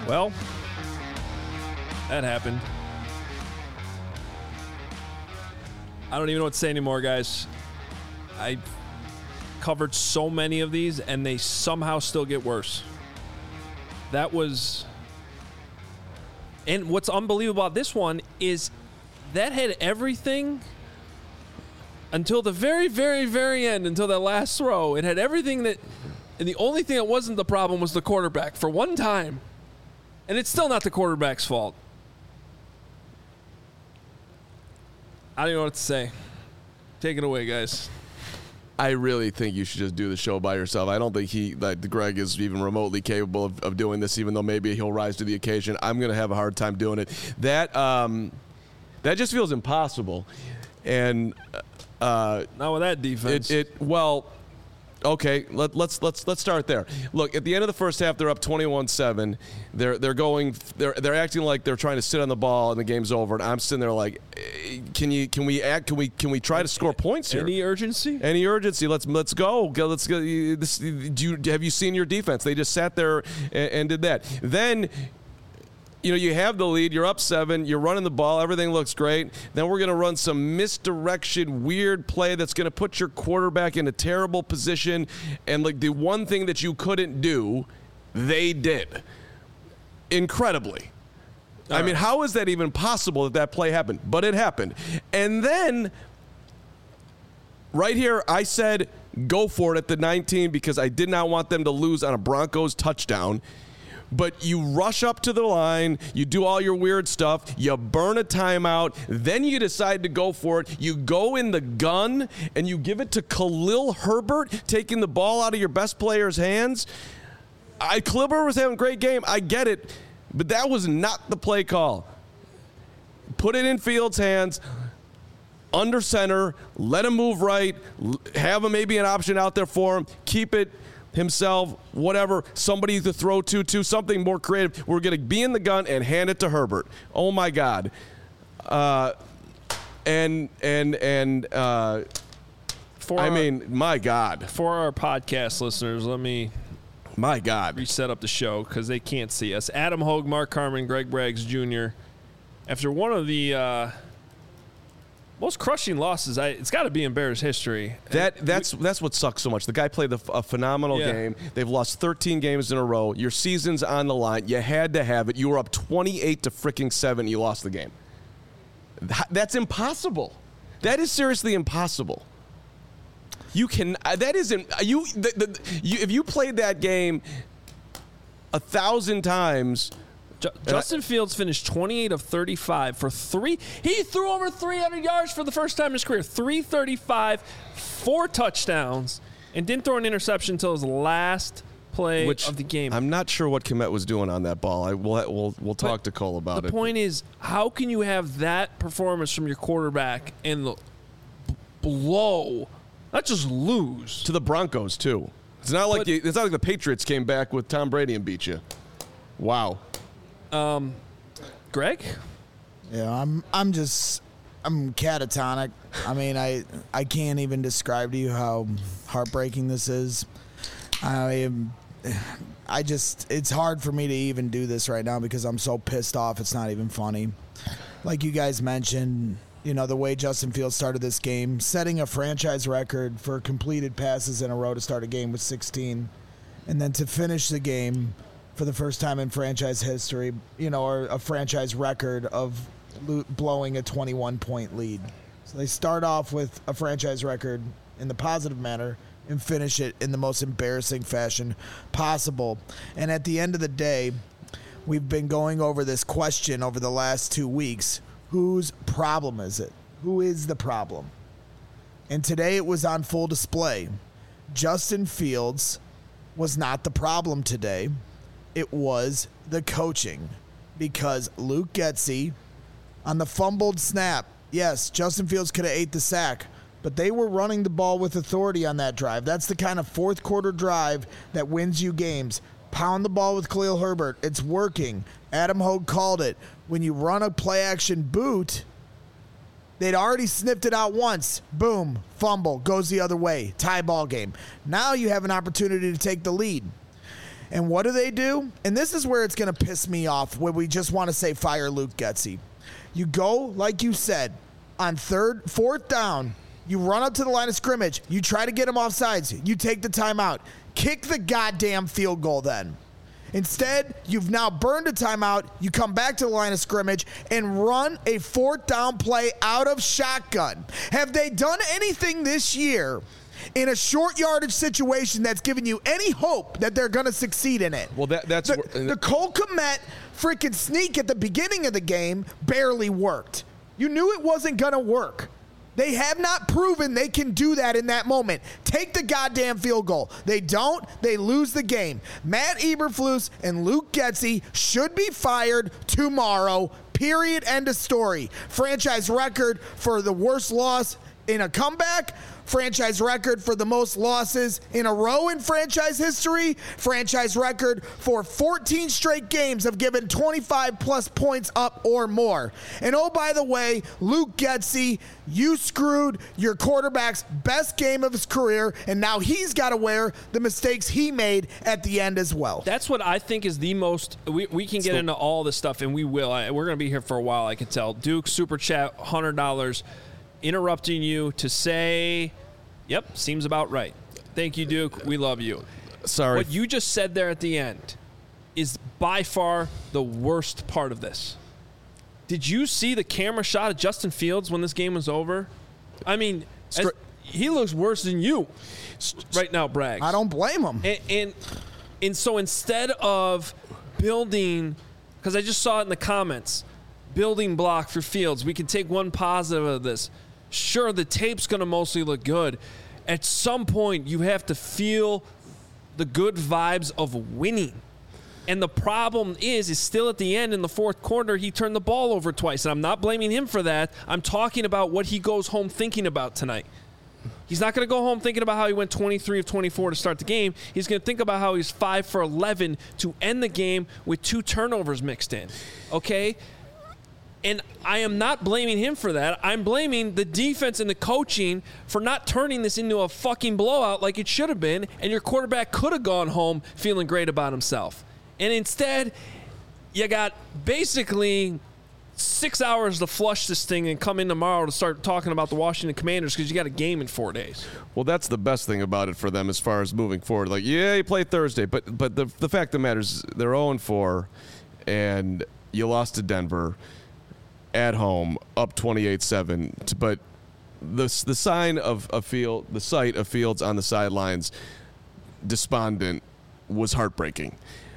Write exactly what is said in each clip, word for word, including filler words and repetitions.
Well, that happened. I don't even know what to say anymore, guys. I covered so many of these, and they somehow still get worse. That was... And what's unbelievable about this one is that had everything until the very, very, very end, until that last throw. It had everything that... And the only thing that wasn't the problem was the quarterback for one time. And it's still not the quarterback's fault. I don't even know what to say. Take it away, guys. I really think you should just do the show by yourself. I don't think he, like Greg, is even remotely capable of, of doing this, even though maybe he'll rise to the occasion. I'm going to have a hard time doing it. That um, that just feels impossible. And uh, not with that defense. It, it well. Okay, let, let's let's let's start there. Look, at the end of the first half, they're up twenty-one seven. They're they're going. They're they're acting like they're trying to sit on the ball and the game's over. And I'm sitting there like, can you can we act? Can we can we try to score points here? Any urgency? Any urgency? Let's let's go. go let's go. This, do you, have you seen your defense? They just sat there and, and did that. Then. You know, you have the lead, you're up seven, you're running the ball, everything looks great. Then we're going to run some misdirection, weird play that's going to put your quarterback in a terrible position. And, like, the one thing that you couldn't do, they did. Incredibly. All I right. mean, how is that even possible that that play happened? But it happened. And then, right here, I said go for it at the nineteen because I did not want them to lose on a Broncos touchdown. But you rush up to the line, you do all your weird stuff, you burn a timeout, then you decide to go for it. You go in the gun, and you give it to Khalil Herbert, taking the ball out of your best player's hands. I, Khalil Herbert was having a great game. I get it. But that was not the play call. Put it in Fields' hands, under center, let him move right, have him maybe an option out there for him, keep it himself, whatever, somebody to throw to, to something more creative. We're going to be in the gun and hand it to Herbert. Oh, my God. Uh, and, and, and, uh, for I our, mean, my God. For our podcast listeners, let me my God reset up the show because they can't see us. Adam Hogue, Mark Carman, Greg Braggs Junior After one of the uh, most crushing losses, I, it's got to be in Bears history. That that's that's what sucks so much. The guy played a, a phenomenal yeah. game. They've lost thirteen games in a row. Your season's on the line. You had to have it. You were up twenty-eight to freaking seven. You lost the game. That's impossible. That is seriously impossible. You can. That isn't. You, the, the, you. If you played that game a thousand times. Justin Fields finished twenty-eight of thirty-five for three. He threw over three hundred yards for the first time in his career. three thirty-five, four touchdowns, and didn't throw an interception until his last play Which, of the game. I'm not sure what Kmet was doing on that ball. I, we'll, we'll, we'll talk but to Cole about the it. The point is, how can you have that performance from your quarterback and the b- blow, not just lose. To the Broncos, too. It's not like but, the, it's not like the Patriots came back with Tom Brady and beat you. Wow. Um, Greg? Yeah, I'm I'm just I'm catatonic. I mean, I I can't even describe to you how heartbreaking this is. I am I just it's hard for me to even do this right now because I'm so pissed off. It's not even funny. Like you guys mentioned, you know, the way Justin Fields started this game, setting a franchise record for completed passes in a row to start a game with sixteen, and then to finish the game for the first time in franchise history, you know, or a franchise record of lo- blowing a twenty-one point lead. So they start off with a franchise record in the positive manner and finish it in the most embarrassing fashion possible. And at the end of the day, we've been going over this question over the last two weeks. Whose problem is it? Who is the problem? And today it was on full display. Justin Fields was not the problem today. It was the coaching, because Luke Getsy, on the fumbled snap, yes, Justin Fields could have ate the sack, but they were running the ball with authority on that drive. That's the kind of fourth quarter drive that wins you games. Pound the ball with Khalil Herbert. It's working. Adam Hogue called it. When you run a play action boot, they'd already sniffed it out once. Boom, fumble, goes the other way. Tie ball game. Now you have an opportunity to take the lead. And what do they do? And this is where it's going to piss me off, where we just want to say fire Luke Getsy. You go, like you said, on third, fourth down, you run up to the line of scrimmage, you try to get him off sides, you take the timeout. Kick the goddamn field goal then. Instead, you've now burned a timeout, you come back to the line of scrimmage and run a fourth down play out of shotgun. Have they done anything this year in a short yardage situation that's given you any hope that they're going to succeed in it? Well, that, that's... The, the Cole Kmet freaking sneak at the beginning of the game barely worked. You knew it wasn't going to work. They have not proven they can do that in that moment. Take the goddamn field goal. They don't, they lose the game. Matt Eberflus and Luke Getsy should be fired tomorrow. Period. End of story. Franchise record for the worst loss in a comeback. Franchise record for the most losses in a row in franchise history. Franchise record for fourteen straight games have given twenty-five plus points up or more. And oh, by the way, Luke Getsy, you screwed your quarterback's best game of his career, and now he's got to wear the mistakes he made at the end as well. That's what I think is the most. We, we can get so, into all this stuff, and we will. I, we're going to be here for a while, I can tell. Duke, Super Chat, one hundred dollars. Interrupting you to say, yep, seems about right. Thank you, Duke. We love you. Sorry. What you just said there at the end is by far the worst part of this. Did you see the camera shot of Justin Fields when this game was over? I mean, as, he looks worse than you right now, Bragg. I don't blame him. And, and, and so instead of building, because I just saw it in the comments, building block for Fields, we can take one positive of this. Sure, the tape's going to mostly look good. At some point, you have to feel the good vibes of winning. And the problem is, is still at the end in the fourth quarter, he turned the ball over twice. And I'm not blaming him for that. I'm talking about what he goes home thinking about tonight. He's not going to go home thinking about how he went twenty-three of twenty-four to start the game. He's going to think about how he's five for eleven to end the game with two turnovers mixed in. Okay? And I am not blaming him for that. I'm blaming the defense and the coaching for not turning this into a fucking blowout like it should have been, and your quarterback could have gone home feeling great about himself. And instead, you got basically six hours to flush this thing and come in tomorrow to start talking about the Washington Commanders because you got a game in four days. Well, that's the best thing about it for them as far as moving forward. Like, yeah, you play Thursday, but but the the fact that matters, they're oh and four, and you lost to Denver at home, up twenty-eight seven. But the the sign of a field, the sight of Fields on the sidelines, despondent, was heartbreaking.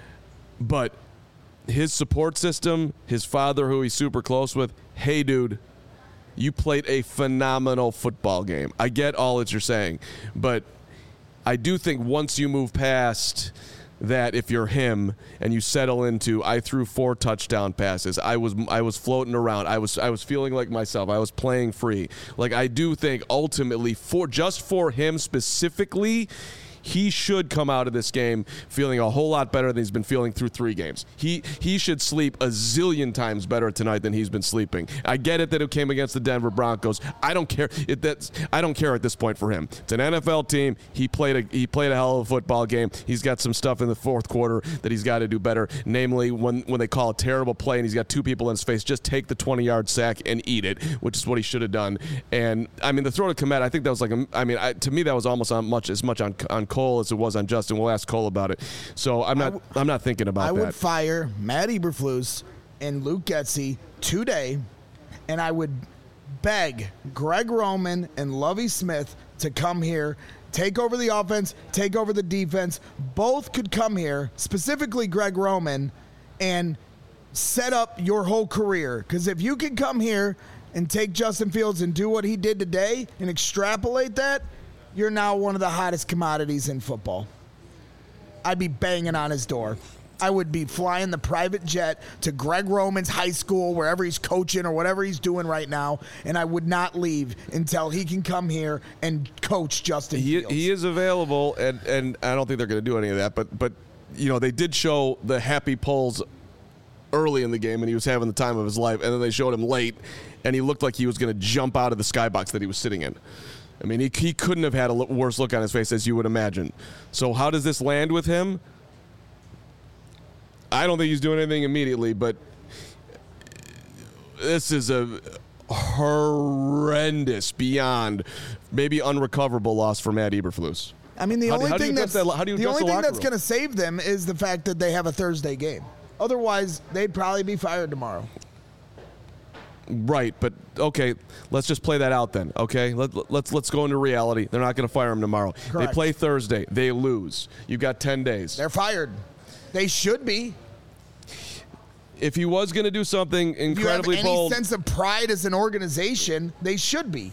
But his support system, his father, who he's super close with, hey, dude, you played a phenomenal football game. I get all that you're saying, but I do think once you move past that, if you're him and you settle into, I threw four touchdown passes, I was I was floating around, I was I was feeling like myself, I was playing free. Like, I do think ultimately, for just for him specifically, he should come out of this game feeling a whole lot better than he's been feeling through three games. He he should sleep a zillion times better tonight than he's been sleeping. I get it that it came against the Denver Broncos. I don't care. It, that's, I don't care at this point for him. It's an N F L team. He played a he played a hell of a football game. He's got some stuff in the fourth quarter that he's got to do better. Namely, when when they call a terrible play and he's got two people in his face, just take the twenty-yard sack and eat it, which is what he should have done. And I mean, the throw to Kmet, I think that was like a, I mean, I, to me that was almost on much as much on on Cole as it was on Justin. We'll ask Cole about it. So I'm not w- I'm not thinking about I that. I would fire Matt Eberflus and Luke Getsy today, and I would beg Greg Roman and Lovie Smith to come here, take over the offense, take over the defense. Both could come here, specifically Greg Roman, and set up your whole career. Because if you can come here and take Justin Fields and do what he did today and extrapolate that, you're now one of the hottest commodities in football. I'd be banging on his door. I would be flying the private jet to Greg Roman's high school, wherever he's coaching or whatever he's doing right now, and I would not leave until he can come here and coach Justin he, Fields. He is available, and, and I don't think they're going to do any of that, but, but you know, they did show the happy pulls early in the game, and he was having the time of his life, and then they showed him late, and he looked like he was going to jump out of the skybox that he was sitting in. I mean, he, he couldn't have had a worse look on his face as you would imagine. So how does this land with him? I don't think he's doing anything immediately, but this is a horrendous, beyond maybe unrecoverable loss for Matt Eberflus. I mean, the How do- only how do you thing address that's that- how do you the address only the thing locker that's room? going to save them is the fact that they have a Thursday game. Otherwise, they'd probably be fired tomorrow. Right, but okay, let's just play that out then. Okay, Let, let's let's go into reality. They're not going to fire him tomorrow. Correct. They play Thursday. They lose. You've got ten days. They're fired. They should be. If he was going to do something incredibly if you have any bold, sense of pride as an organization, they should be.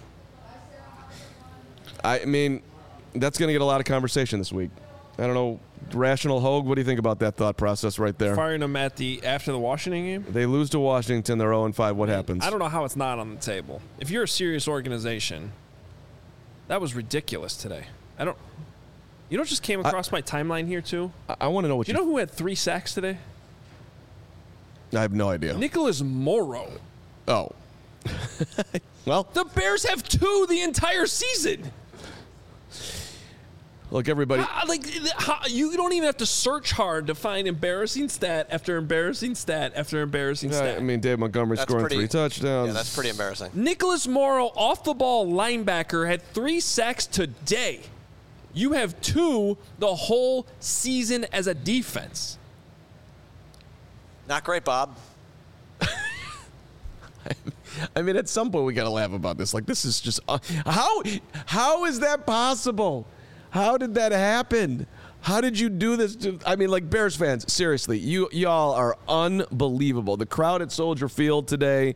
I mean, that's going to get a lot of conversation this week. I don't know. Rational Hogue, what do you think about that thought process right there? Firing him at the after the Washington game. They lose to Washington. They're oh and five. What happens? I don't know how it's not on the table. If you're a serious organization, that was ridiculous today. I don't. You know what just came across my timeline here too? I, I want to know what Do you you know who had three sacks today? I have no idea. Nicholas Morrow. Oh. Well, The Bears have two the entire season. look, everybody. How- like how, you don't even have to search hard to find embarrassing stat after embarrassing stat after embarrassing Yeah, stat. I mean, Dave Montgomery That's scoring pretty- three touchdowns. Yeah, that's pretty embarrassing. Nicholas Morrow, off the ball linebacker, had three sacks today. You have two the whole season as a defense. Not great, Bob. I mean, at some point we got to laugh about this. Like, this is just uh, how how is that possible? How did that happen? How did you do this? To, I mean, like, Bears fans, seriously, you y'all are unbelievable. The crowd at Soldier Field today,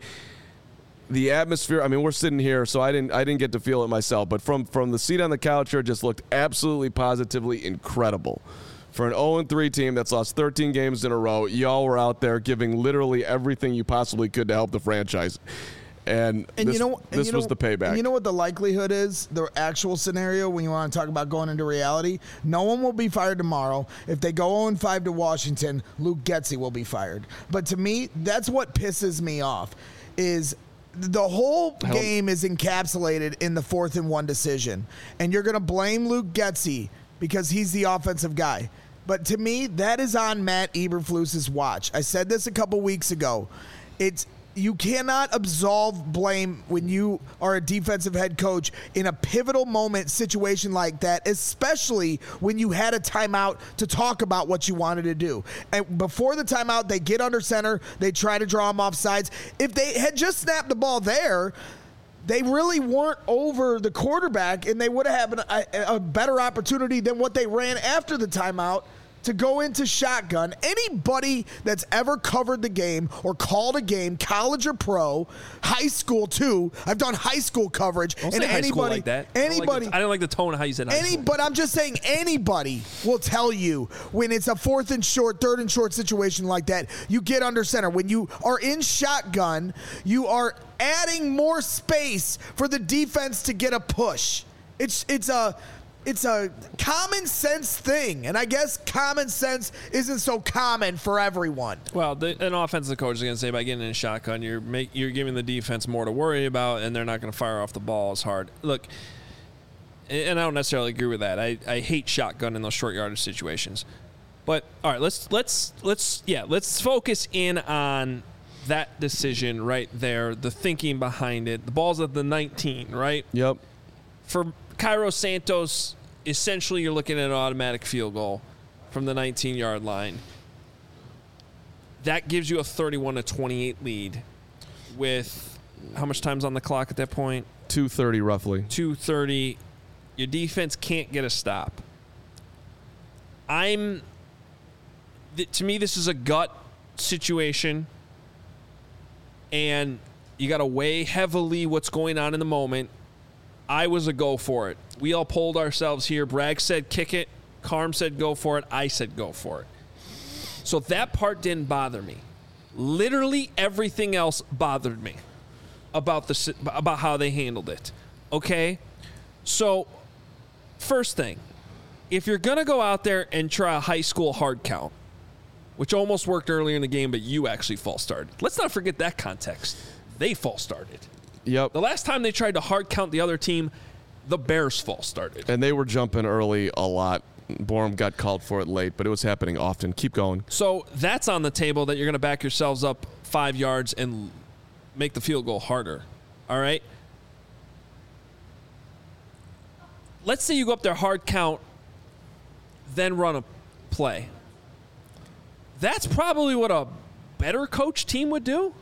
the atmosphere. I mean, we're sitting here, so I didn't I didn't get to feel it myself, but from from the seat on the couch here, it just looked absolutely positively incredible. For an oh and three team that's lost thirteen games in a row, y'all were out there giving literally everything you possibly could to help the franchise. And, And this, you know, and this you know, was the payback. And you know what the likelihood is? The actual scenario when you want to talk about going into reality, no one will be fired tomorrow. If they go oh and five to Washington, Luke Getsy will be fired. But to me, that's what pisses me off. Is the whole Hell- game is encapsulated in the fourth and one decision, and you're going to blame Luke Getsy because he's the offensive guy. But to me, that is on Matt Eberflus's watch. I said this a couple weeks ago. It's you cannot absolve blame when you are a defensive head coach in a pivotal moment situation like that, especially when you had a timeout to talk about what you wanted to do. And before the timeout, they get under center. They try to draw him off sides. If they had just snapped the ball there, they really weren't over the quarterback, and they would have had a, a better opportunity than what they ran after the timeout to go into shotgun. Anybody that's ever covered the game or called a game, college or pro, high school too. I've done high school coverage, Don't and say high anybody, school like that. I don't like anybody, the- I don't like the tone of how you said high any, school. but I'm just saying anybody will tell you when it's a fourth and short, third and short situation like that, you get under center. When you are in shotgun, you are adding more space for the defense to get a push. It's it's a it's a common sense thing, and I guess common sense isn't so common for everyone. Well, the, an offensive coach is going to say by getting in a shotgun, you're make, you're giving the defense more to worry about, and they're not going to fire off the ball as hard. Look, and I don't necessarily agree with that. I, I hate shotgun in those short yardage situations. But all right, let's let's let's yeah, let's focus in on that decision right there, the thinking behind it. The ball's at the nineteen, right? Yep. For Cairo Santos, essentially you're looking at an automatic field goal from the nineteen-yard line. That gives you a thirty-one to twenty-eight lead with how much time's on the clock at that point? two thirty roughly. two thirty. Your defense can't get a stop. I'm th- to me this is a gut situation, and you got to weigh heavily what's going on in the moment. I was a go for it. We all polled ourselves here. Bragg said kick it. Carm said go for it. I said go for it. So that part didn't bother me. Literally everything else bothered me about the about how they handled it. Okay? So first thing, if you're going to go out there and try a high school hard count, which almost worked earlier in the game, but you actually false started. Let's not forget that context. They false started. Yep. The last time they tried to hard count the other team, the Bears false started. And they were jumping early a lot. Borum got called for it late, but it was happening often. Keep going. So that's on the table that you're going to back yourselves up five yards and make the field goal harder. All right? Let's say you go up there hard count, then run a play. That's probably what a better coach team would do.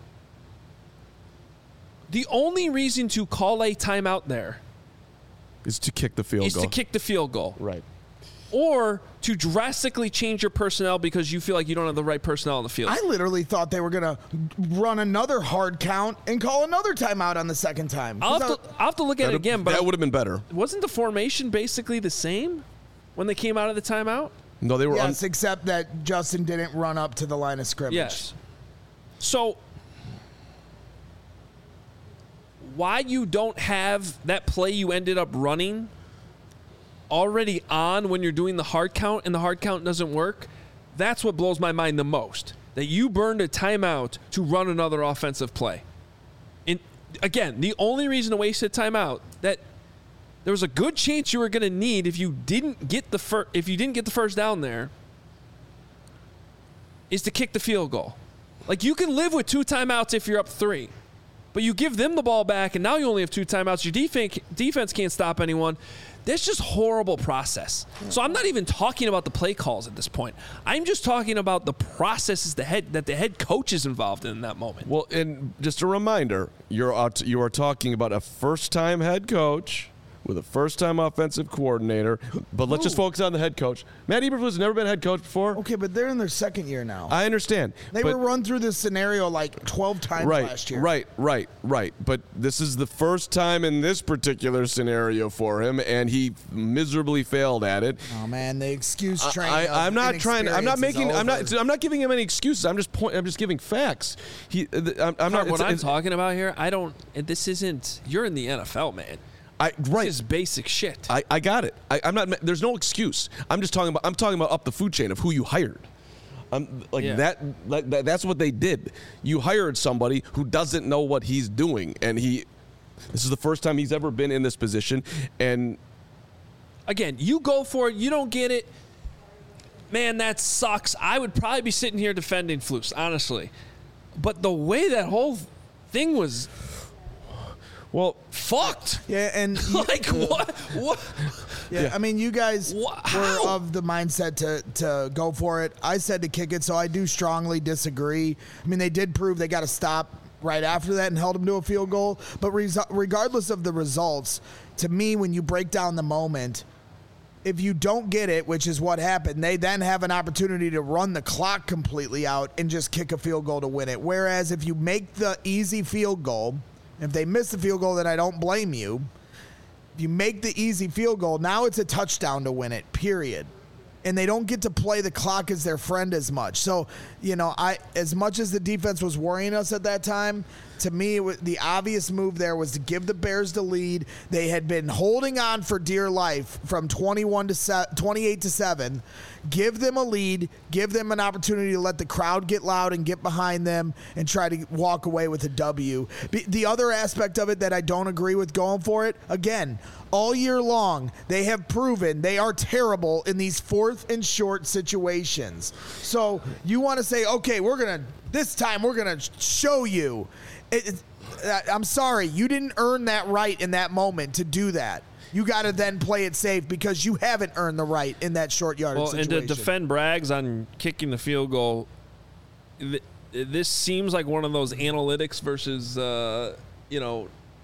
The only reason to call a timeout there Is to kick the field is goal. to kick the field goal. Right. Or to drastically change your personnel because you feel like you don't have the right personnel on the field. I literally thought they were going to run another hard count and call another timeout on the second time. I'll have, to, I'll have to look at it again, but that would have been better. wasn't the formation basically the same when they came out of the timeout? No, they were. Yes, Un- except that Justin didn't run up to the line of scrimmage. Yes. So why you don't have that play you ended up running already on when you're doing the hard count and the hard count doesn't work, that's what blows my mind the most. That you burned a timeout to run another offensive play. And again, the only reason to waste a timeout that there was a good chance you were going to need if you didn't get the fir- if you didn't get the first down there is to kick the field goal. Like, you can live with two timeouts if you're up three, but you give them the ball back and now you only have two timeouts. Your defense defense can't stop anyone. That's just horrible process. So I'm not even talking about the play calls at this point. I'm just talking about the processes the head, that the head coach is involved in, in that moment. well, and just a reminder, you're out, you are talking about a first-time head coach with a first-time offensive coordinator. But let's just focus on the head coach. Matt Eberflus has never been head coach before. Okay, but they're in their second year now. I understand. they but- were run through this scenario like twelve times right, last year. Right, right, right. But this is the first time in this particular scenario for him, and he miserably failed at it. Oh man, the excuse train. I, of I'm not trying. I'm not inexperience is making. I'm not. over. I'm not giving him any excuses. I'm just point. I'm just giving facts. He. I'm, I'm not. what it's- I'm it's- talking about here, I don't, and this isn't, you're in the N F L, man. I right. This is basic shit. I, I got it. I, I'm not. There's no excuse. I'm just talking about. I'm talking about up the food chain of who you hired. Um, like Yeah. that, like that. That's what they did. You hired somebody who doesn't know what he's doing, and he. This is the first time he's ever been in this position, and Again, you go for it, you don't get it. Man, that sucks. I would probably be sitting here defending Flus, honestly. But the way that whole thing was well, fucked. Yeah, and you- Like, what? What? Yeah, I mean, you guys Wha- were how? of the mindset to, to go for it. I said to kick it, so I do strongly disagree. I mean, they did prove they got to stop right after that and held them to a field goal. But res- regardless of the results, to me, when you break down the moment, if you don't get it, which is what happened, they then have an opportunity to run the clock completely out and just kick a field goal to win it. Whereas if you make the easy field goal, if they miss the field goal, then I don't blame you. If you make the easy field goal, now it's a touchdown to win it, period. And they don't get to play the clock as their friend as much. So, you know, I as much as the defense was worrying us at that time, to me, it was, the obvious move there was to give the Bears the lead. They had been holding on for dear life from twenty-one to se- twenty-eight to seven. Give them a lead. Give them an opportunity to let the crowd get loud and get behind them and try to walk away with a W. Be- the other aspect of it that I don't agree with going for it, again, all year long, they have proven they are terrible in these fourth and short situations. So you want to say, okay, we're going to, this time we're going to show you. It, it, I'm sorry, you didn't earn that right in that moment to do that. You got to then play it safe because you haven't earned the right in that short yardage Well, situation. and to defend Braggs on kicking the field goal, th- this seems like one of those analytics versus, uh, you know,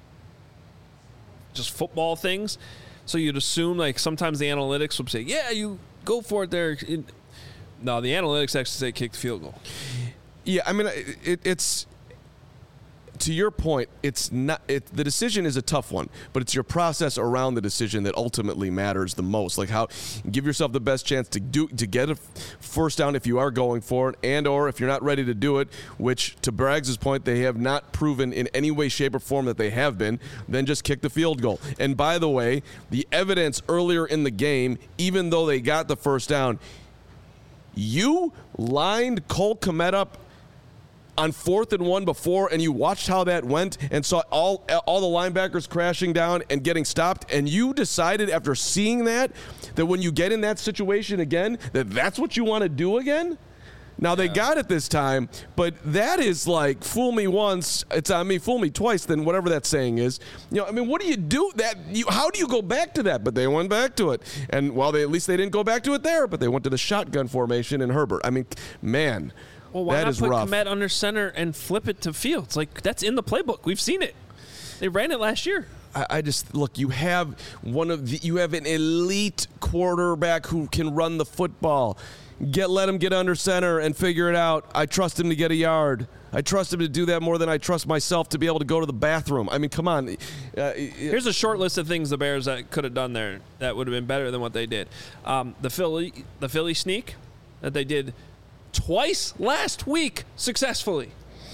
just football things. So you'd assume, like, sometimes the analytics would say, yeah, you go for it there. It- no, the analytics actually say kick the field goal. yeah. I mean, it, it, it's. To your point, it's not. It, the decision is a tough one, but it's your process around the decision that ultimately matters the most. Like how give yourself the best chance to do to get a first down if you are going for it, and or if you're not ready to do it. Which, to Braggs' point, they have not proven in any way, shape, or form that they have been. Then just kick the field goal. And by the way, the evidence earlier in the game, even though they got the first down, you lined Cole Kmet up on fourth and one before, and you watched how that went and saw all all the linebackers crashing down and getting stopped, and you decided after seeing that that when you get in that situation again, that that's what you want to do again? Now, they got it this time, but that is like, fool me once, it's on me, fool me twice, then whatever that saying is. You know, I mean, what do you do? That you, how do you go back to that? But they went back to it. And, well, they, at least they didn't go back to it there, but they went to the shotgun formation in Herbert. I mean, man, well, why that not is put rough. Kmet under center and flip it to Fields? Like, that's in the playbook. We've seen it. They ran it last year. I, I just, look, you have one of the, you have an elite quarterback who can run the football. Get let him get under center and figure it out. I trust him to get a yard. I trust him to do that more than I trust myself to be able to go to the bathroom. I mean, come on. Uh, Here's a short list of things the Bears that could have done there that would have been better than what they did. Um, the Philly, the Philly sneak that they did twice last week successfully.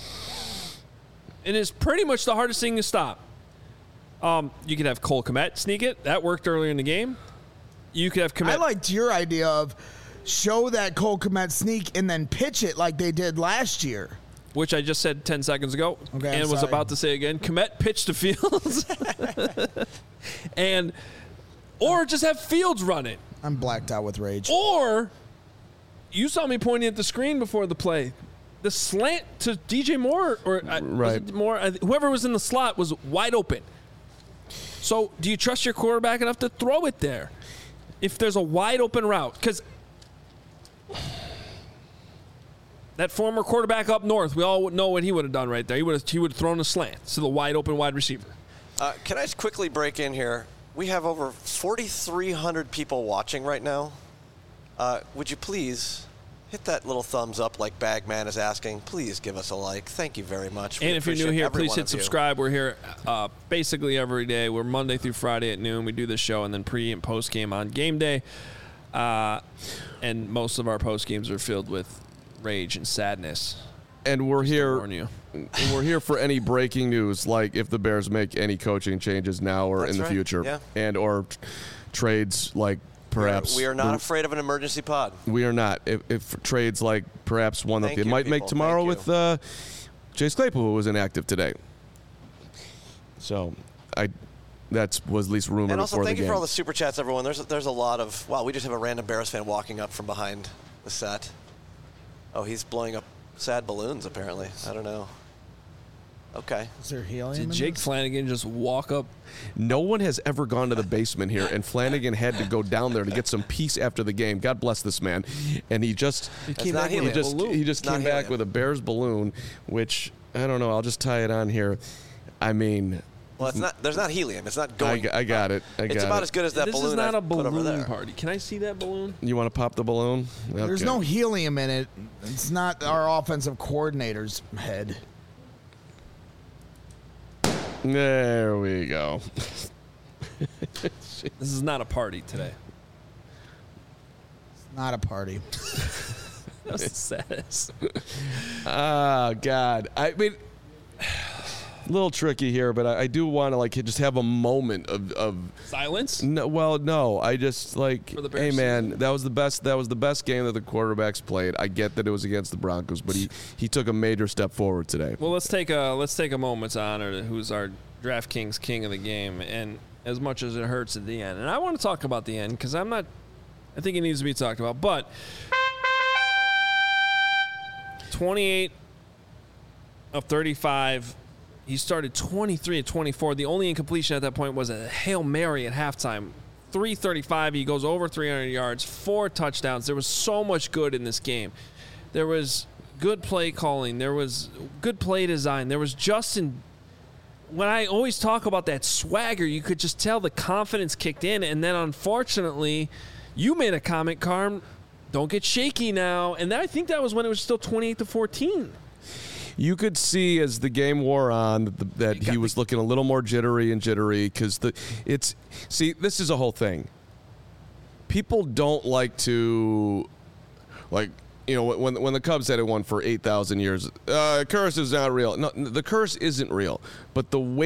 It is pretty much the hardest thing to stop. Um, you could have Cole Kmet sneak it. That worked earlier in the game. You could have Kmet. I liked your idea of show that Cole Kmet sneak and then pitch it like they did last year. Which I just said ten seconds ago Okay, and I'm was sorry. about to say again. Kmet pitched to Fields. and Or just have Fields run it. I'm blacked out with rage. Or you saw me pointing at the screen before the play. The slant to D J Moore, or uh, was Right. it Moore, uh, whoever was in the slot was wide open. So do you trust your quarterback enough to throw it there if there's a wide open route? Because that former quarterback up north, we all know what he would have done right there. He would have he would have thrown a slant to the wide open wide receiver. Uh, can I just quickly break in here? We have over forty-three hundred people watching right now. Uh, would you please hit that little thumbs up like Bagman is asking? Please give us a like. Thank you very much. We And if you're new appreciate here, every please one hit of you. subscribe. We're here uh, basically every day. We're Monday through Friday at noon. We do this show and then pre and post game on game day. Uh, and most of our post games are filled with rage and sadness. and we're here. Warn you. We're here for any breaking news, like if the Bears make any coaching changes now or That's in the right, future, yeah. and or t- trades like perhaps we are not the- afraid of an emergency pod. We are not. If, if trades like perhaps one Thank that they you, might make people. tomorrow Thank with uh, Chase Claypool, who was inactive today. So, I that was at least rumored And also, before thank the you game. for all the super chats, everyone. There's there's a lot of wow. We just have a random Bears fan walking up from behind the set. Oh, he's blowing up sad balloons. Apparently, I don't know. Okay. Is there helium Did in Jake this? Flanagan just walk up? No one has ever gone to the basement here, and Flanagan had to go down there to get some peace after the game. God bless this man, and he just He That's came not back with he helium. a just balloon. he just It's not came back helium. with a Bears balloon, which I don't know. I'll just tie it on here. I mean, Well, it's not. There's not helium. It's not I, going. g- I got it. I got it's about it. as good as that This balloon is not I've a put over balloon there. party. Can I see that balloon? You want to pop the balloon? There's Okay. no helium in it. It's not our offensive coordinator's head. There we go. This is not a party today. It's not a party. That's the saddest. Ah, God. I mean, a little tricky here, but I, I do want to like just have a moment of, of Silence? no. Well, no, I just like, For the hey Bears man, season. that was the best. That was the best game that the quarterbacks played. I get that it was against the Broncos, but he he took a major step forward today. Well, let's take a let's take a moment to honor who's our DraftKings king of the game, and as much as it hurts at the end, and I want to talk about the end because I'm not. I think it needs to be talked about, but twenty-eight of thirty-five. He started twenty-three of twenty-four. The only incompletion at that point was a Hail Mary at halftime. three thirty-five. He goes over three hundred yards, four touchdowns. There was so much good in this game. There was good play calling. There was good play design. There was Justin. When I always talk about that swagger, you could just tell the confidence kicked in. And then, unfortunately, you made a comment, Carm. Don't get shaky now. And I think that was when it was still twenty-eight to fourteen. You could see as the game wore on that, the, that he was looking a little more jittery and jittery because the it's see this is a whole thing. People don't like to like you know when when the Cubs had it won for eight thousand years. Uh, curse is not real. No, the curse isn't real, but the weight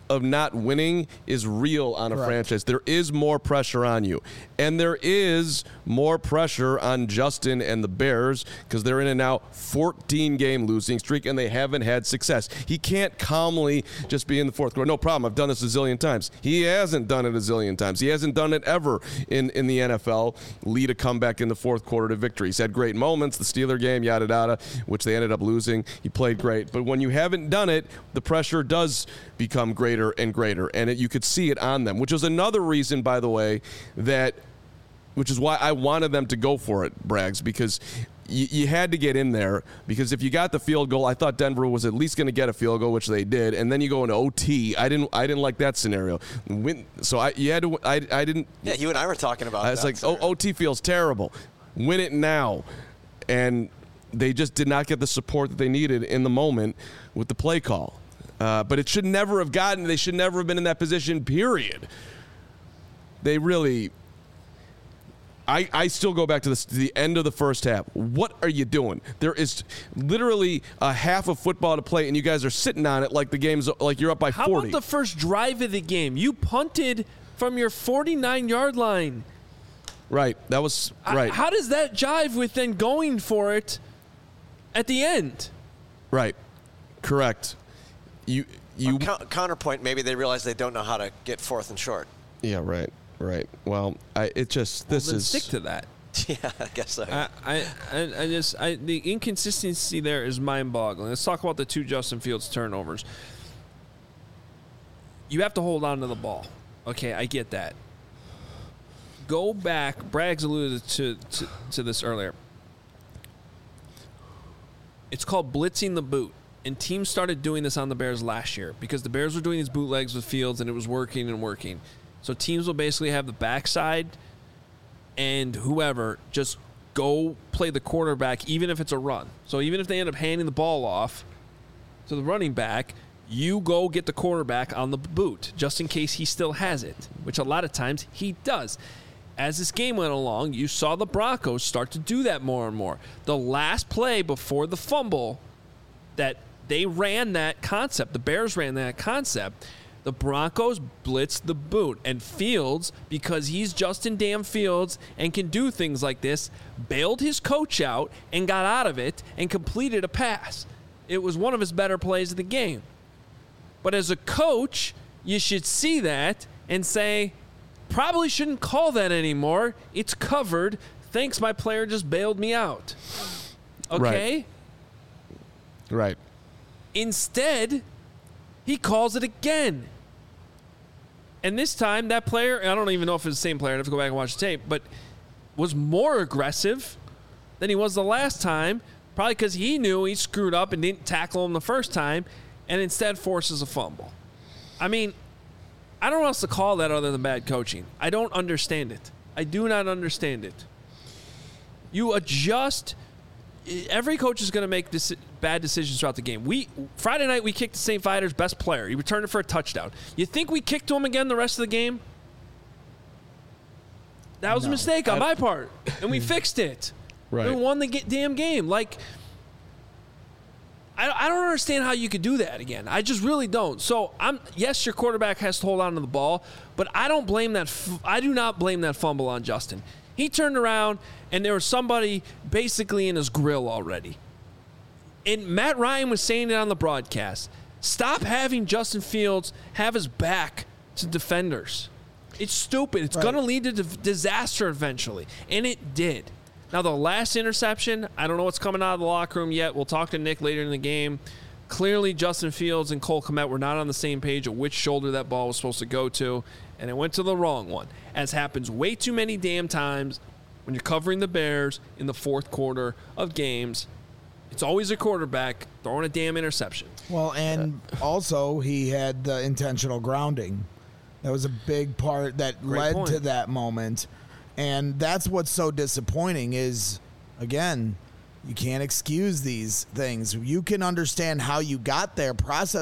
of not winning is real on a Correct. franchise. There is more pressure on you. And there is more pressure on Justin and the Bears because they're in a now fourteen-game losing streak, and they haven't had success. He can't calmly just be in the fourth quarter. No problem. I've done this a zillion times. He hasn't done it a zillion times. He hasn't done it ever in, in the N F L. Lead a comeback in the fourth quarter to victory. He's had great moments, the Steeler game, yada, yada, which they ended up losing. He played great. But when you haven't done it, the pressure does become greater and greater, and it, you could see it on them, which is another reason, by the way, that which is why I wanted them to go for it, Braggs, because you, you had to get in there, because if you got the field goal, I thought Denver was at least going to get a field goal, which they did, and then you go into O T. I didn't I didn't like that scenario. Win, so I you had to I, I didn't. Yeah, you and I were talking about that. I was like, oh, O T feels terrible. Win it now. And they just did not get the support that they needed in the moment with the play call. Uh, but it should never have gotten, they should never have been in that position, period. They really, I, I still go back to, this, to the end of the first half. What are you doing? There is literally a half of football to play, and you guys are sitting on it like the game's, like you're up by How forty. about the first drive of the game? You punted from your forty-nine-yard line. Right, that was, I- right. how does that jive with then going for it at the end? Right, correct. You, you. Or co- counterpoint, maybe they realize they don't know how to get fourth and short. Yeah, right, right. Well, I, it just, this Then is. stick to that. Yeah, I guess so. I, I, I I just, I, the inconsistency there is mind-boggling. Let's talk about the two Justin Fields turnovers. You have to hold on to the ball. Okay, I get that. Go back. Braggs alluded to, to, to this earlier. It's called blitzing the boot. And teams started doing this on the Bears last year because the Bears were doing these bootlegs with Fields, and it was working and working. So teams will basically have the backside and whoever just go play the quarterback, even if it's a run. So even if they end up handing the ball off to the running back, you go get the quarterback on the boot just in case he still has it, which a lot of times he does. As this game went along, you saw the Broncos start to do that more and more. The last play before the fumble, that they ran that concept. The Bears ran that concept. The Broncos blitzed the boot. And Fields, because he's Justin damn Fields and can do things like this, bailed his coach out and got out of it and completed a pass. It was one of his better plays of the game. But as a coach, you should see that and say, probably shouldn't call that anymore. It's covered. Thanks, my player just bailed me out. Okay? Right. Right. Instead, he calls it again. And this time, that player, I don't even know if it's the same player, I have to go back and watch the tape, but was more aggressive than he was the last time, probably because he knew he screwed up and didn't tackle him the first time, and instead forces a fumble. I mean, I don't know what else to call that other than bad coaching. I don't understand it. I do not understand it. You adjust. Every coach is going to make deci- bad decisions throughout the game. We Friday night, we kicked the Saint Viator's best player. He returned it for a touchdown. You think we kicked to him again the rest of the game? That was No. a mistake on my part, and we fixed it. Right. We won the ga- damn game. Like, I, I don't understand how you could do that again. I just really don't. So I'm yes, your quarterback has to hold on to the ball, but I don't blame that. F- I do not blame that fumble on Justin. He turned around and there was somebody basically in his grill already. And Matt Ryan was saying it on the broadcast. Stop having Justin Fields have his back to defenders. It's stupid. It's Right. going to lead to d- disaster eventually, and it did. Now, the last interception, I don't know what's coming out of the locker room yet. We'll talk to Nick later in the game. Clearly, Justin Fields and Cole Kmet were not on the same page of which shoulder that ball was supposed to go to, and it went to the wrong one, as happens way too many damn times when you're covering the Bears in the fourth quarter of games. It's always a quarterback throwing a damn interception. Well, and also he had the intentional grounding. That was a big part that Great led point. to that moment. And that's what's so disappointing is, again, you can't excuse these things. You can understand how you got there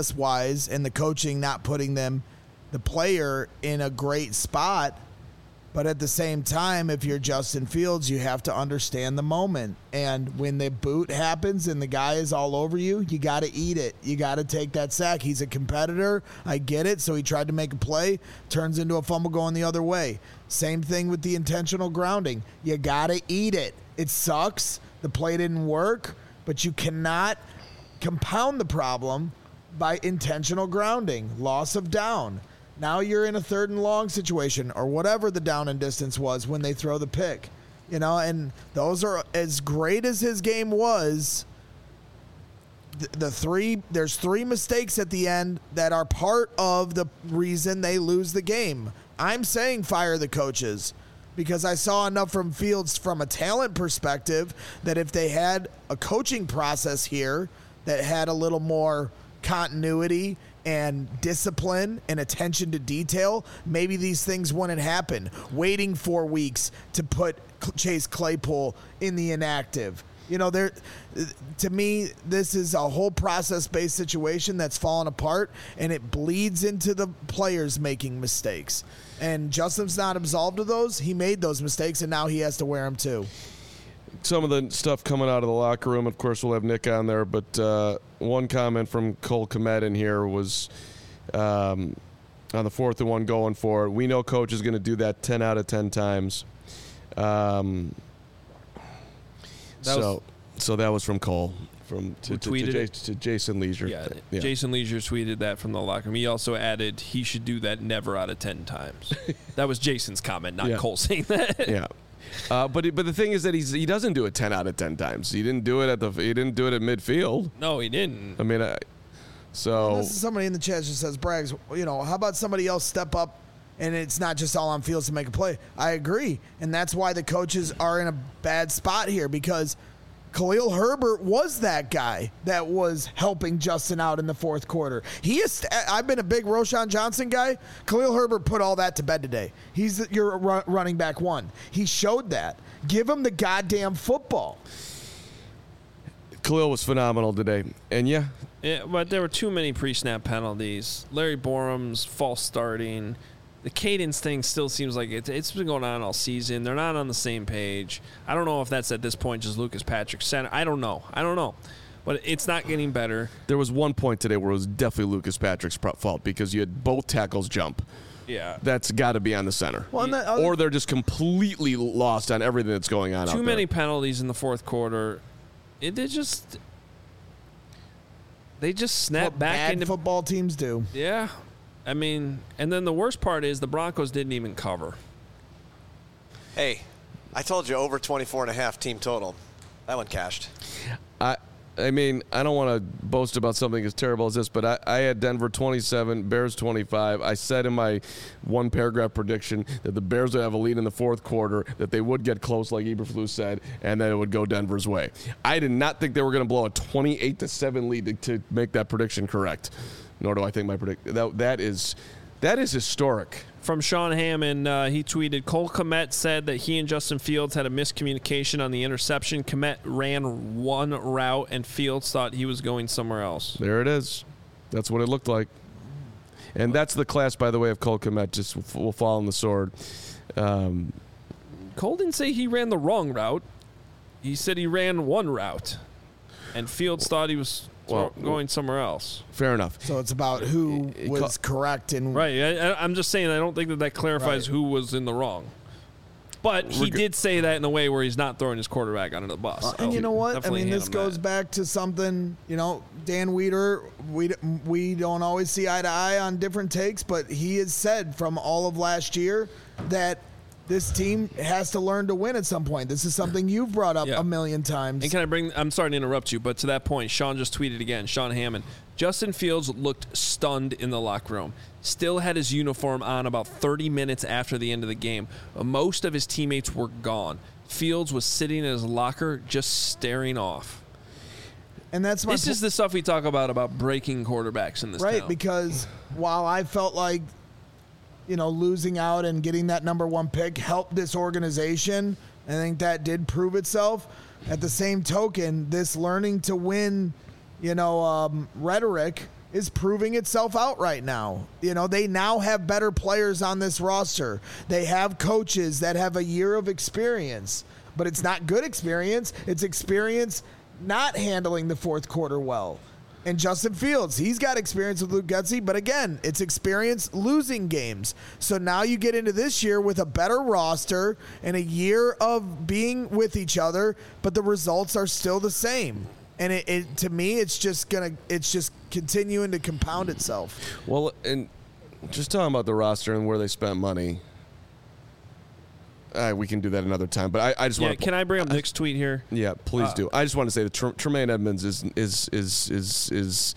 process-wise and the coaching not putting them, the player, in a great spot. But at the same time, if you're Justin Fields, you have to understand the moment. And when the boot happens and the guy is all over you, you got to eat it. You got to take that sack. He's a competitor. I get it. So he tried to make a play, turns into a fumble going the other way. Same thing with the intentional grounding. You got to eat it. It sucks. The play didn't work, but you cannot compound the problem by intentional grounding, loss of down. Now you're in a third and long situation or whatever the down and distance was when they throw the pick, you know, and those are as great as his game was. The, the three, there's three mistakes at the end that are part of the reason they lose the game. I'm saying fire the coaches because I saw enough from Fields from a talent perspective that if they had a coaching process here that had a little more continuity and discipline and attention to detail, maybe these things wouldn't happen. Waiting four weeks to put Chase Claypool in the inactive. You know, there. To me, this is a whole process-based situation that's fallen apart, and it bleeds into the players making mistakes. And Justin's not absolved of those. He made those mistakes, and now he has to wear them too. Some of the stuff coming out of the locker room, of course, we'll have Nick on there, but uh, one comment from Cole Kmet in here was um, on the fourth and one going for it. We know coach is going to do that ten out of ten times. Um, That so, was- so that was from Cole, from to, Who to, to, tweeted J- it? to Jason Leisure. Yeah, Yeah. Jason Leisure tweeted that from the locker room. He also added he should do that never out of ten times. That was Jason's comment, not Yeah. Cole saying that. Yeah. Uh, but he, but the thing is that he's he doesn't do it ten out of ten times. He didn't do it at the he didn't do it at midfield. No, he didn't. I mean, I, so This is somebody in the chat just says, Braggs, you know, how about somebody else step up and it's not just all on Fields to make a play? I agree. And that's why the coaches are in a bad spot here because Khalil Herbert was that guy that was helping Justin out in the fourth quarter. He is. I've been a big Roschon Johnson guy. Khalil Herbert put all that to bed today. He's your ru- running back one. He showed that. Give him the goddamn football. Khalil was phenomenal today, and yeah, Yeah, but there were too many pre-snap penalties. Larry Borum's false starting. The cadence thing still seems like it, it's been going on all season. They're not on the same page. I don't know if that's at this point just Lucas Patrick center. I don't know. I don't know. But it's not getting better. there was one point today where it was definitely Lucas Patrick's pro- fault because you had both tackles jump. Yeah. That's got to be on the center. Well, and that other- Or they're just completely lost on everything that's going on out Too there. many penalties in the fourth quarter. It, they just they just snap what back bad into football teams do. Yeah. I mean, and then the worst part is the Broncos didn't even cover. Hey, I told you over twenty-four and a half team total. That one cashed. I I mean, I don't want to boast about something as terrible as this, but I, I had Denver twenty-seven, Bears twenty-five. I said in my one paragraph prediction that the Bears would have a lead in the fourth quarter, that they would get close, like Eberflus said, and that it would go Denver's way. I did not think they were going to blow a twenty-eight to seven lead to, to make that prediction correct. Nor do I think my predict that that is that is historic. From Sean Hammond, uh, he tweeted, Cole Kmet said that he and Justin Fields had a miscommunication on the interception. Kmet ran one route, and Fields thought he was going somewhere else. There it is. That's what it looked like. And that's the class, by the way, of Cole Kmet. Just will fall on the sword. Um, Cole didn't say he ran the wrong route. He said he ran one route, and Fields thought he was Well, going somewhere else. fair enough. So it's about who It- it was co- correct and Right. I, I- I'm just saying I don't think that that clarifies Right. who was in the wrong. But he Reg- did say that in a way where he's not throwing his quarterback under the bus. and you know what? I Definitely mean, hand this him goes that. back to something, you know, Dan Weeder, we, we don't always see eye to eye on different takes, but he has said from all of last year that this team has to learn to win at some point. This is something you've brought up Yeah. a million times. And can I bring, I'm sorry to interrupt you, but to that point, Sean just tweeted again, Sean Hammond. Justin Fields looked stunned in the locker room. Still had his uniform on about thirty minutes after the end of the game. Most of his teammates were gone. Fields was sitting in his locker just staring off. and that's my This po- is the stuff we talk about, about breaking quarterbacks in this right, town. because while I felt like, you know, losing out and getting that number one pick helped this organization, I think that did prove itself. At the same token, this learning to win, you know, um, rhetoric is proving itself out right now. You know, they now have better players on this roster. They have coaches that have a year of experience, but it's not good experience. It's experience not handling the fourth quarter well. And Justin Fields, he's got experience with Luke Getsy, but again, it's experience losing games. So now you get into this year with a better roster and a year of being with each other, but the results are still the same. And it, it to me, it's just gonna, it's just continuing to compound itself. Well, and just talking about the roster and where they spent money. Uh, we can do that another time, but I, I just yeah, want. Can I bring up Nick's tweet here? Yeah, please Uh, do. I just want to say that Tr- Tremaine Edmonds is is is is is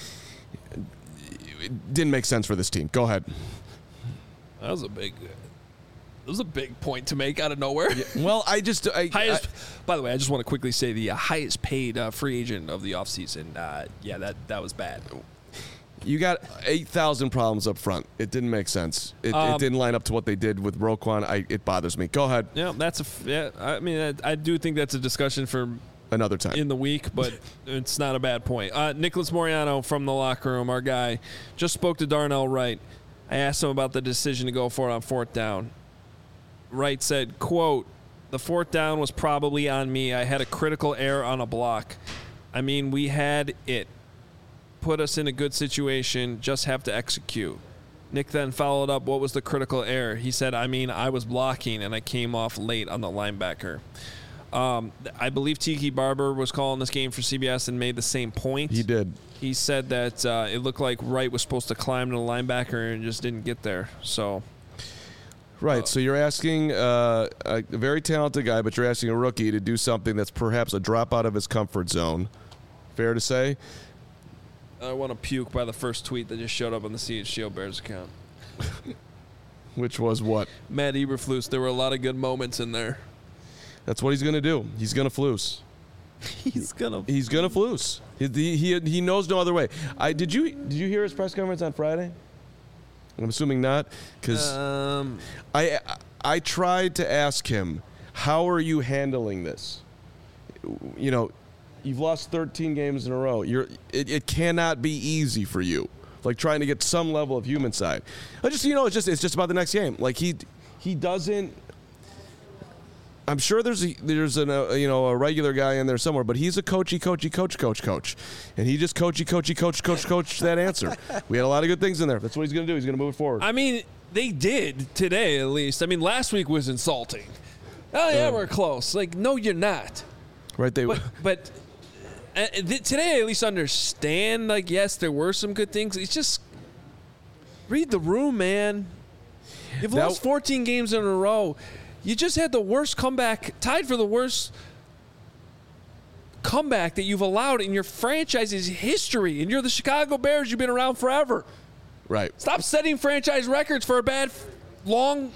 it didn't make sense for this team. Go ahead. That was a big. That was a big point to make out of nowhere. Yeah, well, I just I, highest. I, by the way, I just want to quickly say the uh, highest paid uh, free agent of the offseason. Uh, yeah, that that was bad. You got eight thousand problems up front. It didn't make sense. It, Um, it didn't line up to what they did with Roquan. I, it bothers me. Go ahead. Yeah, that's a. f- Yeah, I mean, I, I do think that's a discussion for Another time. in the week, but it's not a bad point. Uh, Nicholas Moriano from the locker room, our guy, just spoke to Darnell Wright. I asked him about the decision to go for it on fourth down. Wright said, quote, "The fourth down was probably on me. I had a critical error on a block. I mean, we had it. Put us in a good situation, just have to execute." Nick then followed up, "What was the critical error?" He said, I mean, I was blocking and I came off late on the linebacker. Um, I believe Tiki Barber was calling this game for C B S and made the same point. He did. He said that uh, it looked like Wright was supposed to climb to the linebacker and just didn't get there. So, Right. Uh, so you're asking uh, a very talented guy, but you're asking a rookie to do something that's perhaps a drop out of his comfort zone. Fair to say? I want to puke by the first tweet that just showed up on the C H G O Bears account. Which was what? Matt Eberflus, there were a lot of good moments in there. That's what he's going to do. He's going to flus. He's gonna. He's going to flus. He, he he knows no other way. I did you did you hear his press conference on Friday? I'm assuming not, because Um, I I tried to ask him, how are you handling this? You know, you've lost thirteen games in a row. You're it, it cannot be easy for you. Like trying to get some level of human side. I just you know it's just it's just about the next game. Like he he doesn't. I'm sure there's a, there's an, a you know a regular guy in there somewhere, but he's a coachy coachy coach coach coach, and he just coachy coachy coach coach coach that answer. We had a lot of good things in there. That's what he's going to do. He's going to move it forward. I mean, they did today at least. I mean, last week was insulting. Oh yeah, Um, we're close. Like, no, you're not. Right? They But but uh, th- today I at least understand. Like, yes, there were some good things. It's just read the room, man. You've That- lost fourteen games in a row. You just had the worst comeback, tied for the worst comeback that you've allowed in your franchise's history. And you're the Chicago Bears. You've been around forever. right. Stop setting franchise records for a bad, long,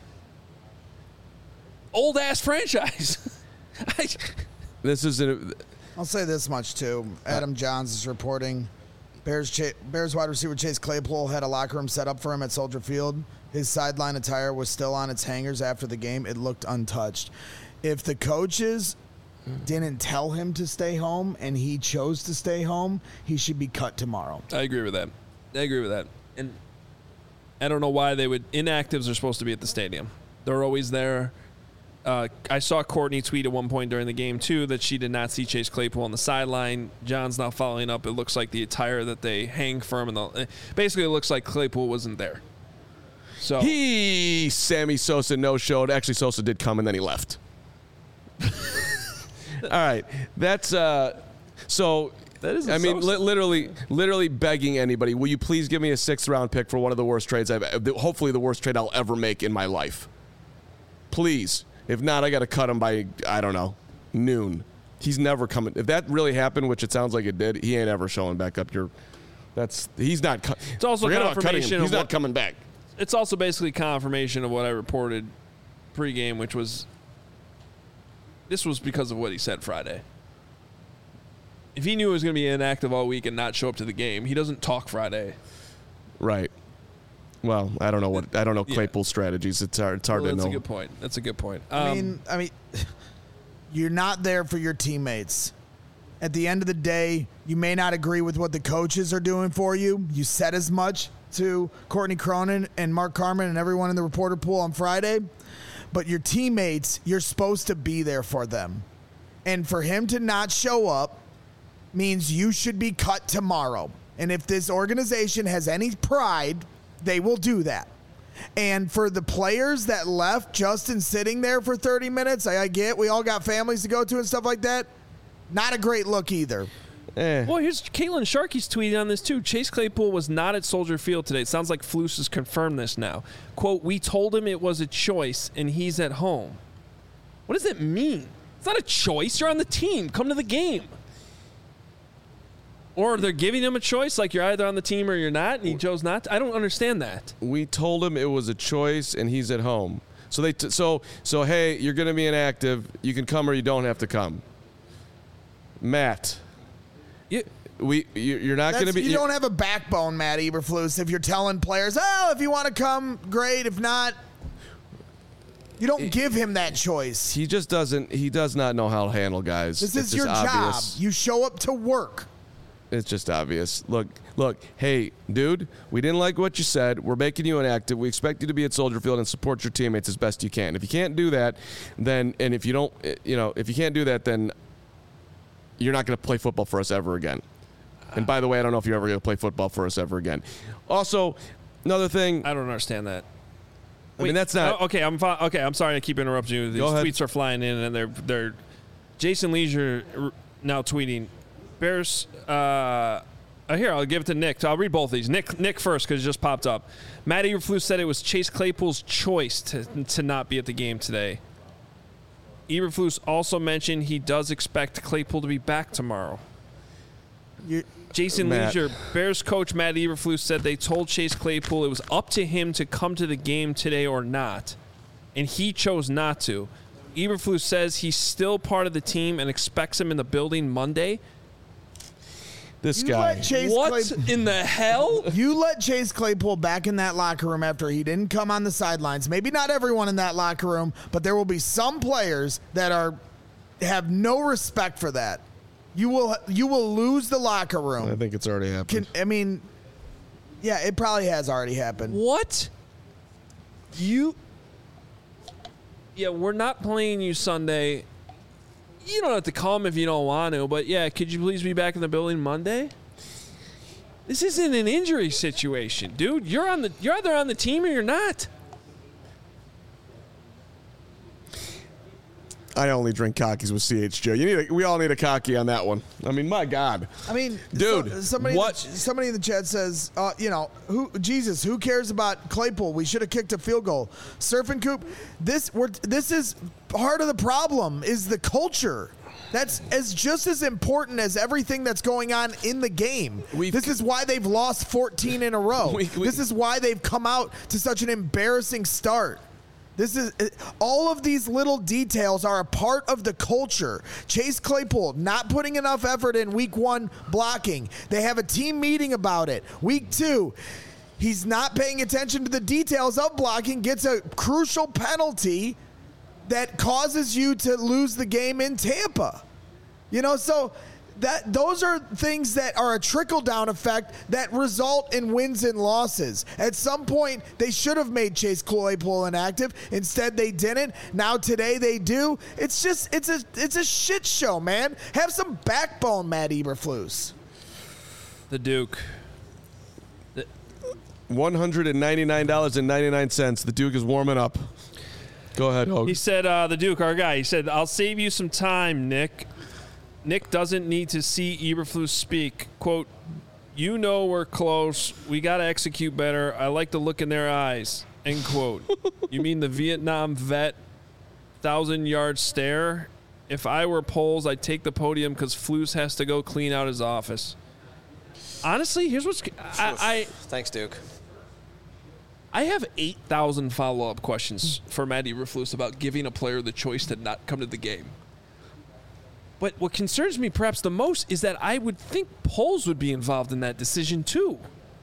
old-ass franchise. I, This is a, I'll say this much too. Adam Johns is reporting Bears Cha- Bears wide receiver Chase Claypool had a locker room set up for him at Soldier Field. His sideline attire was still on its hangers after the game. It looked untouched. If the coaches didn't tell him to stay home and he chose to stay home, he should be cut tomorrow. I agree with that. I agree with that. And I don't know why they would. Inactives are supposed to be at the stadium. They're always there. Uh, I saw Courtney tweet at one point during the game, too, that she did not see Chase Claypool on the sideline. John's now following up. It looks like the attire that they hang for him. In the, basically, it looks like Claypool wasn't there. So he Sammy Sosa no-showed. Actually, Sosa did come, and then he left. All right. That's uh, so. That is I mean, Sosa. li- literally, literally begging anybody. Will you please give me a sixth-round pick for one of the worst trades I've, hopefully the worst trade I'll ever make in my life. Please. If not, I got to cut him by I don't know noon. He's never coming. If that really happened, which it sounds like it did, he ain't ever showing back up. Your, that's he's not. Cu- It's also forget about cutting him. confirmation He's of not what- coming back. it's also basically confirmation of what I reported pregame, which was this was because of what he said Friday. If he knew he was going to be inactive all week and not show up to the game, he doesn't talk Friday. Right. Well, I don't know what I don't know Yeah. Claypool's strategies. It's hard. It's hard Well, to that's know. a good point. That's a good point. Um, I mean, I mean, you're not there for your teammates. At the end of the day, you may not agree with what the coaches are doing for you. You said as much to Courtney Cronin and Mark Carman and everyone in the reporter pool on Friday. But your teammates, you're supposed to be there for them. And for him to not show up means you should be cut tomorrow. And if this organization has any pride, they will do that. And for the players that left Justin sitting there for thirty minutes, I, I get we all got families to go to and stuff like that. Not a great look either. Eh. Well, here's Caitlin Sharkey's tweeting on this too. Chase Claypool was not at Soldier Field today. It sounds like Flus has confirmed this now. Quote, we told him it was a choice and he's at home. What does that mean? It's not a choice. You're on the team. Come to the game. Or they're giving him a choice, like you're either on the team or you're not, and he chose not to. I don't understand that. We told him it was a choice and he's at home. So they t- so so hey, you're going to be inactive. You can come or you don't have to come. Matt, You, we you, you're not going to be. You don't have a backbone, Matt Eberflus, if you're telling players, oh, if you want to come, great. If not, you don't it, give him that choice. He just doesn't. He does not know how to handle guys. This it's is your obvious. job. You show up to work. It's just obvious. Look, look, hey, dude, we didn't like what you said. We're making you inactive. We expect you to be at Soldier Field and support your teammates as best you can. If you can't do that, then, and if you don't, you know, if you can't do that, then you're not going to play football for us ever again. And by the way, I don't know if you're ever going to play football for us ever again. Also, another thing. I don't understand that. I mean, that's not. Oh, okay, I'm fi- okay. I'm sorry to keep interrupting you. These tweets are flying in, and they're they're. Jason Leisure now tweeting. Bears, uh, uh, here, I'll give it to Nick. I'll read both of these. Nick Nick first, because it just popped up. Matt Eberflus said it was Chase Claypool's choice to, to not be at the game today. Eberflus also mentioned he does expect Claypool to be back tomorrow. You're, Jason Matt. Leisure, Bears coach Matt Eberflus said they told Chase Claypool it was up to him to come to the game today or not, and he chose not to. Eberflus says he's still part of the team and expects him in the building Monday. This you guy. Let Chase What Claypool, in the hell? you let Chase Claypool back in that locker room after he didn't come on the sidelines. Maybe not everyone in that locker room, but there will be some players that are have no respect for that. You will you will lose the locker room. I think it's already happened. Can, I mean, yeah, it probably has already happened. What? You? Yeah, we're not playing you Sunday. You don't have to come if you don't want to, but yeah, could you please be back in the building Monday? This isn't an injury situation, dude. You're on the you're either on the team or you're not. I only drink cockies with C H J. You need a, we all need a cocky on that one. I mean, my God. I mean, dude, so, somebody what? In the, somebody in the chat says, uh, you know, who Jesus, who cares about Claypool? We should have kicked a field goal. Surf and Coop, this we're, this is part of the problem is the culture. That's as just as important as everything that's going on in the game. We've, this is why they've lost fourteen in a row. We, we, this is why they've come out to such an embarrassing start. This is all of these little details are a part of the culture. Chase Claypool not putting enough effort in week one blocking. They have a team meeting about it. Week two, he's not paying attention to the details of blocking, gets a crucial penalty that causes you to lose the game in Tampa. You know, so that those are things that are a trickle-down effect that result in wins and losses. At some point, they should have made Chase Claypool inactive. Instead, they didn't. Now today they do. It's just it's a it's a shit show, man. Have some backbone, Matt Eberflus. The Duke. The- one hundred ninety-nine dollars and ninety-nine cents. The Duke is warming up. Go ahead, Hogue. He said, uh, the Duke, our guy, he said, I'll save you some time, Nick. Nick doesn't need to see Eberflus speak. Quote, you know we're close. We got to execute better. I like the look in their eyes. End quote. You mean the Vietnam vet thousand-yard stare? If I were Poles, I'd take the podium because Flus has to go clean out his office. Honestly, here's what's... I, I Thanks, Duke. I have eight thousand follow-up questions for Matt Eberflus about giving a player the choice to not come to the game. But what concerns me perhaps the most is that I would think Poles would be involved in that decision too.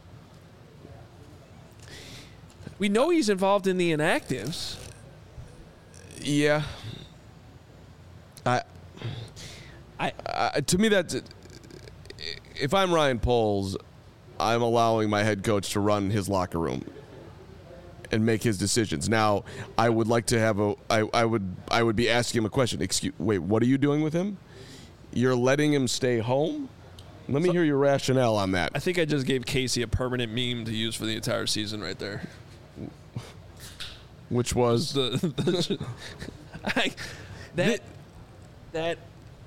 We know he's involved in the inactives. Yeah. I I Uh, to me, that's if I'm Ryan Poles, I'm allowing my head coach to run his locker room and make his decisions. Now, I would like to have a. I, I would. I would be asking him a question. Excuse. Wait. What are you doing with him? You're letting him stay home? Let me So- hear your rationale on that. I think I just gave Casey a permanent meme to use for the entire season right there. Which was The, the I, that that.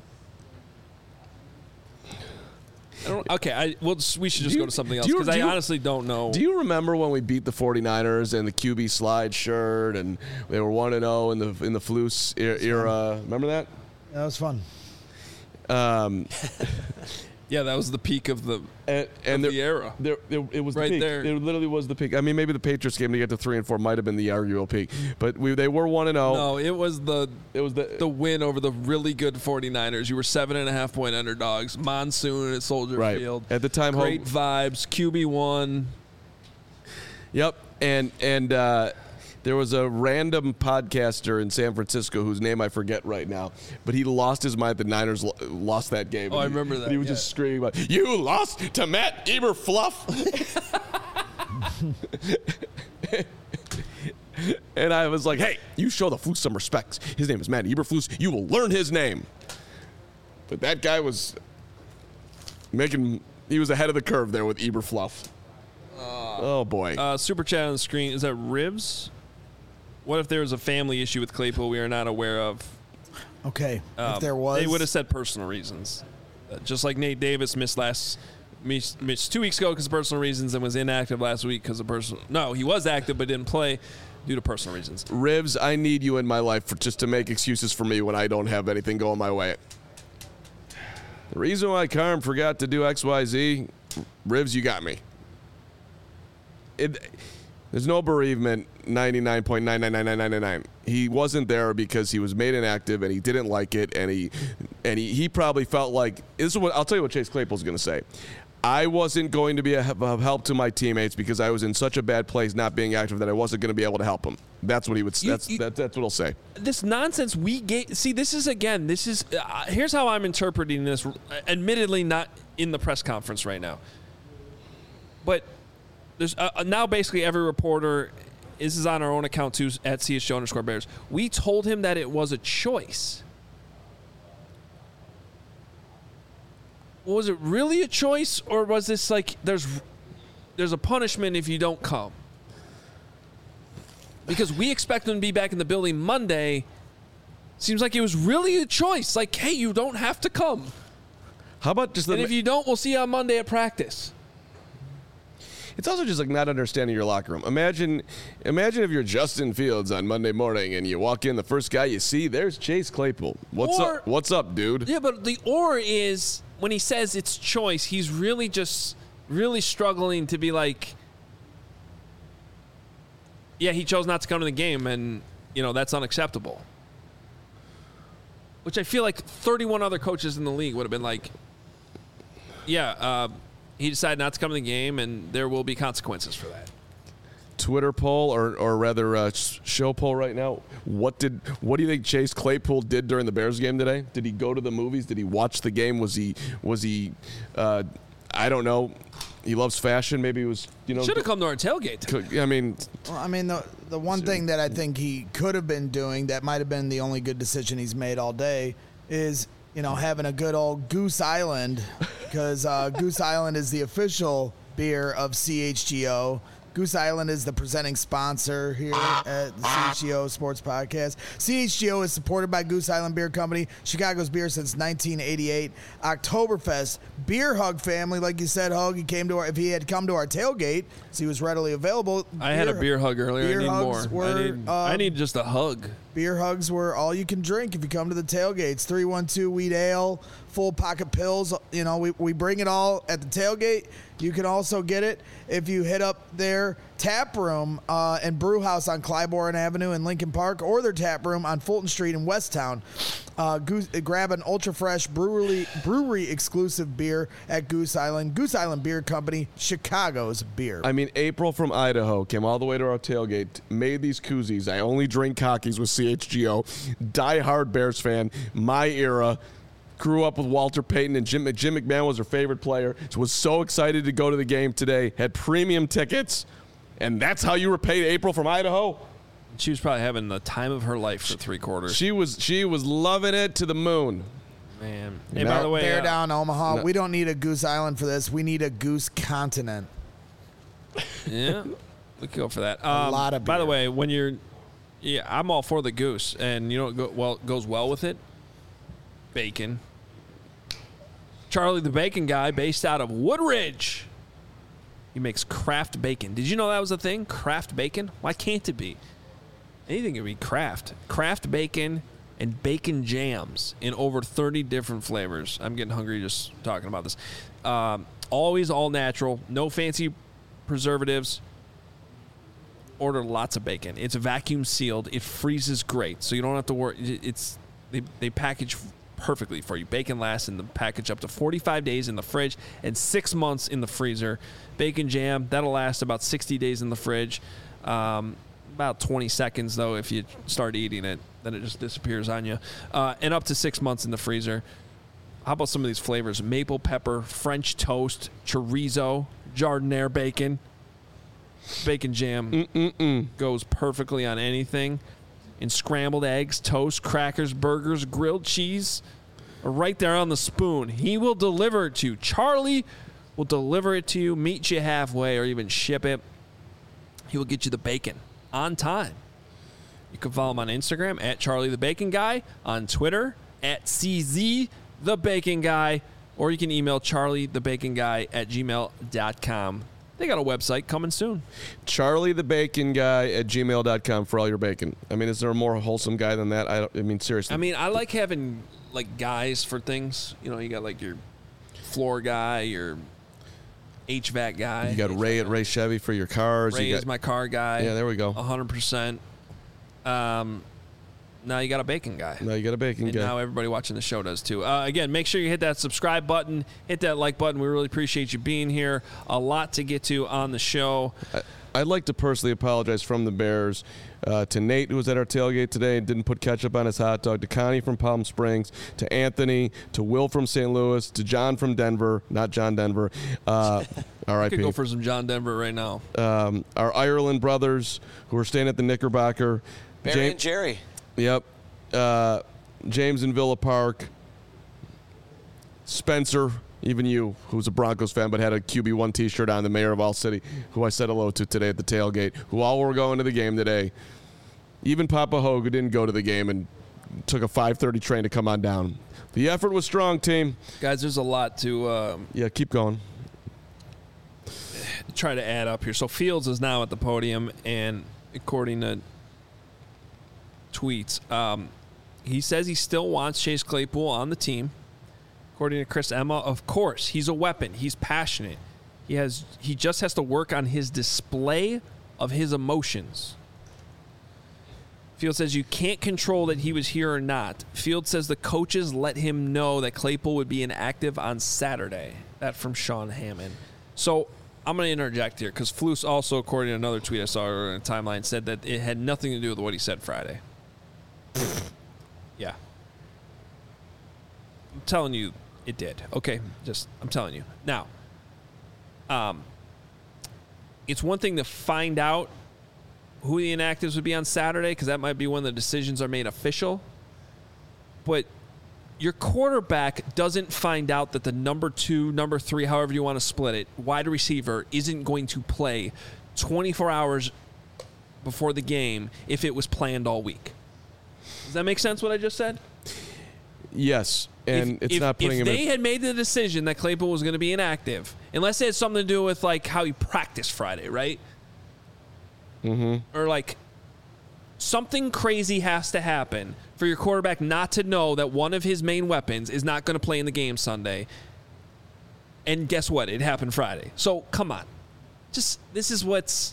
I don't, okay, I well, we should just Do go you- to something else do you- because I do you- honestly don't know. Do you remember when we beat the 49ers and the Q B slide shirt and they were one and oh in the in the Flus er- era? Remember that? That was fun. Um, Yeah, that was the peak of the and and of there, the era. There, there, it was Right the peak. there. It literally was the peak. I mean, maybe the Patriots game to get to three and four might have been the arguable peak, but we they were one and zero. No, it was the It was the the win over the really good 49ers. You were seven and a half point underdogs. Monsoon at Soldier right Field. at the time. Great home, vibes. Q B one. Yep, and and uh, there was a random podcaster in San Francisco whose name I forget right now, but he lost his mind. The Niners lo- lost that game. Oh, I And he- remember that, and he was yeah. just screaming about, "You lost to Matt Eberfluff." And I was like, "Hey, you show the Flus some respect. His name is Matt Eberflus. You will learn his name." But that guy was making. He was ahead of the curve there with Eberfluff. Oh boy. Uh, super chat on the screen. Is that Ribs? What if there was a family issue with Claypool we are not aware of? Okay, Um, if there was, They would have said personal reasons. Uh, just like Nate Davis missed last missed, missed two weeks ago because of personal reasons and was inactive last week because of personal. No, he was active but didn't play due to personal reasons. Ribs, I need you in my life for just to make excuses for me when I don't have anything going my way. The reason why Carm forgot to do X Y Z, Ribs, you got me. It, there's no bereavement, ninety-nine point nine nine nine nine nine nine. He wasn't there because he was made inactive and he didn't like it, and he and he, he probably felt like, this is what I'll tell you what Chase Claypool's going to say. I wasn't going to be a, a help to my teammates because I was in such a bad place not being active that I wasn't going to be able to help them. That's what he would. You- That's you- that, that's what he'll say. This nonsense we gave. See, this is again. This is. Uh, here's how I'm interpreting this. Admittedly, not in the press conference right now, but there's uh, now basically every reporter. This is on our own account too at C S G underscore Bears. We told him that it was a choice. Was it really a choice, or was this like there's there's a punishment if you don't come? Because we expect him to be back in the building Monday. Seems like it was really a choice. Like, hey, you don't have to come. How about just the? And if you don't, we'll see you on Monday at practice. It's also just like not understanding your locker room. Imagine, imagine if you're Justin Fields on Monday morning and you walk in, the first guy you see, there's Chase Claypool. What's Or- up? What's up, dude? Yeah, but the or is when he says it's choice, he's really just really struggling to be like, yeah, he chose not to come to the game, and you know that's unacceptable. Which I feel like thirty-one other coaches in the league would have been like, yeah, uh, he decided not to come to the game, and there will be consequences for that. Twitter poll, or or rather, uh, sh- show poll right now. What did what do you think Chase Claypool did during the Bears game today? Did he go to the movies? Did he watch the game? Was he was he? Uh, I don't know. He loves fashion. Maybe he was. You know. Should have come to our tailgate. co- I mean, Well, I mean, the the one thing that I think he could have been doing that might have been the only good decision he's made all day is, you know, having a good old Goose Island, because uh, Goose Island is the official beer of C H G O. Goose Island is the presenting sponsor here at the C H G O Sports Podcast. C H G O is supported by Goose Island Beer Company, Chicago's beer since nineteen eighty-eight. Oktoberfest, Beer Hug family, like you said, Hug. He came to our, if he had come to our tailgate, so he was readily available. I had a beer hug earlier. beer I need hugs more. I were, need, I um, need just a hug. Beer hugs were all you can drink if you come to the tailgates. three one two Wheat Ale, full pocket pills. You know, we, we bring it all at the tailgate. You can also get it if you hit up their tap room uh, and brew house on Clybourne Avenue in Lincoln Park, or their tap room on Fulton Street in Westtown. Uh, Goose, grab an ultra fresh brewery brewery exclusive beer at Goose Island. Goose Island Beer Company, Chicago's beer. I mean, April from Idaho came all the way to our tailgate, made these koozies. I only drink cockies with C H G O. Die hard Bears fan, my era. grew up with Walter Payton, and Jim, Jim McMahon was her favorite player. So was so excited to go to the game today. Had premium tickets, and that's how you repaid April from Idaho. She was probably having the time of her life for three quarters. She was she was loving it to the moon. Man. Hey, No. by the way, Bear uh, down, Omaha. no. We don't need a Goose Island for this. We need a Goose Continent. yeah, we could go for that. Um, lot of By the beer. way, when you're, yeah, I'm all for the goose, and you know what go, well goes well with it? Bacon. Charlie the Bacon Guy, based out of Woodridge. He makes craft bacon. Did you know that was a thing? Craft bacon? Why can't it be? Anything can be craft. Craft bacon and bacon jams in over thirty different flavors. I'm getting hungry just talking about this. Um, always all natural. No fancy preservatives. Order lots of bacon. It's vacuum sealed. It freezes great, so you don't have to worry. It's they, they package perfectly for you. Bacon lasts in the package up to forty-five days in the fridge and six months in the freezer. Bacon jam, that'll last about sixty days in the fridge. Um, about twenty seconds, though, if you start eating it. Then it just disappears on you. Uh, and up to six months in the freezer. How about some of these flavors? Maple pepper, French toast, chorizo, jardiniere bacon. Bacon jam Mm-mm-mm. goes perfectly on anything. And scrambled eggs, toast, crackers, burgers, grilled cheese are right there on the spoon. He will deliver it to you. Charlie will deliver it to you, meet you halfway, or even ship it. He will get you the bacon on time. You can follow him on Instagram at Charlie the Bacon Guy, on Twitter at C Z the Bacon Guy, or you can email Charlie the Bacon Guy at gmail dot com. They got a website coming soon. Charlie the Bacon Guy at gmail dot com for all your bacon. I mean, is there a more wholesome guy than that? I, don't, I mean, seriously. I mean, I like having like guys for things. You know, you got like your floor guy, your H V A C guy. you got Ray at Ray Chevy for your cars. Ray you got, is my car guy. Yeah, there we go. one hundred percent. Um, now you got a bacon guy. Now you got a bacon And guy. now everybody watching the show does too. Uh, again, make sure you hit that subscribe button, hit that like button. We really appreciate you being here. A lot to get to on the show. I, I'd like to personally apologize from the Bears uh, to Nate, who was at our tailgate today and didn't put ketchup on his hot dog, to Connie from Palm Springs, to Anthony, to Will from Saint Louis, to John from Denver, not John Denver, uh, R I I could P go for some John Denver right now. Um, our Ireland brothers who are staying at the Knickerbocker. Barry Jam- and Jerry. Yep. Uh, James in Villa Park. Spencer, even you, who's a Broncos fan but had a Q B one T-shirt on, the mayor of All City, who I said hello to today at the tailgate, who all were going to the game today. Even Papa Hogue, who didn't go to the game and took a five thirty train to come on down. The effort was strong, team. Guys, there's a lot to um, Yeah, keep going. try to add up here. So Fields is now at the podium, and according to tweets, um, he says he still wants Chase Claypool on the team. According to Chris Emma, of course, he's a weapon. He's passionate. He has. He just has to work on his display of his emotions. Fields says you can't control that he was here or not. Fields says the coaches let him know that Claypool would be inactive on Saturday. That from Sean Hammond. So I'm going to interject here because Flus also, according to another tweet I saw earlier in the timeline, said that it had nothing to do with what he said Friday. Yeah. I'm telling you it did. Okay, just I'm telling you. Now, um, it's one thing to find out who the inactives would be on Saturday, because that might be when the decisions are made official. But your quarterback doesn't find out that the number two, number three, however you want to split it, wide receiver isn't going to play twenty-four hours before the game if it was planned all week. Does that make sense what I just said? Yes, and if, it's if, not putting if him they in. had made the decision that Claypool was going to be inactive, unless it had something to do with like how he practiced Friday, right? Mm-hmm. Or like something crazy has to happen for your quarterback not to know that one of his main weapons is not going to play in the game Sunday. And guess what? It happened Friday. So come on, just this is what's,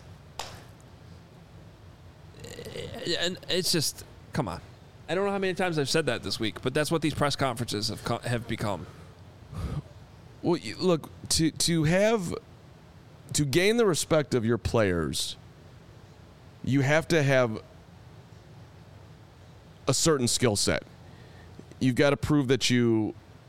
and it's just come on. I don't know how many times I've said that this week, but that's what these press conferences have co- have become. Well, you- look, to to have to gain the respect of your players, you have to have a certain skill set. You've got to prove that you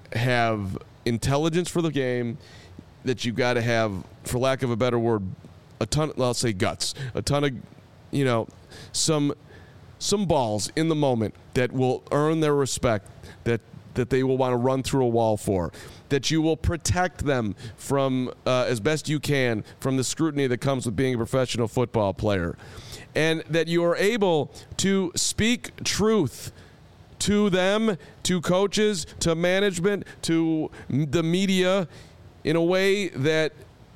have intelligence for the game, that you got to have, for lack of a better word, a ton, well, I'll say guts, a ton of, you know, some some balls in the moment that will earn their respect, that that they will want to run through a wall for, that you will protect them from, uh, as best you can, from the scrutiny that comes with being a professional football player, and that you are able to speak truth to them, to coaches, to management, to the media in a way that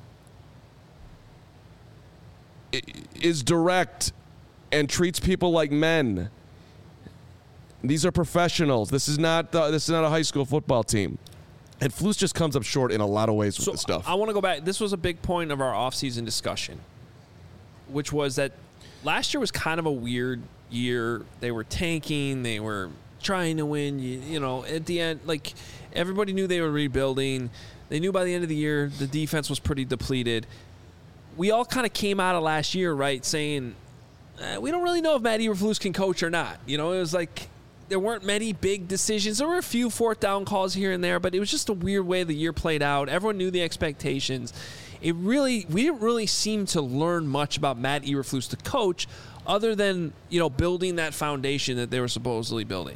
is direct and treats people like men. These are professionals. This is not the, this is not a high school football team. And Flus just comes up short in a lot of ways with so this stuff. I want to go back. This was a big point of our offseason discussion, which was that last year was kind of a weird year. They were tanking. They were trying to win. You, you know, at the end, like, everybody knew they were rebuilding. They knew by the end of the year the defense was pretty depleted. We all kind of came out of last year, right, saying, eh, we don't really know if Matt Eberflus can coach or not. You know, it was like there weren't many big decisions. There were a few fourth down calls here and there, but it was just a weird way the year played out. Everyone knew the expectations. It really, we didn't really seem to learn much about Matt Eberflus, the coach, other than, you know, building that foundation that they were supposedly building.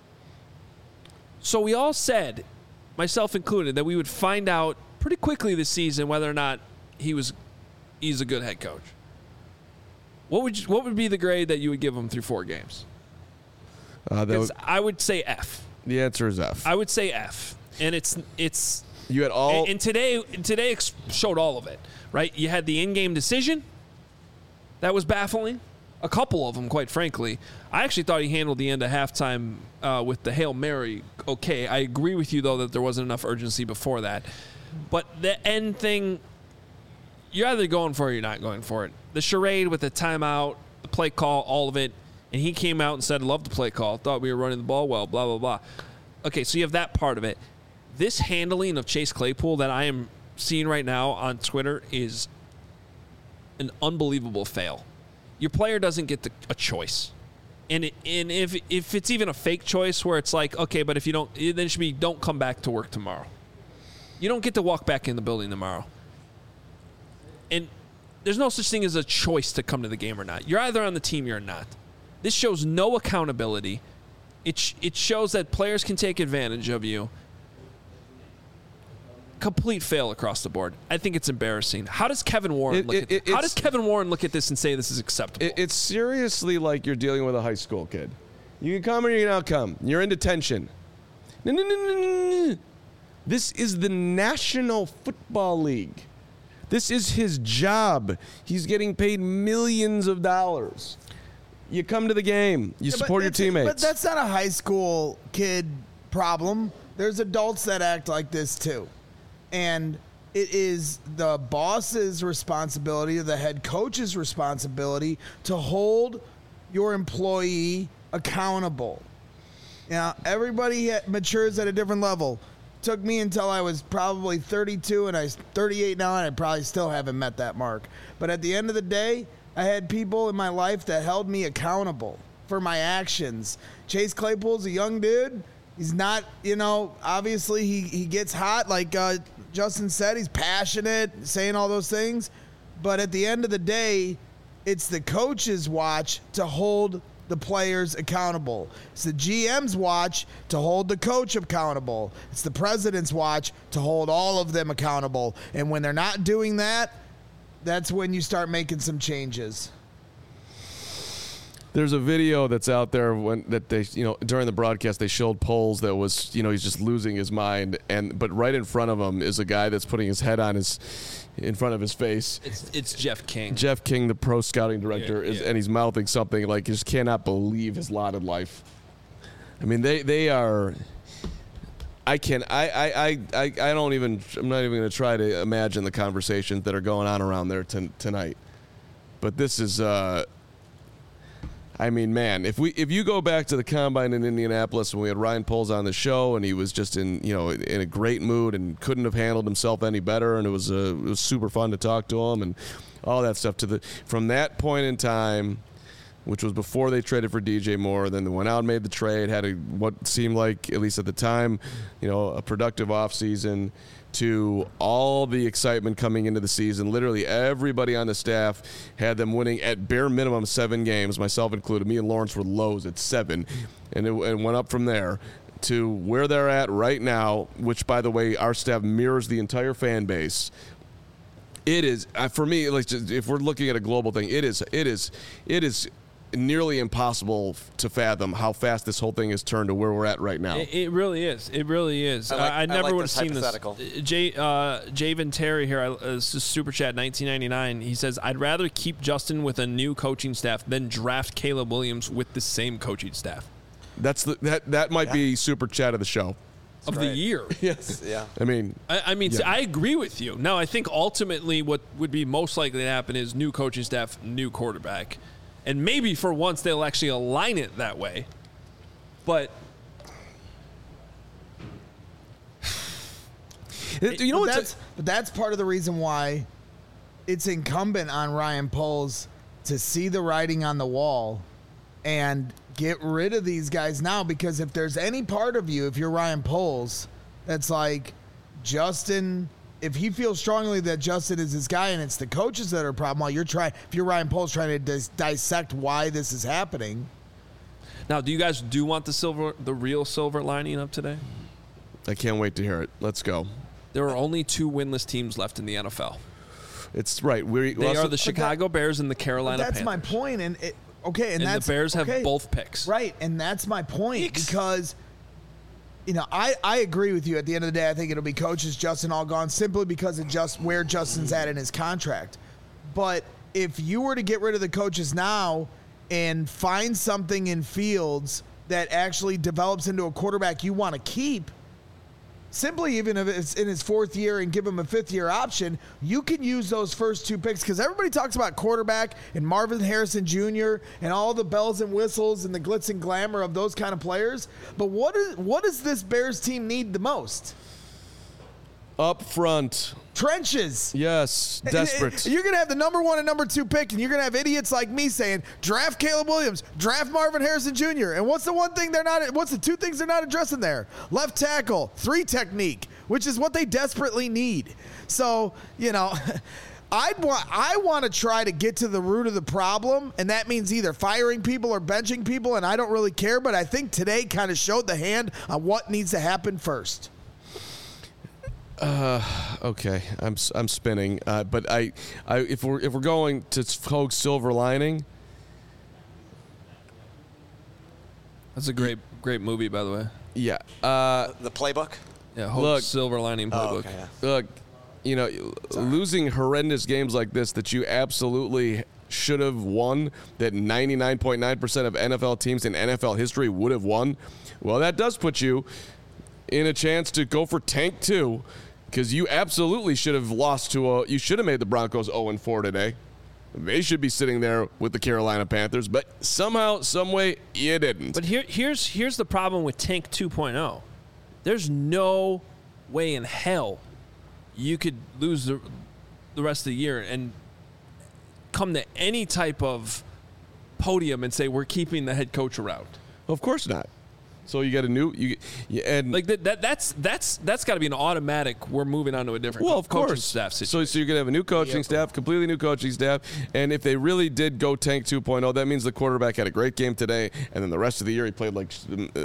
So we all said, myself included, that we would find out pretty quickly this season whether or not he was he's a good head coach. What would you, what would be the grade that you would give him through four games? Uh, that would, I would say F. the answer is F. I would say F, and it's it's. You had all, and, and today today showed all of it, right? You had the in-game decision. That was baffling. A couple of them, quite frankly. I actually thought he handled the end of halftime uh, with the Hail Mary okay. I agree with you, though, that there wasn't enough urgency before that. But the end thing, you're either going for it or you're not going for it. The charade with the timeout, the play call, all of it, and he came out and said, love the play call, thought we were running the ball well, blah, blah, blah. Okay, so you have that part of it. This handling of Chase Claypool that I am seeing right now on Twitter is an unbelievable fail. Your player doesn't get the, a choice. And it, and if if it's even a fake choice where it's like, okay, but if you don't, then it should be don't come back to work tomorrow. You don't get to walk back in the building tomorrow. And there's no such thing as a choice to come to the game or not. You're either on the team or you're not. This shows no accountability. It sh- it shows that players can take advantage of you. Complete fail across the board. I think it's embarrassing. How does Kevin Warren It- look it- at it- How it's- does Kevin Warren look at this and say this is acceptable? It, it's seriously like you're dealing with a high school kid. You can come or you can not come. You're in detention. No, no, no, no, no, no. This is the National Football League. This is his job. He's getting paid millions of dollars. You come to the game. You Yeah, but support your that's- teammates. But that's not a high school kid problem. There's adults that act like this too. And it is the boss's responsibility or the head coach's responsibility to hold your employee accountable. Now, everybody matures at a different level. Took me until I was probably thirty-two, and I'm thirty-eight now, and I probably still haven't met that mark. But at the end of the day, I had people in my life that held me accountable for my actions. Chase Claypool's a young dude. He's not, you know, obviously he, he gets hot. Like uh, Justin said, he's passionate, saying all those things. But at the end of the day, it's the coach's watch to hold the players accountable. It's the G M's watch to hold the coach accountable. It's the president's watch to hold all of them accountable. And when they're not doing that, that's when you start making some changes. There's a video that's out there when that they, you know, during the broadcast they showed polls that was, you know, he's just losing his mind, and but right in front of him is a guy that's putting his head on his, in front of his face. It's it's Jeff King. Jeff King, the pro scouting director, Yeah, is, yeah. and he's mouthing something like he just cannot believe his lot in life. I mean, they they are. I can I I I I I don't even. I'm not even going to try to imagine the conversations that are going on around there t- tonight. But this is. Uh, I mean, man, if we if you go back to the combine in Indianapolis when we had Ryan Poles on the show and he was just in you know in a great mood and couldn't have handled himself any better, and it was uh, it was super fun to talk to him and all that stuff. To the from that point in time which was before they traded for D J Moore. Then they went out and made the trade, had a, what seemed like, at least at the time, you know, a productive offseason, to all the excitement coming into the season. Literally everybody on the staff had them winning at bare minimum seven games, myself included. Me and Lawrence were lows at seven, and it, it went up from there to where they're at right now, which, by the way, our staff mirrors the entire fan base. It is, uh, for me, like, just, if we're looking at a global thing, it is, it is, it is nearly impossible to fathom how fast this whole thing has turned to where we're at right now. It, it really is. It really is. I, like, I, I I never like would have this seen this. hypothetical. Jay, uh, Javen Terry here, I, uh, this is Super Chat nineteen ninety-nine. He says, I'd rather keep Justin with a new coaching staff than draft Caleb Williams with the same coaching staff. That's the that that might Yeah. be Super Chat of the show. Of right. the year. Yes. Yeah. I mean, I, I mean, Yeah. see, I agree with you. Now, I think ultimately what would be most likely to happen is new coaching staff, new quarterback. And maybe for once they'll actually align it that way. But you know but what's that's, but that's part of the reason why it's incumbent on Ryan Poles to see the writing on the wall and get rid of these guys now, because if there's any part of you, if you're Ryan Poles, that's like Justin, if he feels strongly that Justin is his guy and it's the coaches that are a problem, while you're trying, if you're Ryan Poles trying to dis- dissect why this is happening. now, do you guys do want the silver, the real silver lining of today? I can't wait to hear it. Let's go. There are only two winless teams left in the N F L. It's right. We They are the Chicago Bears and the Carolina That's Panthers. my point, and it, okay, and, And that's the Bears have okay. both picks. Right, and that's my point, Yikes. because you know, I, I agree with you. At the end of the day, I think it'll be coaches, Justin all gone, simply because of just where Justin's at in his contract. But if you were to get rid of the coaches now and find something in Fields that actually develops into a quarterback you want to keep, simply even if it's in his fourth year and give him a fifth year option, you can use those first two picks, because everybody talks about quarterback and Marvin Harrison Junior and all the bells and whistles and the glitz and glamour of those kind of players. But what is what does this Bears team need the most? up front. Trenches. Yes, desperate. You're going to have the number one and number two pick, and you're going to have idiots like me saying, draft Caleb Williams, draft Marvin Harrison Junior And what's the one thing they're not, what's the two things they're not addressing there? Left tackle, three technique, which is what they desperately need. So, you know, I'd want, I want to try to get to the root of the problem, and that means either firing people or benching people, and I don't really care, but I think today kind of showed the hand on what needs to happen first. Uh, okay, I'm I'm spinning. Uh, but I, I if we're if we're going to Hoag's silver lining, That's a great, great movie, by the way. yeah. Uh, The playbook? Yeah, Hope's Look- Silver Lining Oh, playbook. okay. yeah. look, you know, losing horrendous games like this that you absolutely should have won, that ninety-nine point nine percent of N F L teams in N F L history would have won. Well, that does put you in a chance to go for tank two, because you absolutely should have lost to a. You should have made the Broncos oh and four today. They should be sitting there with the Carolina Panthers, but somehow, some way, you didn't. But here, here's here's the problem with Tank two point oh. There's no way in hell you could lose the, the rest of the year and come to any type of podium and say we're keeping the head coach around. Of course not. So you got a new you, you and Like that, that that's that's that's got to be an automatic. We're moving on to a different well, of coaching course. staff So, situation. so you're gonna have a new coaching staff, completely new coaching staff, and if they really did go tank two point oh, that means the quarterback had a great game today, and then the rest of the year he played like. Uh,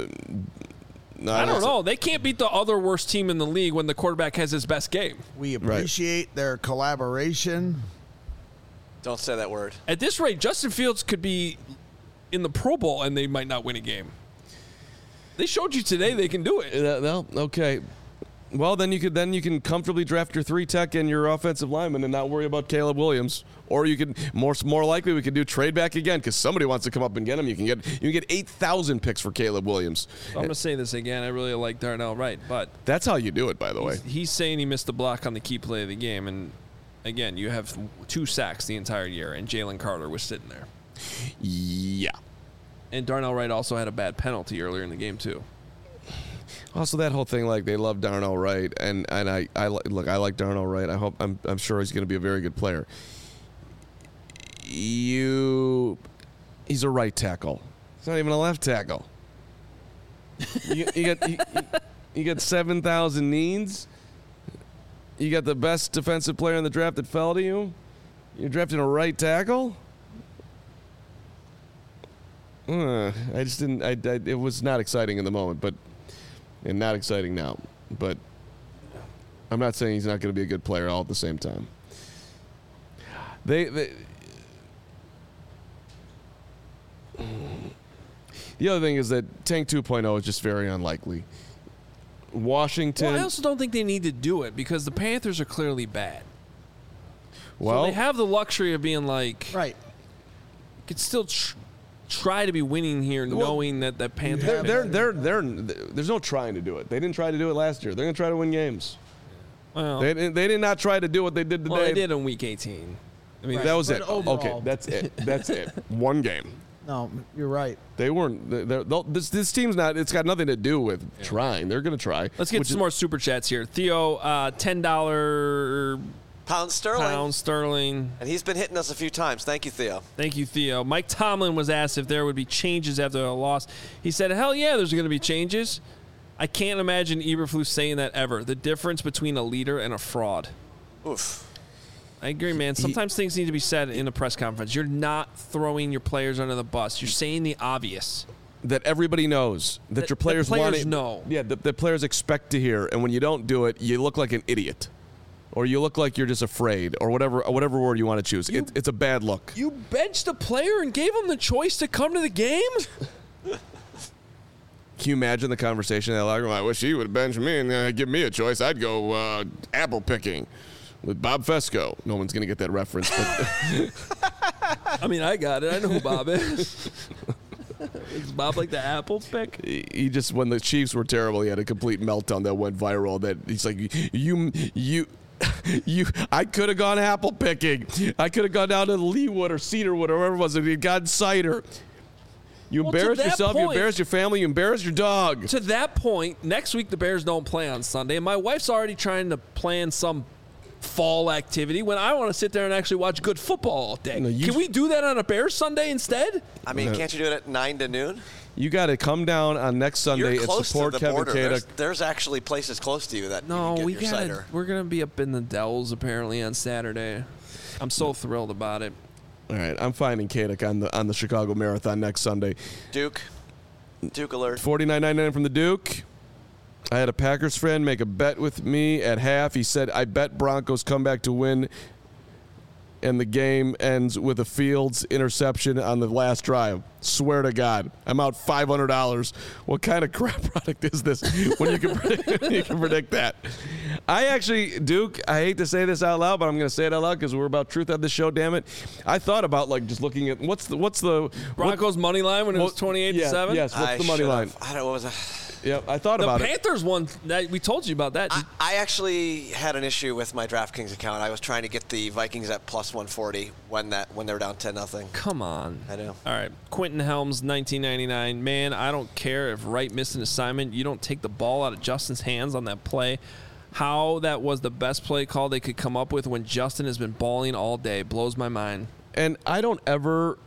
no, I don't won't say- know. They can't beat the other worst team in the league when the quarterback has his best game. We appreciate their collaboration. Don't say that word. At this rate, Justin Fields could be in the Pro Bowl and they might not win a game. They showed you today they can do it. Uh, well, okay. Well, then you could then you can comfortably draft your three tech and your offensive lineman and not worry about Caleb Williams. Or you could more more likely we could do trade back again because somebody wants to come up and get him. You can get you can get eight thousand picks for Caleb Williams. I'm going to say this again. I really like Darnell Wright, but That's how you do it, by the way. he's saying he missed the block on the key play of the game. And again, you have two sacks the entire year, and Jalen Carter was sitting there. Yeah. And Darnell Wright also had a bad penalty earlier in the game, too. Also, that whole thing, like they love Darnell Wright, and and I, I li- look, I like Darnell Wright. I hope I'm I'm sure he's going to be a very good player. You, He's a right tackle. He's not even a left tackle. you, you got you, you got seven thousand needs. You got the best defensive player in the draft that fell to you. You're drafting a right tackle. Uh, I just didn't. I, I. It was not exciting in the moment, but and not exciting now. But I'm not saying he's not going to be a good player all at the same time. They. they The other thing is that Tank two point oh is just very unlikely. Washington. Well, I also don't think they need to do it because the Panthers are clearly bad. Well, so they have the luxury of being like, Right. you could still tr- try to be winning here, Well, knowing that the Panthers. they're, are they're, bad. they're, they're, there's no trying to do it. They didn't try to do it last year. They're going to try to win games. Well, They, they did not try to do what they did today. well, they did in Week eighteen. I mean, Right. That was But it. overall- Okay, that's it. That's it. One game. No, you're right. They weren't. They're, they're, this this team's not. It's got nothing to do with trying. They're going to try. Let's get which some is- more super chats here. Theo, uh, ten dollar Pound sterling. pound sterling. And he's been hitting us a few times. Thank you, Theo. Thank you, Theo. Mike Tomlin was asked if there would be changes after a loss. He said, hell yeah, there's going to be changes. I can't imagine Eberflus saying that ever. The difference between a leader and a fraud. Oof. I agree, man. Sometimes things need to be said in a press conference. You're not throwing your players under the bus. You're saying the obvious. that everybody knows that, That- your players, that players want it. know. Yeah, the, the players expect to hear, and when you don't do it, you look like an idiot, or you look like you're just afraid, or whatever whatever word you want to choose. You- It, it's a bad look. You benched a player and gave him the choice to come to the game? Can you imagine the conversation in that locker room? I wish he would bench me and uh, give me a choice. I'd go uh, apple picking with Bob Fesco. No one's going to get that reference. But I mean, I got it. I know who Bob is. Is Bob like the apple pick? he he just, when the Chiefs were terrible, he had a complete meltdown that went viral. That he's like, you, you, you. I could have gone apple picking. I could have gone down to Leewood or Cedarwood or wherever it was. And he'd gotten cider. You Well, to embarrass that yourself. You point- embarrass your family. You embarrass your dog. To that point, next week the Bears don't play on Sunday, and my wife's already trying to plan some fall activity when I want to sit there and actually watch good football all day. No, you- Can we do that on a Bears Sunday instead? I mean, can't you do it at nine to noon? You got to come down on next Sunday You're and close support to the Kevin border. There's, Kadek. there's actually places close to you that No, you can we get your got. cider. We're gonna be up in the Dells apparently on Saturday. I'm so thrilled about it. All right, I'm finding Kadek on the on the Chicago Marathon next Sunday. Duke. Duke alert. forty-nine ninety-nine from the Duke. I had a Packers friend make a bet with me at half. He said, I bet Broncos come back to win, and the game ends with a Fields interception on the last drive. Swear to God, I'm out five hundred dollars. What kind of crap product is this when you can predict, when you can predict that? I actually, Duke, I hate to say this out loud, but I'm going to say it out loud because we're about truth on this show, damn it. I thought about, like, just looking at, what's the, what's the, Broncos money line when it was what- twenty-eight yeah, to seven. Yes, what's I the money should've- line? I don't know. What was it? Yep, I thought The about it. Panthers won. That, we told you about that. I, I actually had an issue with my DraftKings account. I was trying to get the Vikings at plus one forty when that when they were down ten nothing. Come on. I know. All right. Quentin Helms, nineteen ninety-nine. Man, I don't care if Wright missed an assignment. You don't take the ball out of Justin's hands on that play. How that was the best play call they could come up with when Justin has been balling all day blows my mind. And I don't ever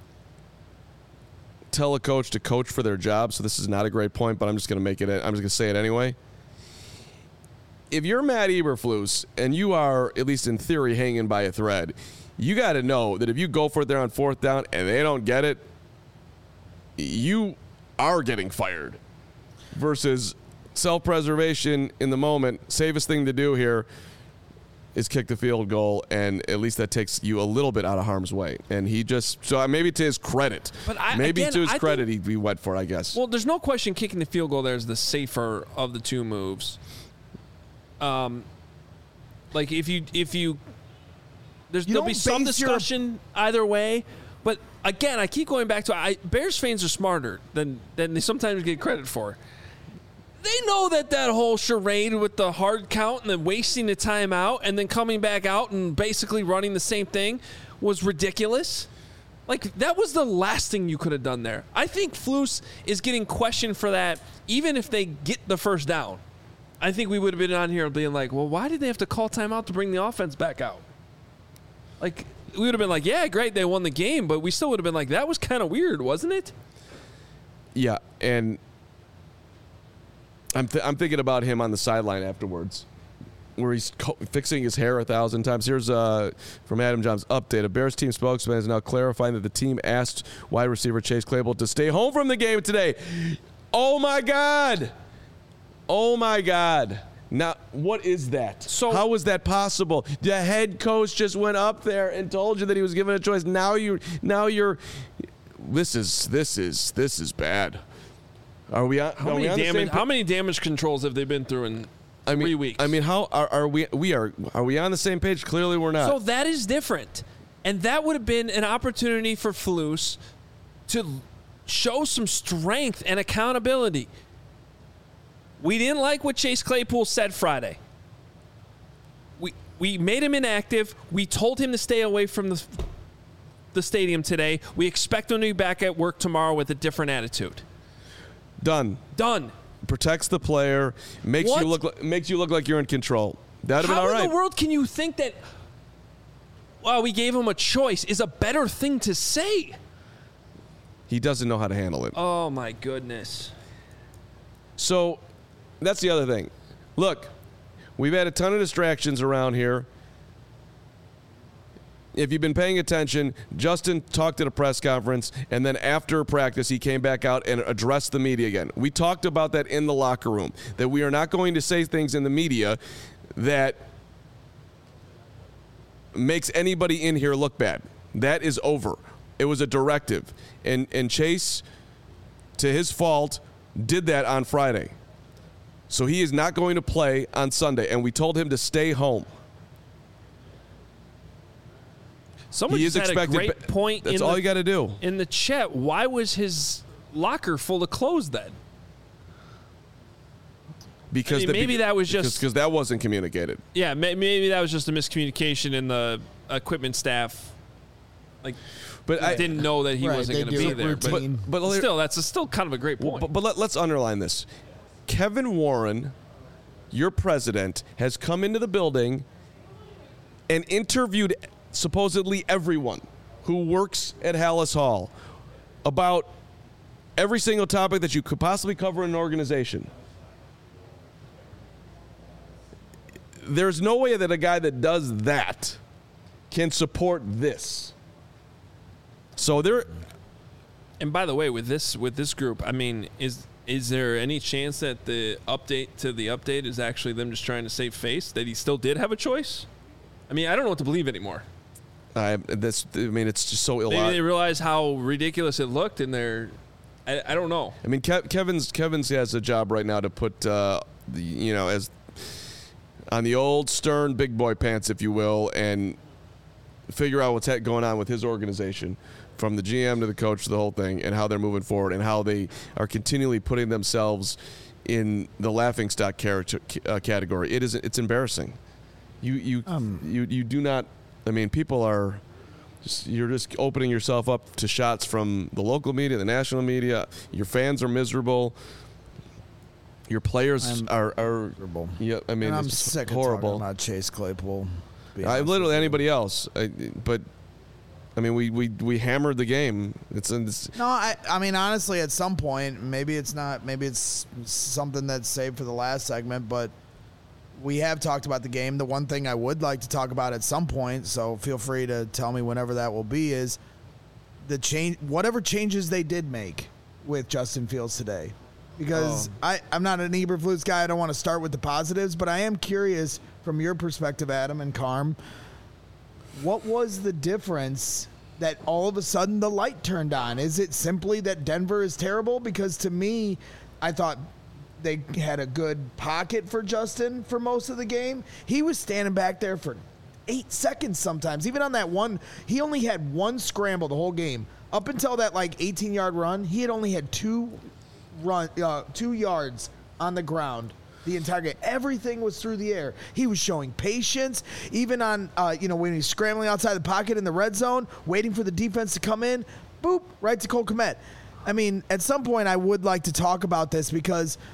tell a coach to coach for their job, so this is not a great point, but I'm just going to make it, I'm just going to say it anyway. If you're Matt Eberflus and you are, at least in theory, hanging by a thread, you got to know that if you go for it there on fourth down and they don't get it, you are getting fired. Versus self-preservation in the moment, safest thing to do here is kick the field goal, and at least that takes you a little bit out of harm's way. And he just, so maybe to his credit, But I- maybe again, to his I credit, think- he, he went for it, I guess. Well, there's no question kicking the field goal there is the safer of the two moves. Um, like if you if you there's You there'll be don't some base your- discussion either way, but again, I keep going back to I Bears fans are smarter than than they sometimes get credit for. They know that that whole charade with the hard count and then wasting the time out and then coming back out and basically running the same thing was ridiculous. Like, that was the last thing you could have done there. I think Flus is getting questioned for that even if they get the first down. I think we would have been on here being like, well, why did they have to call timeout to bring the offense back out? Like, we would have been like, yeah, great, they won the game, but we still would have been like, that was kind of weird, wasn't it? Yeah, and I'm th- I'm thinking about him on the sideline afterwards, where he's co- fixing his hair a thousand times. Here's uh, from Adam John's update. A Bears team spokesman is now clarifying that the team asked wide receiver Chase Claypool to stay home from the game today. Oh, my God. Oh, my God. Now, what is that? So how is that possible? The head coach just went up there and told you that he was given a choice. Now you, now you're. This is this is this is bad. Are we on? How are many we on the damage? same How many damage controls have they been through in I mean, three weeks? I mean, how are, are we? We are. Are we on the same page? Clearly, we're not. So that is different, and that would have been an opportunity for Flus to show some strength and accountability. We didn't like what Chase Claypool said Friday. We we made him inactive. We told him to stay away from the the stadium today. We expect him to be back at work tomorrow with a different attitude. Done. Done. Protects the player. Makes What? you look. Like, makes you look like you're in control. That'd have been How all right. in the world can you think that, well, we gave him a choice is a better thing to say? He doesn't know how to handle it. Oh, my goodness. So that's the other thing. Look, we've had a ton of distractions around here. If you've been paying attention, Justin talked at a press conference, and then after practice, he came back out and addressed the media again. We talked about that in the locker room, that we are not going to say things in the media that makes anybody in here look bad. That is over. It was a directive. And, and Chase, to his fault, did that on Friday. So he is not going to play on Sunday, and we told him to stay home. Someone He just is had expected. a great ba- point That's in all the, you got to do. in the chat. Why was his locker full of clothes then? Because I mean, the, maybe that was just- because that wasn't communicated. Yeah, may, maybe that was just a miscommunication in the equipment staff. Like, But I didn't know that he Right, wasn't they going to do be it there. But, routine. But, but still, that's a, still kind of a great point. But, but let, let's underline this. Kevin Warren, your president, has come into the building and interviewed supposedly everyone who works at Hallis Hall about every single topic that you could possibly cover in an organization. There's no way that a guy that does that can support this. So there. And by the way, with this with this group, I mean, is is there any chance that the update to the update is actually them just trying to save face? That he still did have a choice? I mean, I don't know what to believe anymore. I that's. I mean, it's just so Maybe they illogical. realize how ridiculous it looked, and they're. I, I don't know. I mean, Kev, Kevin's Kevin's has a job right now to put, uh, the, you know, as on the old stern big boy pants, if you will, and figure out what's going on with his organization, from the G M to the coach to the whole thing, and how they're moving forward, and how they are continually putting themselves in the laughingstock character, uh, category. It is it's embarrassing. You you Um, you you do not. I mean, people are. Just, you're just opening yourself up to shots from the local media, the national media. Your fans are miserable. Your players I'm are, are miserable. yeah. I mean, And I'm it's just sick horrible. of talking about Chase Claypool. to be I honest literally with you. anybody else, I, but I mean, we, we we hammered the game. It's, it's No, I, I mean, honestly, at some point, maybe it's not, maybe it's something that's saved for the last segment, but we have talked about the game. The one thing I would like to talk about at some point, so feel free to tell me whenever that will be, is the change, whatever changes they did make with Justin Fields today. Because Oh. I, I'm not an Eberflus guy. I don't want to start with the positives, but I am curious from your perspective, Adam and Carm, what was the difference that all of a sudden the light turned on? Is it simply that Denver is terrible? Because to me, I thought they had a good pocket for Justin for most of the game. He was standing back there for eight seconds sometimes. Even on that one, he only had one scramble the whole game. Up until that like eighteen-yard run, he had only had two run, uh, two yards on the ground the entire game. Everything was through the air. He was showing patience, even on, uh, you know, when he's scrambling outside the pocket in the red zone, waiting for the defense to come in, boop, right to Cole Kmet. I mean, at some point I would like to talk about this because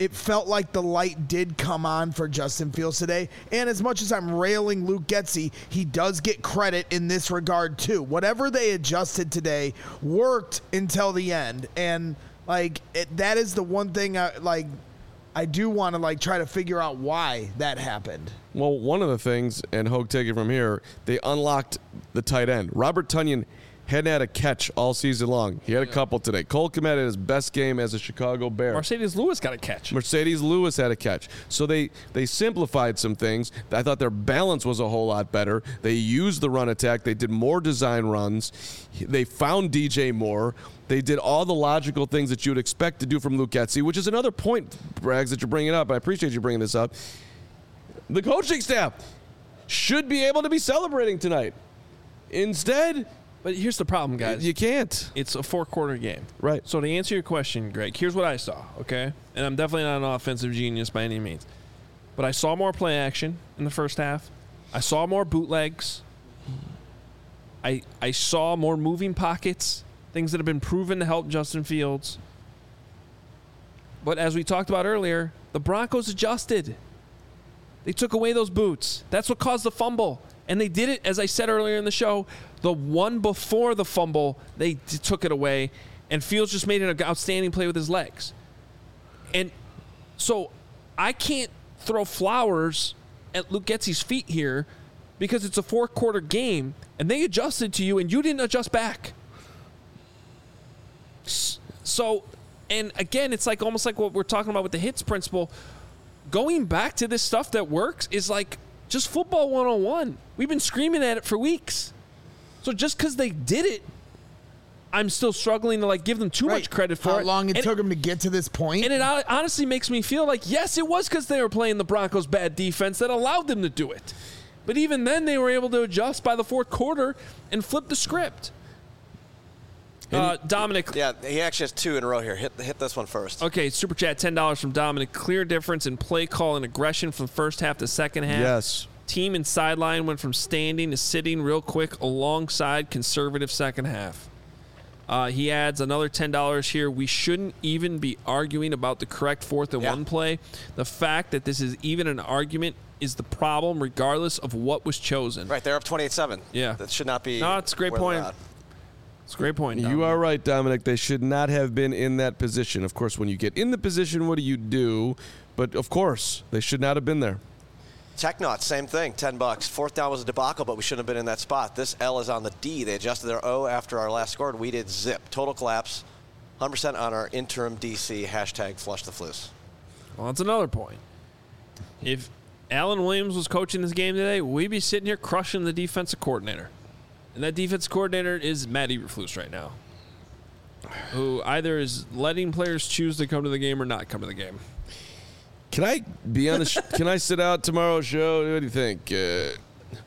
it felt like the light did come on for Justin Fields today. And as much as I'm railing Luke Getsy, he does get credit in this regard too. Whatever they adjusted today worked until the end. And like it, that is the one thing I like I do want to like try to figure out why that happened. Well, one of the things, and Hogue, take it from here, they unlocked the tight end. Robert Tonyan hadn't had a catch all season long. He had a couple today. Cole Kmet had his best game as a Chicago Bear. Mercedes Lewis got a catch. Mercedes Lewis had a catch. So they, they simplified some things. I thought their balance was a whole lot better. They used the run attack. They did more design runs. They found D J Moore. They did all the logical things that you would expect to do from Luke Getsy, which is another point, Braggs, that you're bringing up. I appreciate you bringing this up. The coaching staff should be able to be celebrating tonight. Instead, but here's the problem, guys. You can't. It's a four-quarter game. Right. So to answer your question, Greg, here's what I saw, okay? And I'm definitely not an offensive genius by any means. But I saw more play action in the first half. I saw more bootlegs. I I saw more moving pockets, things that have been proven to help Justin Fields. But as we talked about earlier, the Broncos adjusted. They took away those boots. That's what caused the fumble. And they did it, as I said earlier in the show, the one before the fumble, they t- took it away, and Fields just made an outstanding play with his legs. And so I can't throw flowers at Luke Getsy's feet here because it's a four-quarter game, and they adjusted to you, and you didn't adjust back. So, and again, it's like almost like what we're talking about with the hits principle. Going back to this stuff that works is like just football one oh one. We've been screaming at it for weeks. So just because they did it, I'm still struggling to like give them too Right. much credit for How it. How long it and took them to get to this point. And it honestly makes me feel like, yes, it was because they were playing the Broncos' bad defense that allowed them to do it. But even then, they were able to adjust by the fourth quarter and flip the script. Uh, Dominic. Yeah, he actually has two in a row here. Hit hit this one first. Okay, Super Chat, ten dollars from Dominic. Clear difference in play call and aggression from first half to second half. Yes. Team and sideline went from standing to sitting real quick alongside conservative second half. Uh, he adds another ten dollars here. We shouldn't even be arguing about the correct fourth and Yeah. one play. The fact that this is even an argument is the problem regardless of what was chosen. Right, they're up twenty-eight seven. Yeah. That should not be. No, it's a great where point. they're at. It's a great point, Dominic. You are right, Dominic. They should not have been in that position. Of course, when you get in the position, what do you do? But, of course, they should not have been there. Technauts, same thing, ten bucks. Fourth down was a debacle, but we shouldn't have been in that spot. This L is on the D. They adjusted their O after our last score, and we did zip. Total collapse, one hundred percent on our interim D C, hashtag flush the flues. Well, that's another point. If Alan Williams was coaching this game today, we'd be sitting here crushing the defensive coordinator. And that defensive coordinator is Matt Eberflus right now, who either is letting players choose to come to the game or not come to the game. Can I be on the? Sh- can I sit out tomorrow's show? What do you think? Uh,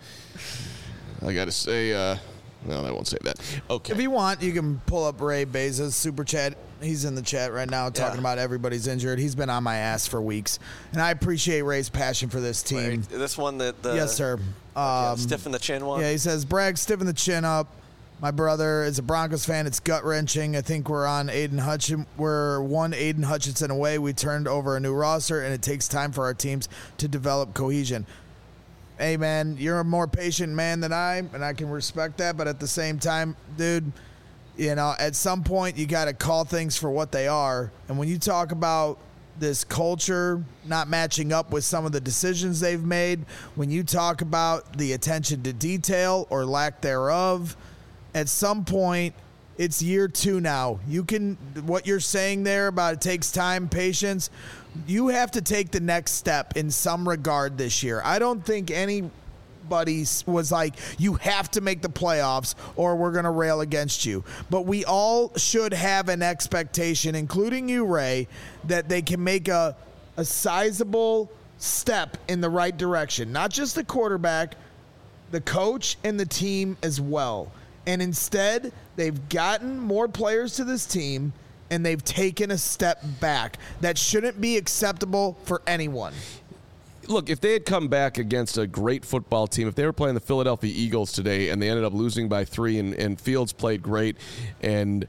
I got to say, uh, no, I won't say that. Okay. If you want, you can pull up Ray Beza's super chat. He's in the chat right now talking Yeah. about everybody's injured. He's been on my ass for weeks. And I appreciate Ray's passion for this team. Right, this one that the Yes, sir. yeah, Um, stiffen the chin one. Yeah, he says, Bragg, stiffen the chin up. My brother is a Broncos fan. It's gut-wrenching. I think we're on Aiden Hutchinson. We're one Aiden Hutchinson away. We turned over a new roster, and it takes time for our teams to develop cohesion. Hey, man, you're a more patient man than I, and I can respect that. But at the same time, dude, you know, at some point you got to call things for what they are. And when you talk about this culture not matching up with some of the decisions they've made, when you talk about the attention to detail or lack thereof, at some point, it's year two now. You can, what you're saying there about it takes time, patience, you have to take the next step in some regard this year. I don't think anybody was like, you have to make the playoffs or we're going to rail against you. But we all should have an expectation, including you, Ray, that they can make a, a sizable step in the right direction. Not just the quarterback, the coach and the team as well. And instead, they've gotten more players to this team, and they've taken a step back. That shouldn't be acceptable for anyone. Look, if they had come back against a great football team, if they were playing the Philadelphia Eagles today and they ended up losing by three and, and Fields played great and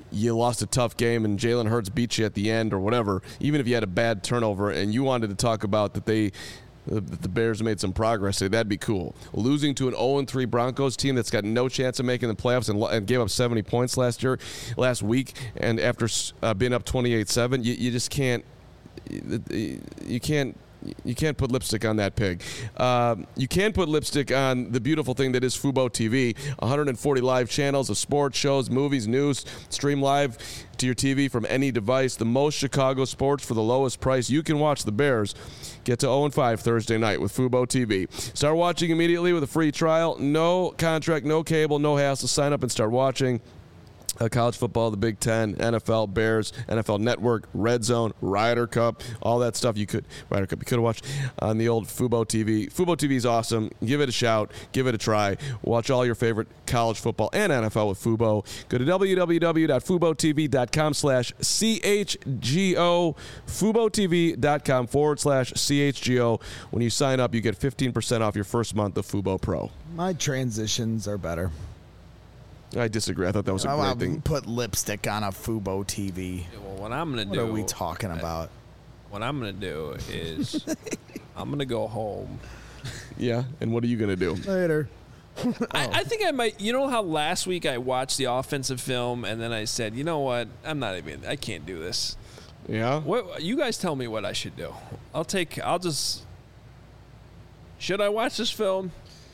you lost a tough game and Jalen Hurts beat you at the end or whatever, even if you had a bad turnover and you wanted to talk about that they that the Bears made some progress, that'd be cool. Losing to an oh and three Broncos team that's got no chance of making the playoffs and, and gave up seventy points last year, last week, and after uh, being up twenty-eight seven, you, you just can't you can't You can't put lipstick on that pig. Uh, you can put lipstick on the beautiful thing that is Fubo T V. one hundred forty live channels of sports, shows, movies, news, stream live to your T V from any device. The most Chicago sports for the lowest price. You can watch the Bears get to oh and five Thursday night with Fubo T V. Start watching immediately with a free trial. No contract, no cable, no hassle. Sign up and start watching. Uh, college football, the Big Ten, N F L, Bears, N F L Network, Red Zone, Ryder Cup, all that stuff you could Ryder Cup you could have watched on the old Fubo T V. Fubo T V is awesome. Give it a shout. Give it a try. Watch all your favorite college football and N F L with Fubo. Go to www.fubotv.com slash CHGO. FuboTV.com forward slash CHGO. When you sign up, you get fifteen percent off your first month of Fubo Pro. My transitions are better. I disagree. I thought that was a I great want to thing. put lipstick on a Fubo T V. Well, what I'm gonna What do? are we talking about? What I'm gonna do is I'm gonna go home. Yeah, and what are you going to do? Later. I, I think I might. You know how last week I watched the offensive film and then I said, you know what? I'm not even. I can't do this. Yeah? What you guys tell me what I should do. I'll take. I'll just. Should I watch this film?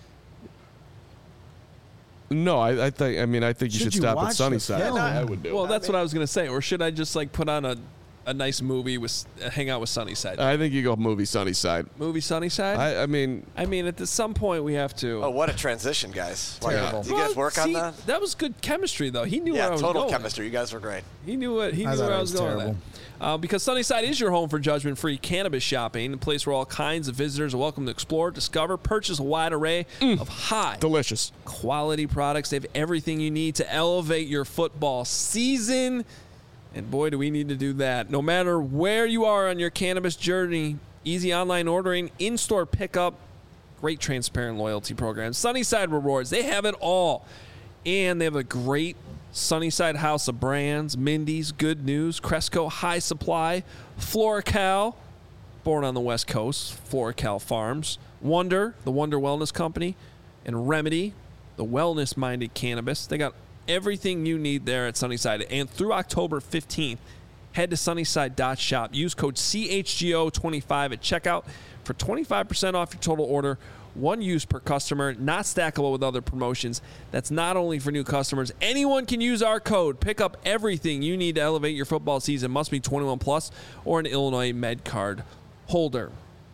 No, I, I think. I mean, I think you Should should you stop at watch the Sunnyside. film? I would do. Well, that's what I was gonna say. Or should I just like put on a, a nice movie with uh, hang out with Sunnyside? I think you go movie Sunnyside. movie Sunnyside. I, I, I mean, mean, at the, some point we have to. Oh, what a transition, guys. Like, Terrible. did you guys Well, work on see, that? That was good chemistry, though. He knew where I Yeah, was total going. chemistry. You guys were great. He knew what he I knew thought where it I was was going. terrible. With that. Uh, because Sunnyside is your home for judgment-free cannabis shopping, a place where all kinds of visitors are welcome to explore, discover, purchase a wide array of high delicious. quality products. They have everything you need to elevate your football season. And boy, do we need to do that. No matter where you are on your cannabis journey, easy online ordering, in-store pickup, great transparent loyalty program, Sunnyside Rewards, they have it all. And they have a great Sunnyside house of brands, Mindy's, Good News, Cresco, High Supply, FloraCal, born on the West Coast, FloraCal Farms, Wonder, the Wonder Wellness Company, and Remedy, the wellness-minded cannabis. They got everything you need there at Sunnyside. And through October fifteenth, head to sunnyside dot shop. Use code C H G O twenty-five at checkout for twenty-five percent off your total order. One use per customer, not stackable with other promotions. That's not only for new customers. Anyone can use our code. Pick up everything you need to elevate your football season. Must be twenty-one plus or an Illinois Med Card holder.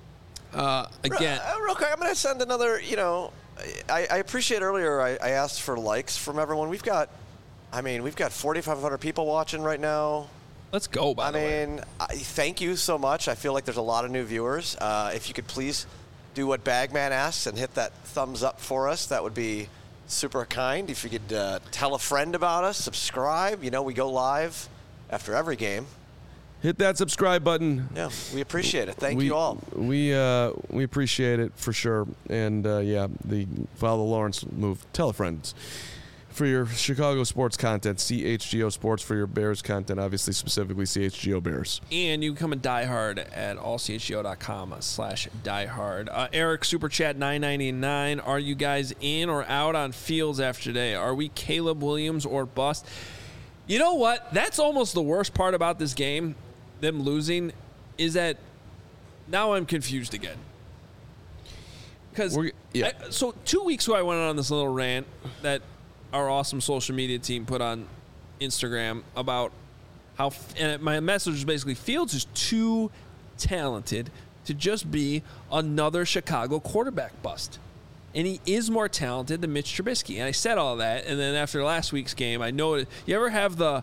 Uh, again, Uh, real quick, I'm going to send another, you know, I, I appreciate earlier I, I asked for likes from everyone. We've got, I mean, we've got forty-five hundred people watching right now. let's go, by I the way. mean, I, thank you so much. I feel like there's a lot of new viewers. Uh, if you could please do what Bagman asks and hit that thumbs up for us, that would be super kind. If you could uh, tell a friend about us, subscribe. You know, we go live after every game. Hit that subscribe button. Yeah, we appreciate it. Thank we, you all. We uh, we appreciate it for sure. And uh, yeah, the follow the Lawrence move. Tell a friend. For your Chicago sports content, C H G O Sports. For your Bears content, obviously specifically C H G O Bears. And you can come and diehard at all c h g o dot com slash diehard. Uh, Eric, Super Chat nine ninety-nine. Are you guys in or out on Fields after today? Are we Caleb Williams or bust? You know what? That's almost the worst part about this game, them losing, is that now I'm confused again. Because yeah. so two weeks ago I went on this little rant that our awesome social media team put on Instagram about how, and my message was basically, Fields is too talented to just be another Chicago quarterback bust. And he is more talented than Mitch Trubisky. And I said all that, and then after last week's game, I know it. You ever have the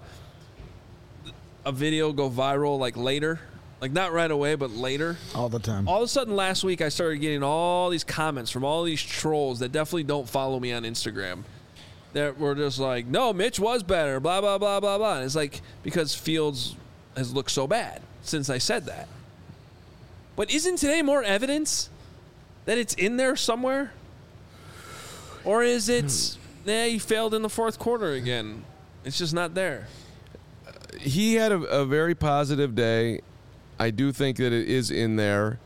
a video go viral like later? Like not right away, but later? All the time. All of a sudden last week I started getting all these comments from all these trolls that definitely don't follow me on Instagram. That were just like, no, Mitch was better, blah, blah, blah, blah, blah. And it's like, because Fields has looked so bad since I said that. But isn't today more evidence that it's in there somewhere? Or is it, nah, he failed in the fourth quarter again? It's just not there. he had a, a very positive day. I do think that it is in there.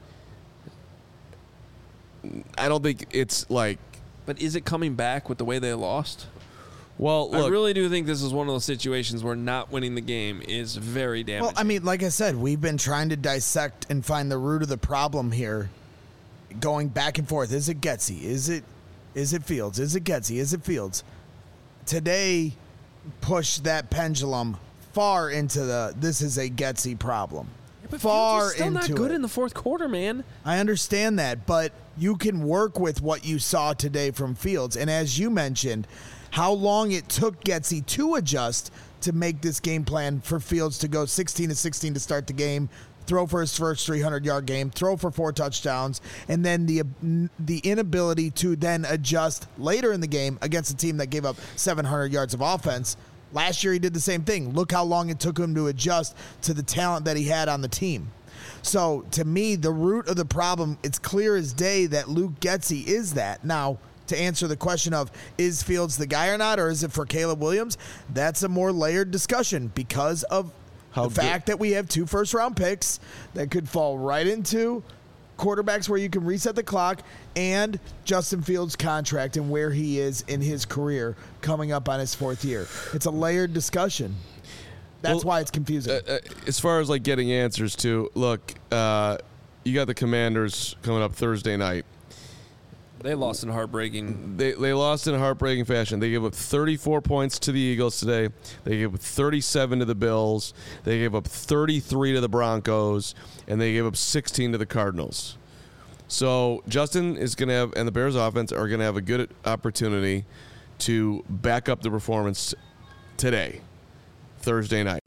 I don't think it's like. But is it coming back with the way they lost? Well, look, I really do think this is one of those situations where not winning the game is very damaging. Well, I mean, like I said, we've been trying to dissect and find the root of the problem here, going back and forth. Is it Getsy? Is it is it Fields? Is it Getsy? Is it Fields? Today, push that pendulum far into the this is a Getsy problem. Yeah, but far Fields is still into not good it. in the fourth quarter, man. I understand that, but you can work with what you saw today from Fields. And as you mentioned, how long it took Getsy to adjust to make this game plan for Fields to go sixteen to sixteen to start the game, throw for his first three hundred yard game, throw for four touchdowns, and then the the inability to then adjust later in the game against a team that gave up seven hundred yards of offense. Last year he did the same thing. Look how long it took him to adjust to the talent that he had on the team. So to me, the root of the problem, it's clear as day that Luke Getsy is that. Now, to answer the question of is Fields the guy or not, or is it for Caleb Williams, that's a more layered discussion because of How the fact that we have two first round picks that could fall right into quarterbacks where you can reset the clock, and Justin Fields' contract and where he is in his career coming up on his fourth year. It's a layered discussion. That's Well, why it's confusing. Uh, uh, as far as like getting answers to, look, uh, you got the Commanders coming up Thursday night. They lost in heartbreaking. They they lost in a heartbreaking fashion. They gave up thirty-four points to the Eagles today. They gave up thirty-seven to the Bills. They gave up thirty-three to the Broncos, and they gave up sixteen to the Cardinals. So Justin is going to have, and the Bears offense are going to have a good opportunity to back up the performance today, Thursday night.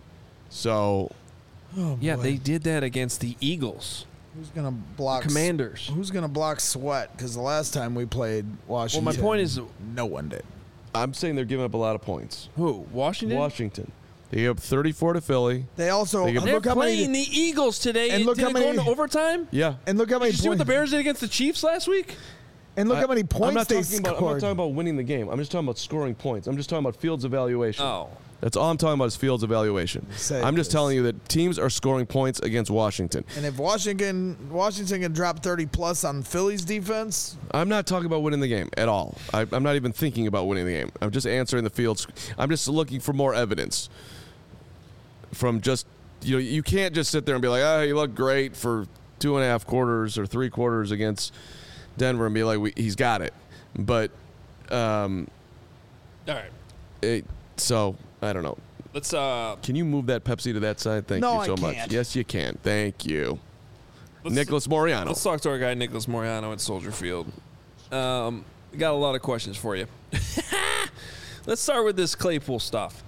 So oh, Yeah, boy. they did that against the Eagles. Who's gonna block Commanders. Who's gonna block Sweat? Because the last time we played Washington, Well, my point is- no one did. I'm saying they're giving up a lot of points. Who? Washington? Washington. They gave up thirty-four to Philly. They also They give- They're look how playing many the Eagles today. And look did how it go many- into overtime? Yeah. and look how many Did you see what points the Bears did against the Chiefs last week? and look I- how many points I'm not they talking about, I'm not scored. talking about winning the game. I'm just talking about scoring points. I'm just talking about Fields' evaluation. Oh. That's all I'm talking about is Fields' evaluation. Say I'm just this. telling you that teams are scoring points against Washington. And if Washington Washington can drop thirty plus on Philly's defense, I'm not talking about winning the game at all. I, I'm not even thinking about winning the game. I'm just answering the Fields. I'm just looking for more evidence from just, you know, you can't just sit there and be like, oh, he looked great for two and a half quarters or three quarters against Denver and be like, we, he's got it. But, um, All right. it, so I don't know. Let's uh Can you move that Pepsi to that side? Thank No, you I so much. can't. Yes, you can. Thank you. let's, Nicholas Moriano. Let's talk to our guy Nicholas Moriano at Soldier Field. Um, we got a lot of questions for you. Let's start with this Claypool stuff.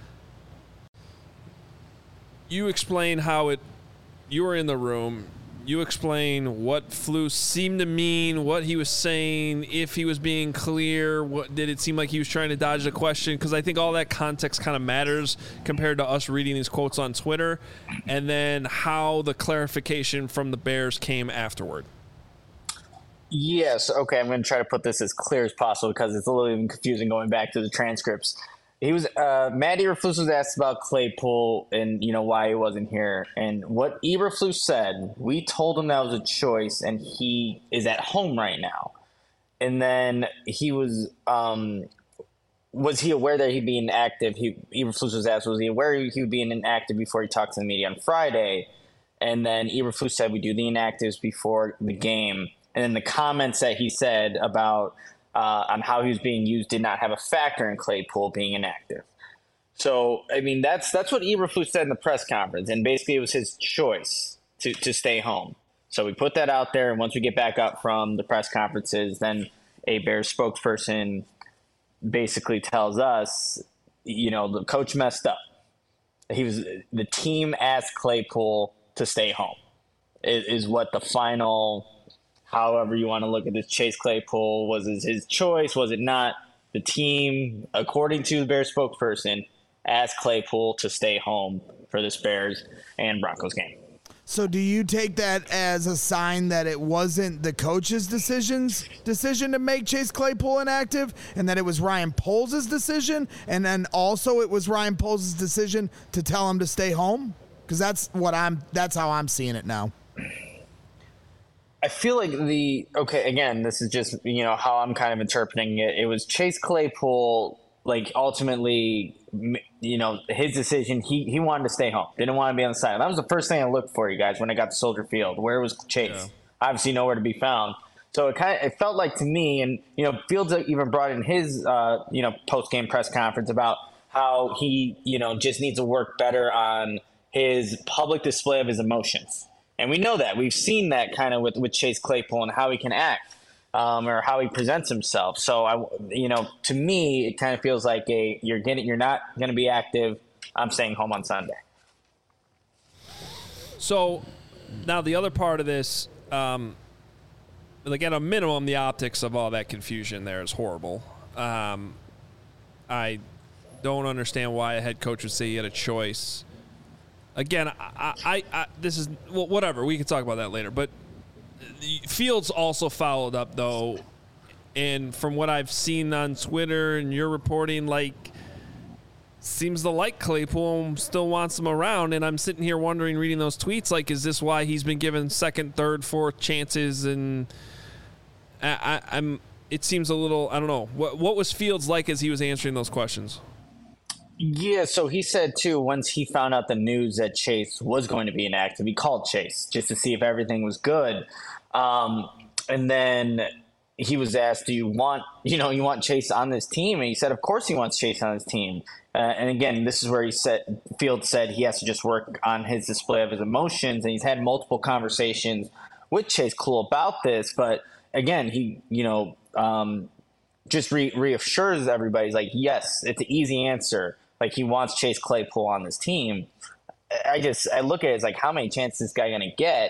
You explain how it. You were in the room. You explain what flu seemed to mean, what he was saying, if he was being clear. What did it seem like he was trying to dodge the question? Because I think all that context kind of matters compared to us reading these quotes on Twitter, and then how the clarification from the Bears came afterward. Yes. Okay. I'm going to try to put this as clear as possible because it's a little even confusing going back to the transcripts. He was uh, Matt Eberflus was asked about Claypool and you know why he wasn't here, and what Eberflus said. We told him that was a choice, and he is at home right now. And then he was um, was he aware that he'd be inactive? He Eberflus was asked, was he aware he would be inactive before he talked to the media on Friday? And then Eberflus said we do the inactives before the game. And then the comments that he said about uh, on how he was being used did not have a factor in Claypool being inactive. So, I mean, that's that's what Eberflus said in the press conference. And basically it was his choice to, to stay home. So we put that out there. And once we get back up from the press conferences, then a Bears spokesperson basically tells us, you know, the coach messed up. He was the team asked Claypool to stay home is, is what the final, however you want to look at this, Chase Claypool, was it his choice? Was it not? The team, according to the Bears spokesperson, asked Claypool to stay home for this Bears and Broncos game. So do you take that as a sign that it wasn't the coach's decisions decision to make Chase Claypool inactive, and that it was Ryan Poles' decision, and then also it was Ryan Poles' decision to tell him to stay home? Because that's what I'm. That's how I'm seeing it now. I feel like the okay. Again, this is just you know how I'm kind of interpreting it. It was Chase Claypool, like ultimately, you know, his decision. He he wanted to stay home. Didn't want to be on the side. That was the first thing I looked for, you guys, when I got to Soldier Field. Where was Chase? Yeah. Obviously, nowhere to be found. So it kind of it felt like to me, and you know, Fields even brought in his uh, you know post game press conference about how he you know just needs to work better on his public display of his emotions. And we know that. We've seen that kind of with, with Chase Claypool and how he can act um, or how he presents himself. So, I, you know, to me, it kind of feels like a you're getting you're not going to be active. I'm staying home on Sunday. So now the other part of this, um, like at a minimum, the optics of all that confusion there is horrible. Um, I don't understand why a head coach would say he had a choice. Again, I, I, I, this is well, whatever. We can talk about that later. But Fields also followed up, though, and from what I've seen on Twitter and your reporting, like, seems to like Claypool, still wants him around. And I'm sitting here wondering, reading those tweets, like, is this why he's been given second, third, fourth chances? And I, I, I'm. It seems a little. I don't know. What what was Fields like as he was answering those questions? Yeah, so he said, too, once he found out the news that Chase was going to be inactive, he called Chase just to see if everything was good. Um, and then he was asked, do you want, you know, you want Chase on this team? And he said, of course he wants Chase on his team. Uh, and again, this is where he said, Field said he has to just work on his display of his emotions. And he's had multiple conversations with Chase Claypool about this. But again, he, you know, um, just re- reassures everybody, he's like, yes, it's an easy answer. Like, he wants Chase Claypool on this team. I just I look at it as like, how many chances is this guy going to get?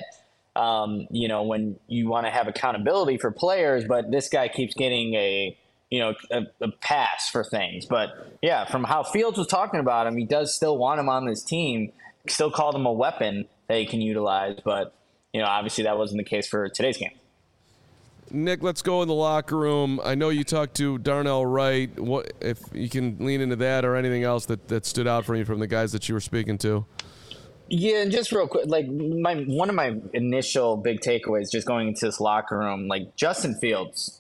Um, you know, when you want to have accountability for players, but this guy keeps getting a you know a, a pass for things. But yeah, from how Fields was talking about him, he does still want him on this team. Still called him a weapon that he can utilize. But you know, obviously that wasn't the case for today's game. Nick, let's go in the locker room. I know you talked to Darnell Wright. What if you can lean into that or anything else that, that stood out for you from the guys that you were speaking to? Yeah, and just real quick, like my one of my initial big takeaways just going into this locker room, like Justin Fields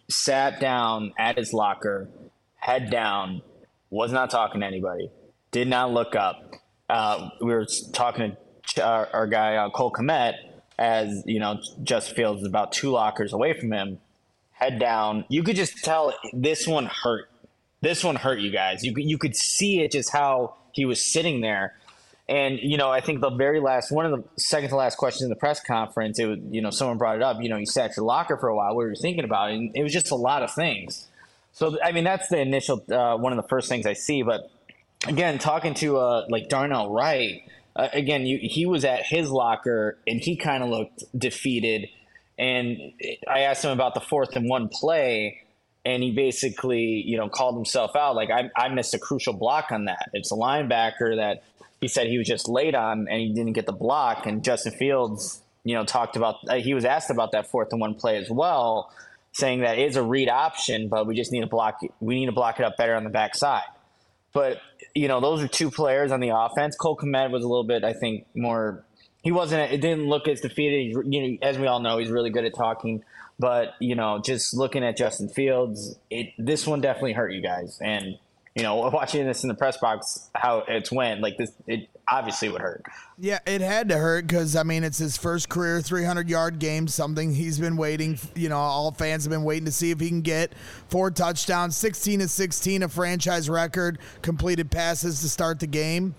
sat down at his locker, head down, was not talking to anybody, did not look up. Uh, we were talking to our, our guy uh, Cole Kmet. As you know, Justin Fields is about two lockers away from him, head down. You could just tell this one hurt. This one hurt you guys. You you could see it just how he was sitting there. And, you know, I think the very last, one of the second to last questions in the press conference, it was, you know, someone brought it up, you know, you sat at your locker for a while. What were you thinking about? And it was just a lot of things. So, I mean, that's the initial, uh, one of the first things I see. But again, talking to uh, like Darnell Wright, Uh, again, you, he was at his locker, and he kind of looked defeated. And I asked him about the fourth and one play, and he basically, you know, called himself out. Like, I, I missed a crucial block on that. It's a linebacker that he said he was just late on, and he didn't get the block. And Justin Fields, you know, talked about uh, – he was asked about that fourth and one play as well, saying that it is a read option, but we just need to block – we need to block it up better on the backside. But, you know, those are two players on the offense. Cole Kmet was a little bit, I think, more – he wasn't – it didn't look as defeated. You know, as we all know, he's really good at talking. But, you know, just looking at Justin Fields, it this one definitely hurt you guys. And, you know, watching this in the press box, how it's went, like this, it obviously would hurt. Yeah, it had to hurt because, I mean, it's his first career three hundred-yard game, something he's been waiting, you know, all fans have been waiting to see if he can get. Four touchdowns, sixteen to sixteen, a franchise record, completed passes to start the game.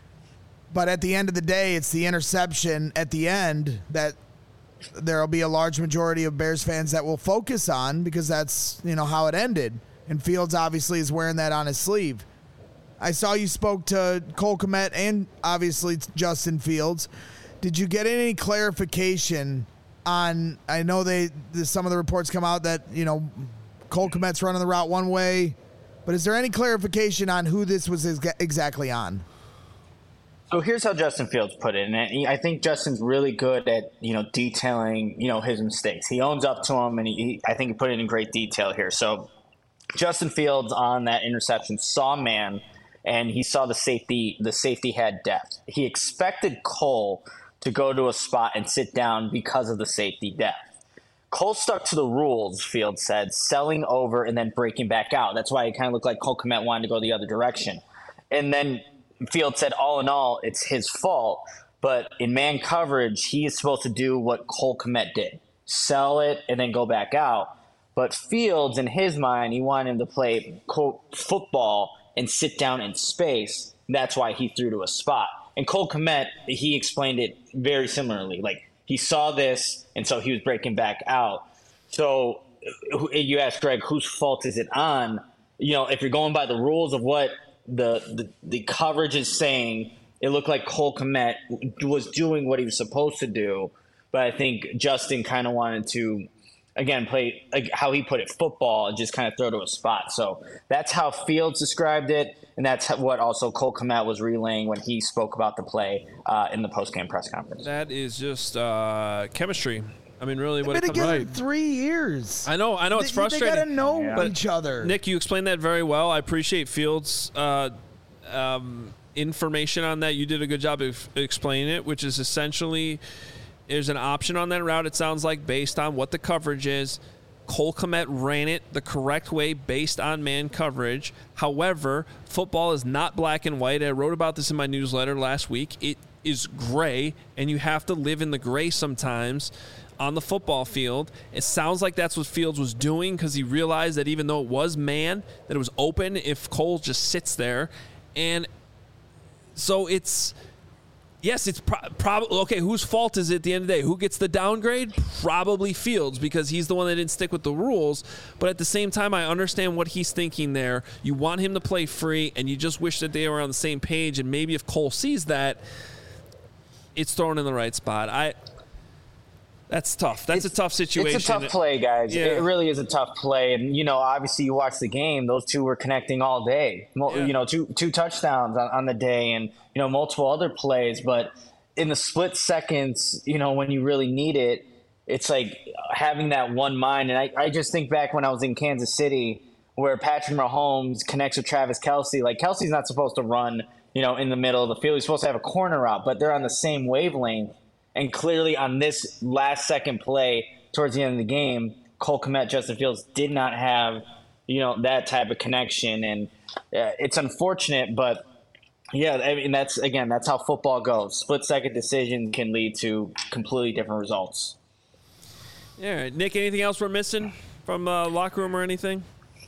But at the end of the day, it's the interception at the end that there'll be a large majority of Bears fans that will focus on because that's, you know, how it ended. And Fields obviously is wearing that on his sleeve. I saw you spoke to Cole Kmet and obviously Justin Fields. Did you get any clarification on, I know they some of the reports come out that, you know, Cole Kmet's running the route one way, but is there any clarification on who this was exactly on? So here's how Justin Fields put it, and I think Justin's really good at you know detailing you know his mistakes. He owns up to them, and he, he I think he put it in great detail here. So Justin Fields on that interception saw man, and he saw the safety. The safety had depth. He expected Cole to go to a spot and sit down because of the safety depth. Cole stuck to the rules, Fields said, selling over and then breaking back out. That's why it kind of looked like Cole Kmet wanted to go the other direction. And then Fields said, all in all, it's his fault. But in man coverage, he is supposed to do what Cole Kmet did, sell it and then go back out. But Fields, in his mind, he wanted him to play, quote, football and sit down in space. That's why he threw to a spot. And Cole Kmet, he explained it very similarly. Like, he saw this, and so he was breaking back out. So you ask Greg, whose fault is it on? You know, if you're going by the rules of what the the, the coverage is saying, it looked like Cole Kmet was doing what he was supposed to do. But I think Justin kind of wanted to, again, play, like how he put it, football, and just kind of throw to a spot. So that's how Fields described it, and that's what also Cole Kmet was relaying when he spoke about the play uh, in the post-game press conference. That is just uh, chemistry. I mean, really, what They've it been comes together right. three years. I know, I know, it's they, frustrating. They gotta know Yeah. each other. Nick, you explained that very well. I appreciate Fields' uh, um, information on that. You did a good job of explaining it, which is essentially there's an option on that route, it sounds like, based on what the coverage is. Cole Kmet ran it the correct way based on man coverage. However, football is not black and white. I wrote about this in my newsletter last week. It is gray, and you have to live in the gray sometimes on the football field. It sounds like that's what Fields was doing because he realized that even though it was man, that it was open if Cole just sits there. And so it's, yes, it's pro- probably, okay, whose fault is it at the end of the day? Who gets the downgrade? Probably Fields because he's the one that didn't stick with the rules. But at the same time, I understand what he's thinking there. You want him to play free, and you just wish that they were on the same page. And maybe if Cole sees that, it's thrown in the right spot. I... That's tough. That's it's, a tough situation. It's a tough play, guys. Yeah. It really is a tough play. And, you know, obviously you watch the game. Those two were connecting all day. Yeah. You know, two two touchdowns on, on the day and, you know, multiple other plays. But in the split seconds, you know, when you really need it, it's like having that one mind. And I, I just think back when I was in Kansas City where Patrick Mahomes connects with Travis Kelce. Like, Kelce's not supposed to run, you know, in the middle of the field. He's supposed to have a corner route, but they're on the same wavelength. And clearly on this last second play towards the end of the game, Cole Kmet, Justin Fields did not have, you know, that type of connection. And uh, it's unfortunate, but yeah, I mean, that's, again, that's how football goes. Split second decisions can lead to completely different results. Yeah. Nick, anything else we're missing from uh, locker room or anything?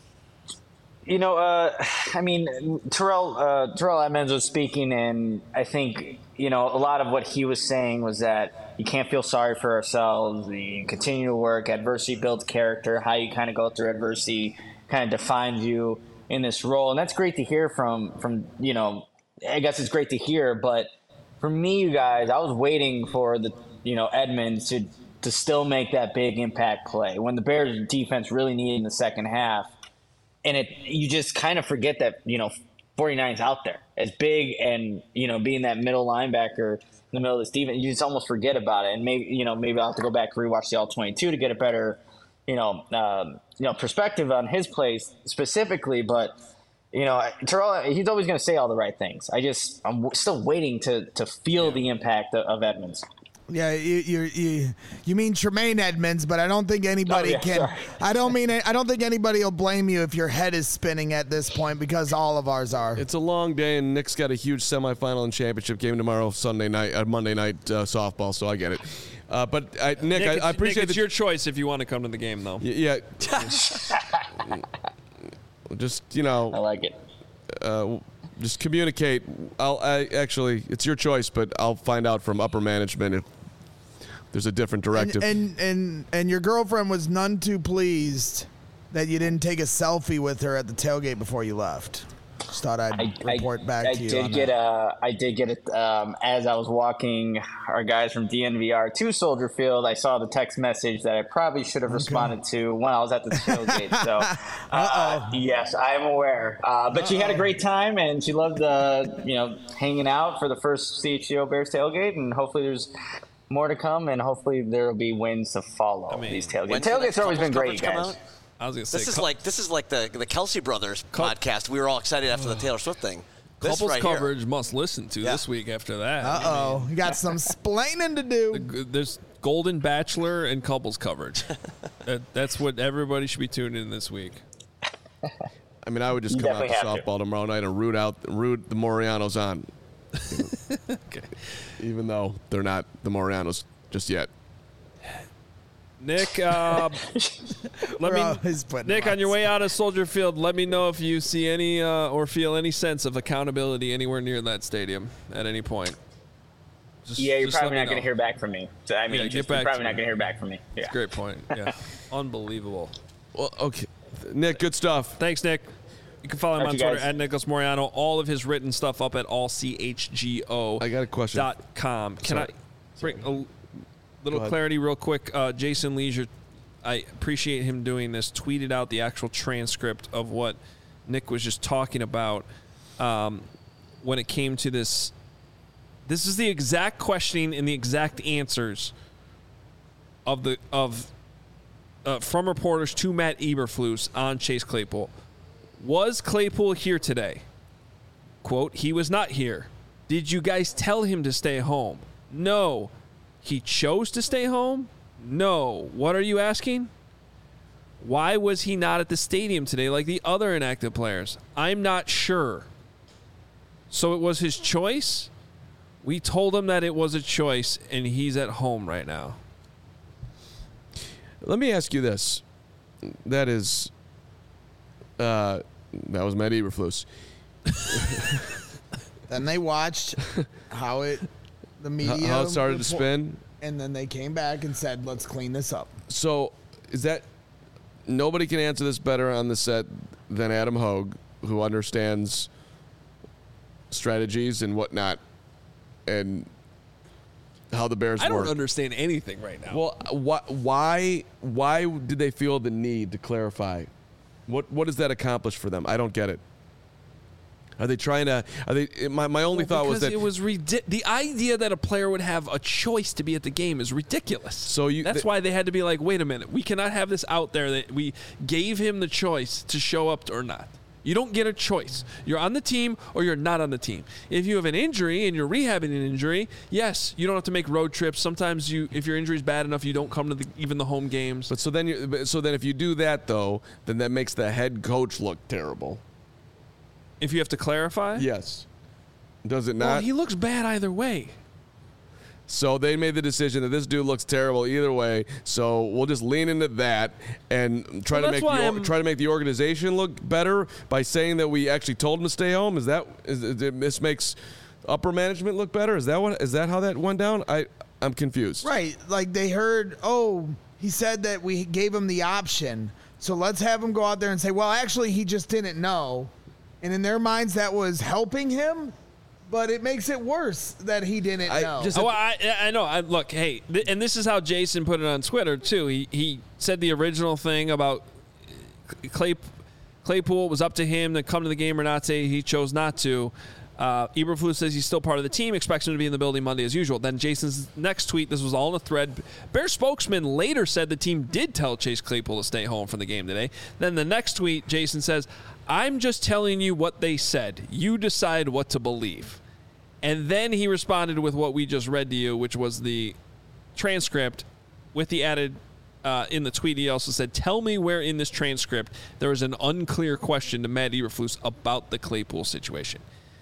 You know, uh, I mean, Terrell, uh, Terrell Edmonds was speaking, and I think, you know, a lot of what he was saying was that you can't feel sorry for ourselves. You continue to work. Adversity builds character. How you kind of go through adversity kind of defines you in this role. And that's great to hear from, from, you know, I guess it's great to hear. But for me, you guys, I was waiting for the, you know, Edmonds to, to still make that big impact play when the Bears defense really needed in the second half. And it, you just kind of forget that, you know, forty-nine's out there as big and, you know, being that middle linebacker in the middle of this defense, you just almost forget about it. And maybe, you know, maybe I'll have to go back and rewatch the all twenty-two to get a better, you know, um, you know, perspective on his plays specifically. But, you know, Terrell, he's always going to say all the right things. I just, I'm still waiting to, to feel the impact of, of Edmonds. Yeah, you, you you you mean Tremaine Edmonds, but I don't think anybody Oh, yeah, can. sorry. I don't mean I don't think anybody will blame you if your head is spinning at this point because all of ours are. It's a long day, and Nick's got a huge semifinal and championship game tomorrow, Sunday night, uh, Monday night uh, softball. So I get it. Uh, but I, Nick, Nick, I, it's, I appreciate Nick, it's the, your choice if you want to come to the game, though. y- yeah. Just you know. I like it. Uh, just communicate. I'll I, actually, it's your choice, but I'll find out from upper management if there's a different directive. And, and and and your girlfriend was none too pleased that you didn't take a selfie with her at the tailgate before you left. Just thought I'd I, report I, back I to you. did on get that. a. I did get it um, as I was walking our guys from D N V R to Soldier Field. I saw the text message that I probably should have responded to when I was at the tailgate. So, uh, yes, I am aware. Uh, but she had a great time and she loved, uh, you know, hanging out for the first C H G O Bears tailgate. And hopefully there's more to come, and hopefully there will be wins to follow. I mean, these tailgates. When's the Tailgates next have always been couples great, coverage come guys. out? I was gonna say This is cou- like this is like the the Kelsey Brothers Cou- podcast. We were all excited after the Taylor Swift thing. This couples right coverage here. must listen to Yeah. this week after that. Uh oh, you got some splaining to do. G- There's Golden Bachelor and couples coverage. that, that's what everybody should be tuned in this week. I mean, I would just You come out to definitely have to. softball tomorrow night and root out root the Morianos on. Okay. Even though they're not the Morianos just yet. Nick, uh, let We're me. always putting Nick, them on your on way out of Soldier Field, let me know if you see any uh, or feel any sense of accountability anywhere near that stadium at any point. Just, Yeah, you're just let probably me not going know. to hear back from me. So, I mean, Yeah, get just, back you're probably to not me. going to hear back from me. Yeah. Great point. Yeah, unbelievable. Well, okay, Nick, good stuff. Thanks, Nick. You can follow him Thank on you, Twitter guys. at Nicholas Moriano. All of his written stuff up at all c h g o I got a question. dot com. Can Sorry. I bring a little ahead. clarity real quick? Uh, Jason Leisure, I appreciate him doing this, tweeted out the actual transcript of what Nick was just talking about um, when it came to this. This is the exact questioning and the exact answers of the of uh, from reporters to Matt Eberflus on Chase Claypool. Was Claypool here today? Quote, he was not here. Did you guys tell him to stay home? No. He chose to stay home? No. What are you asking? Why was he not at the stadium today like the other inactive players? I'm not sure. So it was his choice? We told him that it was a choice, and he's at home right now. Let me ask you this. That is, uh, that was Matt Eberflus. Then they watched how it, the How, media, how it started to report- spin. and then they came back and said, "Let's clean this up." So, is that nobody can answer this better on the set than Adam Hogue, who understands strategies and whatnot, and how the Bears I don't work. understand anything right now. Well, wh- why why did they feel the need to clarify? What what does that accomplish for them? I don't get it. Are they trying to? Are they? My my only Well, thought was because that it was ridi- the idea that a player would have a choice to be at the game is ridiculous. So you- that's th- why they had to be like, wait a minute, we cannot have this out there that we gave him the choice to show up or not. You don't get a choice. You're on the team or you're not on the team. If you have an injury and you're rehabbing an injury, yes, you don't have to make road trips. Sometimes you, if your injury is bad enough, you don't come to the, even the home games. But so then you but- so then if you do that though, then that makes the head coach look terrible. If you have to clarify, Yes. Does it not? well, he looks bad either way. So they made the decision that this dude looks terrible either way. So we'll just lean into that and try Well, to that's make why the, or- I'm- try to make the organization look better by saying that we actually told him to stay home. Is that is, is it- this makes upper management look better? Is that what is that how that went down? I I'm confused. Right. Like they heard, oh, he said that we gave him the option. So let's have him go out there and say, well, actually, he just didn't know. And in their minds, that was helping him. But it makes it worse that he didn't I know. just- Oh, I, I know. I, look, hey, th- and this is how Jason put it on Twitter too. He he said the original thing about Clay, Claypool was up to him to come to the game or not. Say he chose not to. Uh, Eberflus says he's still part of the team, expects him to be in the building Monday as usual. Then Jason's next tweet, this was all in a thread. Bear spokesman later said the team did tell Chase Claypool to stay home for the game today. Then the next tweet, Jason says, I'm just telling you what they said. You decide what to believe. And then he responded with what we just read to you, which was the transcript with the added uh, in the tweet. He also said, tell me where in this transcript there is an unclear question to Matt Eberflus about the Claypool situation.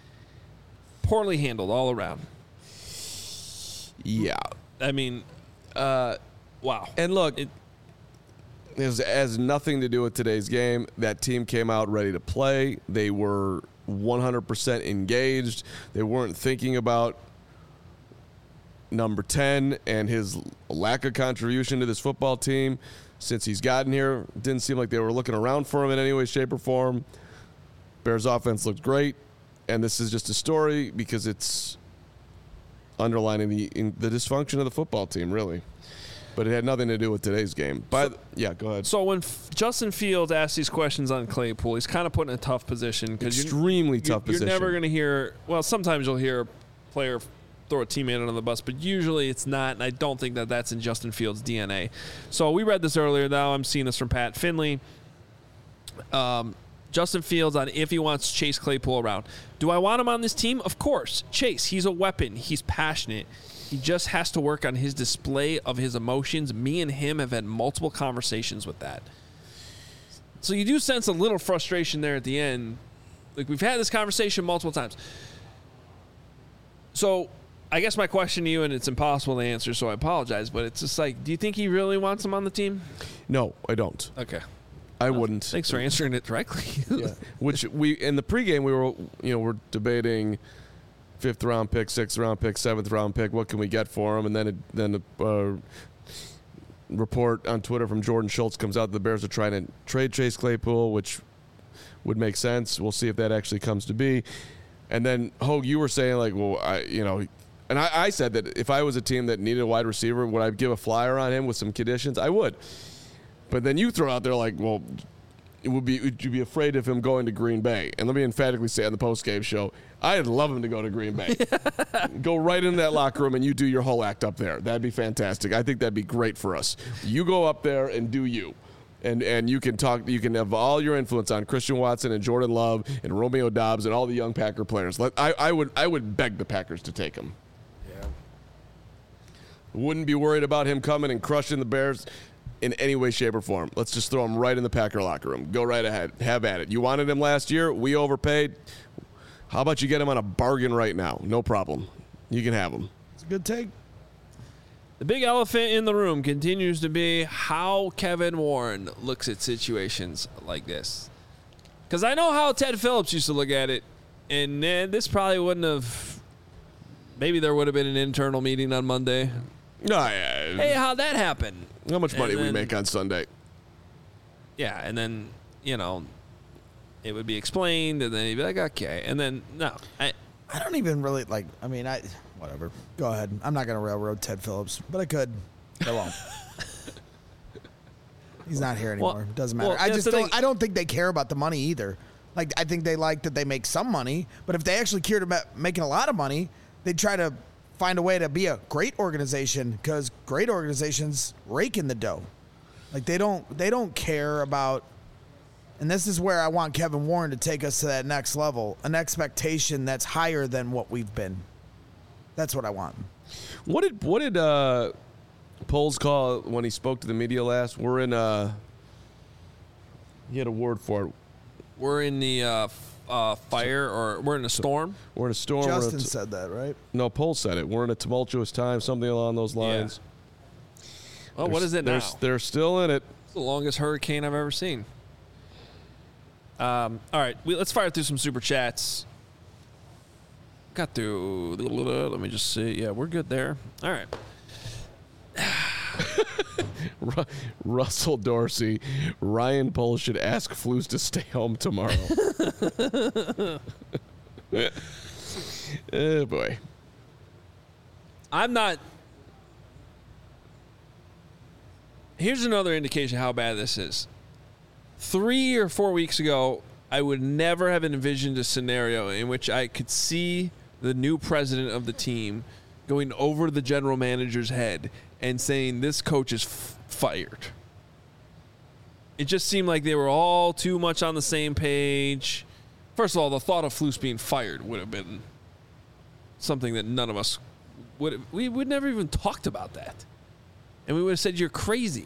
Poorly handled all around. Yeah. I mean, uh, wow. And look, It- it has, has nothing to do with today's game. That team came out ready to play. They were one hundred percent engaged. They weren't thinking about number ten and his lack of contribution to this football team since he's gotten here. It didn't seem like they were looking around for him in any way, shape, or form. Bears offense looked great, and this is just a story because it's underlining the in the dysfunction of the football team, really. But it had nothing to do with today's game. But yeah, go ahead. So when F- Justin Fields asks these questions on Claypool, he's kind of put in a tough position because Extremely you're, tough you're, position. You're never going to hear. Well, sometimes you'll hear a player throw a teammate under the bus, but usually it's not. And I don't think that that's in Justin Fields' D N A. So we read this earlier. Now I'm seeing this from Pat Finley. Um, Justin Fields on if he wants Chase Claypool around. Do I want him on this team? Of course. Chase, he's a weapon. He's passionate. He just has to work on his display of his emotions. Me and him have had multiple conversations with that. So you do sense a little frustration there at the end. Like, we've had this conversation multiple times. So I guess my question to you, and it's impossible to answer, so I apologize, but it's just like, do you think he really wants him on the team? No, I don't. Okay. I Well, wouldn't. Thanks for answering it directly. Yeah. Which we in the pregame we were you know we're debating fifth round pick, sixth round pick, seventh round pick. What can we get for him? And then it, then a uh, report on Twitter from Jordan Schultz comes out that the Bears are trying to trade Chase Claypool, which would make sense. We'll see if that actually comes to be. And then Hogue, you were saying like, well, I you know. And I, I said that if I was a team that needed a wide receiver, would I give a flyer on him with some conditions? I would. But then you throw out there like, well, it would be would you be afraid of him going to Green Bay? And let me emphatically say on the post-game show, I'd love him to go to Green Bay. Go right in that locker room and you do your whole act up there. That'd be fantastic. I think that'd be great for us. You go up there and do you. And and you can talk. You can have all your influence on Christian Watson and Jordan Love and Romeo Doubs and all the young Packer players. Let, I, I would I would beg the Packers to take him. Yeah. Wouldn't be worried about him coming and crushing the Bears in any way, shape, or form. Let's just throw him right in the Packer locker room. Go right ahead. Have at it. You wanted him last year. We overpaid. How about you get him on a bargain right now? No problem. You can have him. It's a good take. The big elephant in the room continues to be how Kevin Warren looks at situations like this. Because I know how Ted Phillips used to look at it, and eh, this probably wouldn't have. Maybe there would have been an internal meeting on Monday. No, yeah. Hey, how'd that happen? How much money And we then- make on Sunday? Yeah, and then, you know, it would be explained, and then he'd be like, okay. And then, no. I, I don't even really like. I mean, I whatever. Go ahead. I'm not gonna railroad Ted Phillips, but I could. I won't. He's not here anymore. Well- Doesn't matter. well, I that's just the don't. thing. I don't think they care about the money either. Like I think they like that they make some money, but if they actually cared about making a lot of money, they'd try to find a way to be a great organization because great organizations rake in the dough. Like they don't. They don't care about. And this is where I want Kevin Warren to take us to that next level, an expectation that's higher than what we've been. That's what I want. What did what did uh, Poles call when he spoke to the media last? We're in a. He had a word for it. we're in the uh, f- uh, fire, or we're in a storm. We're in a storm. we're in a Justin t- said that, right? no, Poles said it. We're in a tumultuous time, something along those lines. Oh, what They're- is it now? they're, They're still in it. It's the longest hurricane I've ever seen. Um, all right, we, let's fire through some super chats. Got through. Let me just see. Yeah, we're good there. All right. Ru- Russell Dorsey, Ryan Poles should ask Flus to stay home tomorrow. Oh boy. I'm not. Here's another indication how bad this is. Three or four weeks ago, I would never have envisioned a scenario in which I could see the new president of the team going over the general manager's head and saying, this coach is f- fired. It just seemed like they were all too much on the same page. First of all, the thought of Flus being fired would have been something that none of us would have, we would never even talked about that. And we would have said, you're crazy.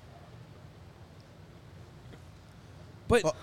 But Well-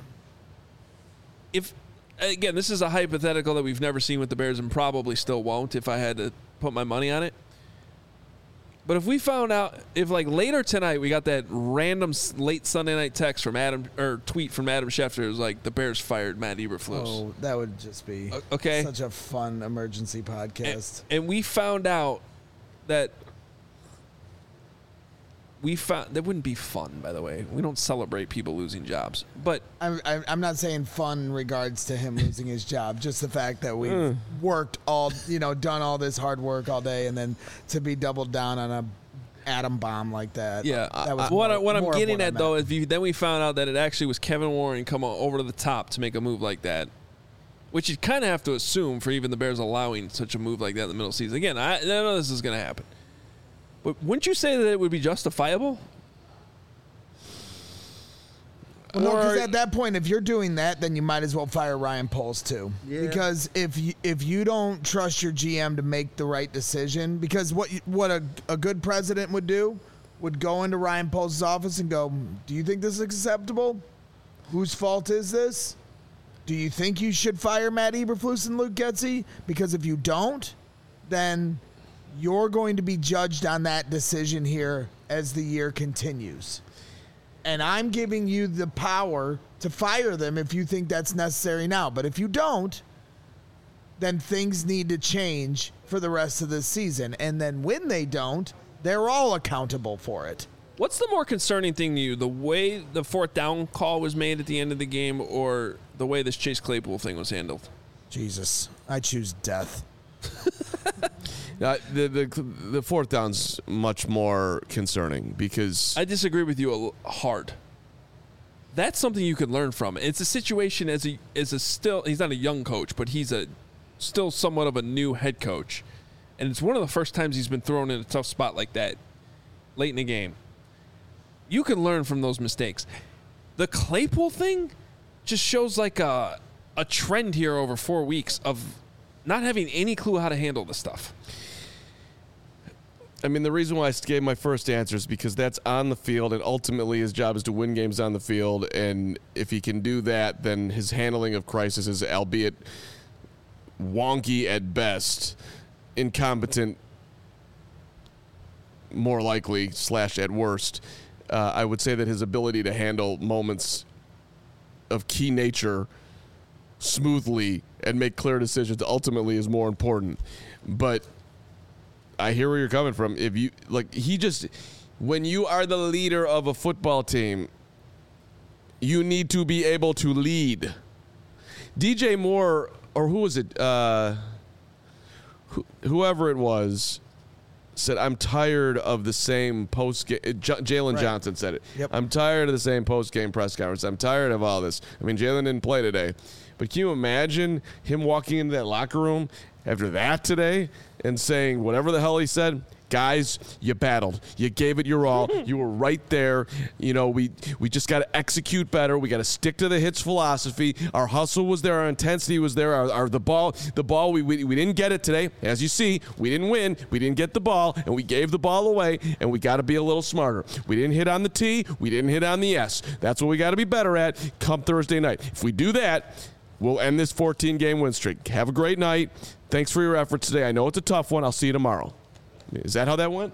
if, again, this is a hypothetical that we've never seen with the Bears and probably still won't if I had to put my money on it. But if we found out, if like later tonight we got that random s- late Sunday night text from Adam, or tweet from Adam Schefter, it was like, the Bears fired Matt Eberflus. Oh, that would just be O- okay. such a fun emergency and, podcast. and we found out that we found that wouldn't be fun. By the way, we don't celebrate people losing jobs, but I'm, I'm I'm not saying fun in regards to him losing his job. Just the fact that we Mm. worked all, you know, done all this hard work all day, and then to be doubled down on a atom bomb like that. yeah. that was what more- I, what I'm more of getting what I at though meant. is you, then we found out that it actually was Kevin Warren coming over to the top to make a move like that, which you kind of have to assume for even the Bears allowing such a move like that in the middle of the season. Again, I, I know this is going to happen, but wouldn't you say that it would be justifiable? Well, no, because Or- at that point, if you're doing that, then you might as well fire Ryan Poles too. Yeah. Because if you, if you don't trust your G M to make the right decision, because what you, what a, a good president would do would go into Ryan Poles' office and go, "Do you think this is acceptable? Whose fault is this? Do you think you should fire Matt Eberflus and Luke Getsy? Because if you don't, then you're going to be judged on that decision here as the year continues." And I'm giving you the power to fire them if you think that's necessary now. But if you don't, then things need to change for the rest of the season. And then when they don't, they're all accountable for it. What's the more concerning thing to you, the way the fourth down call was made at the end of the game, or the way this Chase Claypool thing was handled? Jesus, I choose death. Uh, the, the the fourth down's much more concerning because I disagree with you a l- hard. That's something you can learn from. It's a situation as a as a still he's not a young coach, but he's a still somewhat of a new head coach, and it's one of the first times he's been thrown in a tough spot like that late in the game. You can learn from those mistakes. The Claypool thing just shows like a a trend here over four weeks of not having any clue how to handle this stuff. I mean, the reason why I gave my first answer is because that's on the field, and ultimately his job is to win games on the field. And if he can do that, then his handling of crisis is, albeit wonky at best, incompetent, more likely, slash at worst. Uh, I would say that his ability to handle moments of key nature smoothly and make clear decisions ultimately is more important. But I hear where you're coming from. If you like, he just when you are the leader of a football team, you need to be able to lead. D J Moore, or who was it? Uh, wh- whoever it was, said, "I'm tired of the same post game." J- Jalen Right. Johnson said it. Yep. I'm tired of the same post game press conference. I'm tired of all this. I mean, Jalen didn't play today, but can you imagine him walking into that locker room after that today and saying whatever the hell he said? Guys, you battled. You gave it your all. You were right there. You know, we we just got to execute better. We got to stick to the hits philosophy. Our hustle was there. Our intensity was there. Our, our the ball, the ball. We, we we didn't get it today. As you see, we didn't win. We didn't get the ball, and we gave the ball away. And we got to be a little smarter. We didn't hit on the T. We didn't hit on the S. That's what we got to be better at come Thursday night. If we do that, we'll end this fourteen-game win streak. Have a great night. Thanks for your efforts today. I know it's a tough one. I'll see you tomorrow. Is that how that went?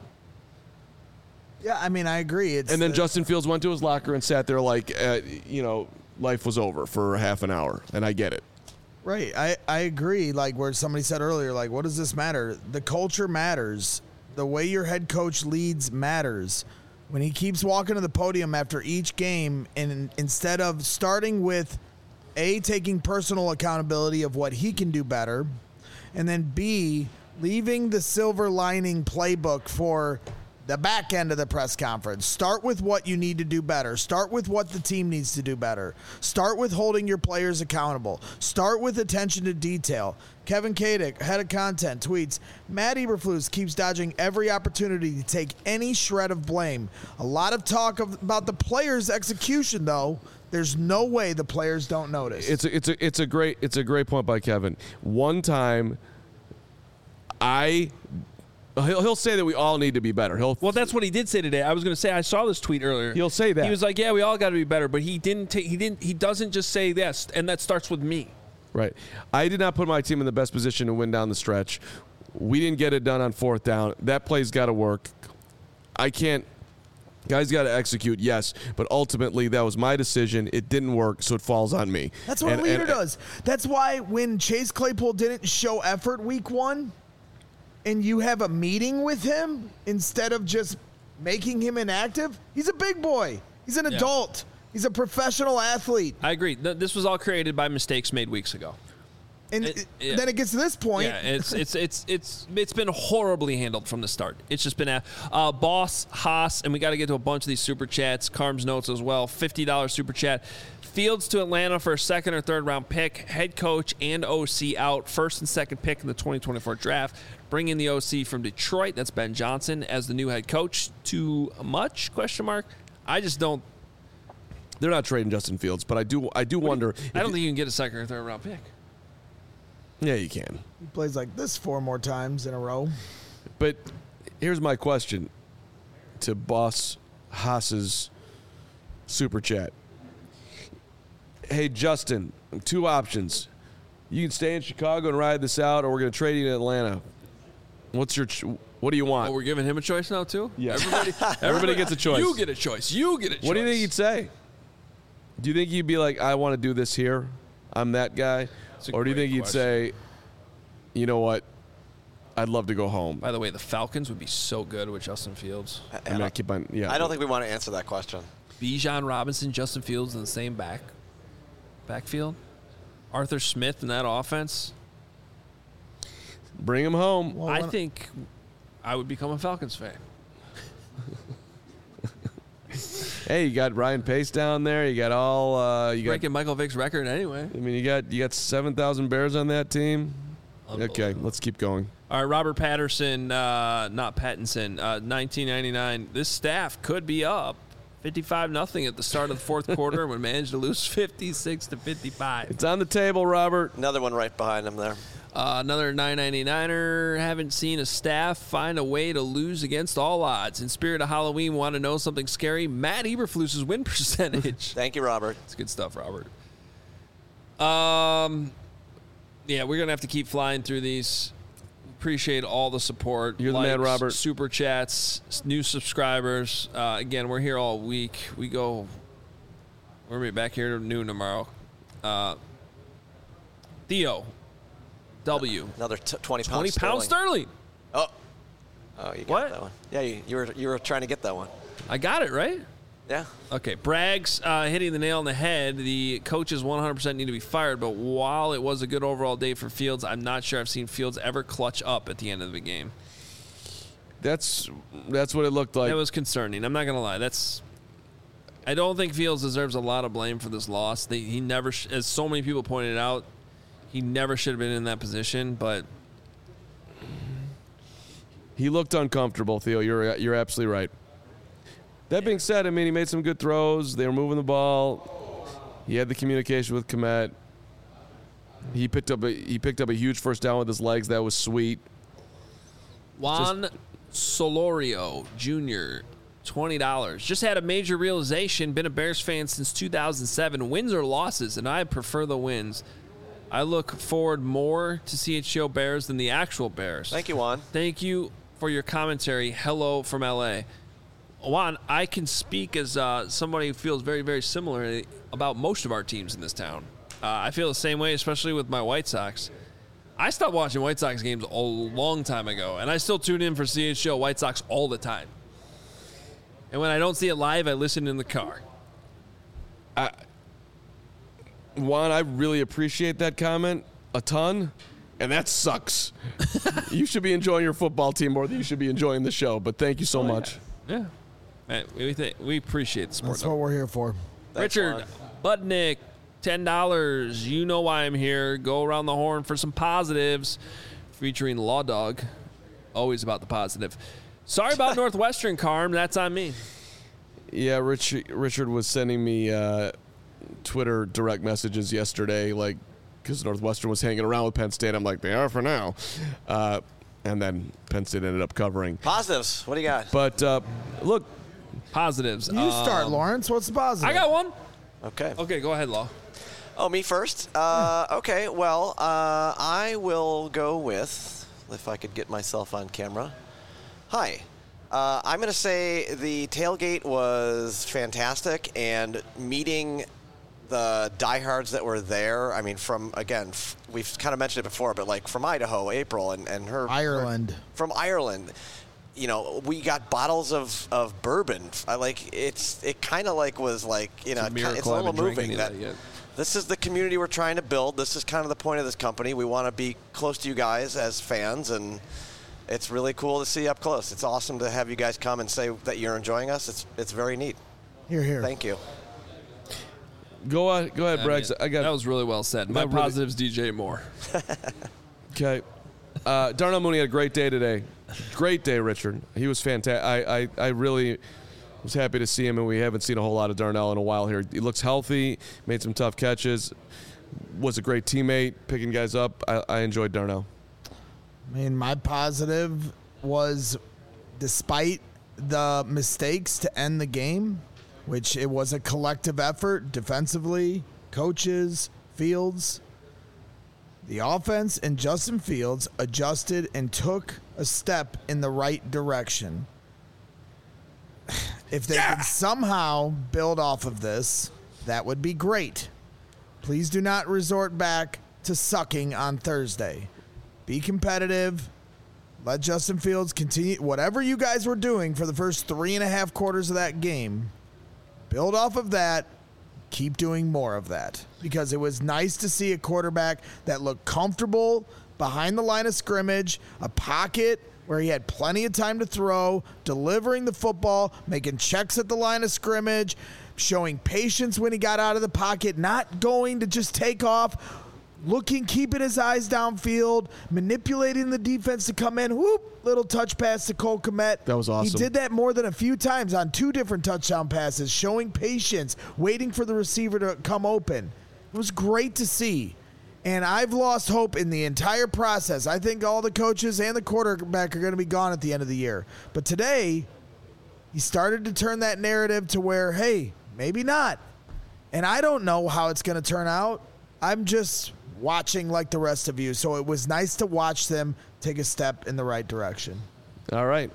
Yeah, I mean, I agree. It's And then the- Justin Fields went to his locker and sat there like, uh, you know, life was over for half an hour. And I get it. Right. I, I agree. Like where somebody said earlier, like, what does this matter? The culture matters. The way your head coach leads matters. When he keeps walking to the podium after each game, and instead of starting with A, taking personal accountability of what he can do better, and then B, leaving the silver lining playbook for the back end of the press conference. Start with what you need to do better. Start with what the team needs to do better. Start with holding your players accountable. Start with attention to detail. Kevin Kadick, head of content, tweets, Matt Eberflus keeps dodging every opportunity to take any shred of blame. A lot of talk of, about the players' execution, though. There's no way the players don't notice. It's a, it's a, it's a great, it's a great point by Kevin. One time, I, he'll, he'll say that we all need to be better. He'll, Well, that's what he did say today. I was going to say I saw this tweet earlier. He'll say that. He was like, "Yeah, we all got to be better," but he didn't. Ta- he didn't. He doesn't just say this, and that starts with me. Right. I did not put my team in the best position to win down the stretch. We didn't get it done on fourth down. That play's got to work. I can't. Guys got to execute, yes, but ultimately that was my decision. It didn't work, so it falls on me. That's what And- a leader and- does. That's why when Chase Claypool didn't show effort week one, and you have a meeting with him instead of just making him inactive? He's a big boy. He's an Yeah. adult. He's a professional athlete. I agree. Th- This was all created by mistakes made weeks ago. And It- it- yeah. then it gets to this point. Yeah, it's it's it's it's it's been horribly handled from the start. It's just been a uh, Boss Haas, and we got to get to a bunch of these super chats. Carm's notes as well. Fifty dollars super chat. Fields to Atlanta for a second or third round pick. Head coach and O C out. First and second pick in the twenty twenty-four draft. Bring in the O C from Detroit. That's Ben Johnson as the new head coach. Too much? Question mark. I just don't. They're not trading Justin Fields, but I do I do wonder. if I don't you- think you can get a second or third round pick. Yeah, you can. He plays like this four more times in a row. But here's my question to Boss Haas's super chat. Hey, Justin, two options. You can stay in Chicago and ride this out, or we're going to trade you to Atlanta. What's your? Ch- what do you want? Oh, we're giving him a choice now too. Yes. Everybody, Everybody gets a choice. You get a choice. You get a choice. What do you think he'd say? Do you think he'd be like, I want to do this here? I'm that guy? That's a Or do you great think he'd question. say, you know what? I'd love to go home. By the way, the Falcons would be so good with Justin Fields. I mean, I keep on, yeah. I don't think we want to answer that question. Bijan Robinson, Justin Fields in the same back backfield. Arthur Smith in that offense. Bring him home. Well, I when- think I would become a Falcons fan. Hey, you got Ryan Pace down there. You got all. Uh, you got. Breaking Michael Vick's record anyway. I mean, you got you got seven thousand Bears on that team. Okay, let's keep going. All right, Robert Patterson, uh, not Pattinson, uh, nineteen ninety-nine. This staff could be up fifty-five nothing at the start of the fourth quarter and would manage to lose fifty-six to fifty-five. It's on the table, Robert. Another one right behind him there. Uh, another nine ninety-niner. Haven't seen a staff find a way to lose against all odds. In spirit of Halloween, want to know something scary? Matt Eberflus's win percentage. Thank you, Robert. It's good stuff, Robert. Um, yeah, we're gonna have to keep flying through these. Appreciate all the support. You're the man, Likes, Robert. Super chats, s- new subscribers. Uh, again, we're here all week. We go. We're gonna be back here at noon tomorrow. Uh, Theo. W. Another t- twenty pounds. twenty pounds sterling. Oh. Oh, you got What? that one. Yeah, you, you were you were trying to get that one. I got it, right? Yeah. Okay, Bragg's uh, hitting the nail on the head. The coaches one hundred percent need to be fired, but while it was a good overall day for Fields, I'm not sure I've seen Fields ever clutch up at the end of the game. That's that's what it looked like. That was concerning. I'm not going to lie. That's. I don't think Fields deserves a lot of blame for this loss. They, he never, sh- as so many people pointed out, he never should have been in that position, but He looked uncomfortable, Theo. You're you're absolutely right. That being said, I mean, he made some good throws. They were moving the ball. He had the communication with Kmet. He picked up a he picked up a huge first down with his legs. That was sweet. Juan Solorio Junior, twenty dollars. Just had a major realization. Been a Bears fan since two thousand seven. Wins or losses, and I prefer the wins. I look forward more to C H G O Bears than the actual Bears. Thank you, Juan. Thank you for your commentary. Hello from L A. Juan, I can speak as uh, somebody who feels very, very similar about most of our teams in this town. Uh, I feel the same way, especially with my White Sox. I stopped watching White Sox games a long time ago, and I still tune in for C H G O White Sox all the time. And when I don't see it live, I listen in the car. Juan, I really appreciate that comment a ton, and that sucks. You should be enjoying your football team more than you should be enjoying the show. But thank you so much. Yeah. Man, we, th- we appreciate the support. That's what we're here for. Thanks, Richard Budnick, ten dollars. You know why I'm here. Go around the horn for some positives. Featuring Law Dog. Always about the positive. Sorry about Northwestern, Carm. That's on me. Yeah, Rich, Richard was sending me uh, Twitter direct messages yesterday, like, because Northwestern was hanging around with Penn State. I'm like, they are for now. Uh, and then Penn State ended up covering. Positives. What do you got? But, uh, look, Positives. You start, Um, Lawrence. What's the positive? I got one. Okay. Okay, go ahead, Law. Oh, me first? Uh, okay, well, uh, I will go with, if I could get myself on camera. Hi. Uh, I'm going to say the tailgate was fantastic, and meeting the diehards that were there, I mean, from, again, f- we've kind of mentioned it before, but like from Idaho, April, and, and her. Ireland. her- from Ireland. you know, we got bottles of, of bourbon. I like it's it kind of like was like you know It's a it's, miracle a I little haven't drank moving any that. of that yet. This is the community we're trying to build. This is kind of the point of this company. We want to be close to you guys as fans, and it's really cool to see up close. It's awesome to have you guys come and say that you're enjoying us. It's it's very neat. Here, here. Thank you. Go ahead, go ahead, I Braggs. mean, I got that was really well said. My That really- positives, D J Moore. Okay. Uh, Darnell Mooney had a great day today. Great day, Richard. He was fantastic. I, I, I really was happy to see him, and we haven't seen a whole lot of Darnell in a while here. He looks healthy, made some tough catches, was a great teammate, picking guys up. I, I enjoyed Darnell. I mean, my positive was despite the mistakes to end the game, which it was a collective effort defensively, coaches, Fields. The offense and Justin Fields adjusted and took a step in the right direction. If they yeah. could somehow build off of this, that would be great. Please do not resort back to sucking on Thursday. Be competitive. Let Justin Fields continue. Whatever you guys were doing for the first three and a half quarters of that game, build off of that. Keep doing more of that, because it was nice to see a quarterback that looked comfortable behind the line of scrimmage, a pocket where he had plenty of time to throw, delivering the football, making checks at the line of scrimmage, showing patience when he got out of the pocket, not going to just take off, looking, keeping his eyes downfield, manipulating the defense to come in. Whoop, little touch pass to Cole Kmet. That was awesome. He did that more than a few times on two different touchdown passes, showing patience, waiting for the receiver to come open. It was great to see. And I've lost hope in the entire process. I think all the coaches and the quarterback are going to be gone at the end of the year. But today, he started to turn that narrative to where, hey, maybe not. And I don't know how it's going to turn out. I'm just watching like the rest of you. So it was nice to watch them take a step in the right direction. All right.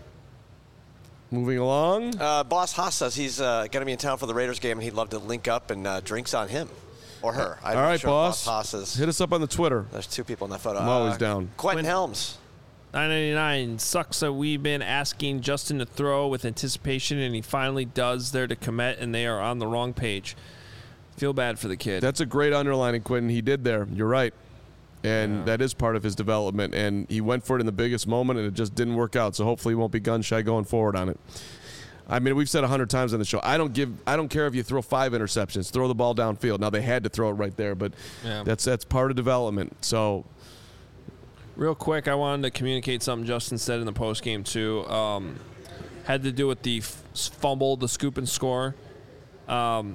Moving along. Uh, Boss Haas says he's uh, going to be in town for the Raiders game, and he'd love to link up and uh, drinks on him or her. I'm All not right, sure boss. Boss Haas is, Hit us up on the Twitter. there's two people in that photo. I'm always Uh, down. Quentin Helms. nine ninety-nine sucks that we've been asking Justin to throw with anticipation, and he finally does there to Kmet, and they are on the wrong page. Feel bad for the kid. That's a great underlining, Quentin. He did there. You're right. And Yeah. that is part of his development. And he went for it in the biggest moment, and it just didn't work out. So hopefully he won't be gun shy going forward on it. I mean, we've said a hundred times on the show, I don't give, I don't care if you throw five interceptions, throw the ball downfield. Now they had to throw it right there, but Yeah. that's that's part of development. So Real quick, I wanted to communicate something Justin said in the postgame, too. Um, had to do with the f- fumble, the scoop and score. Um,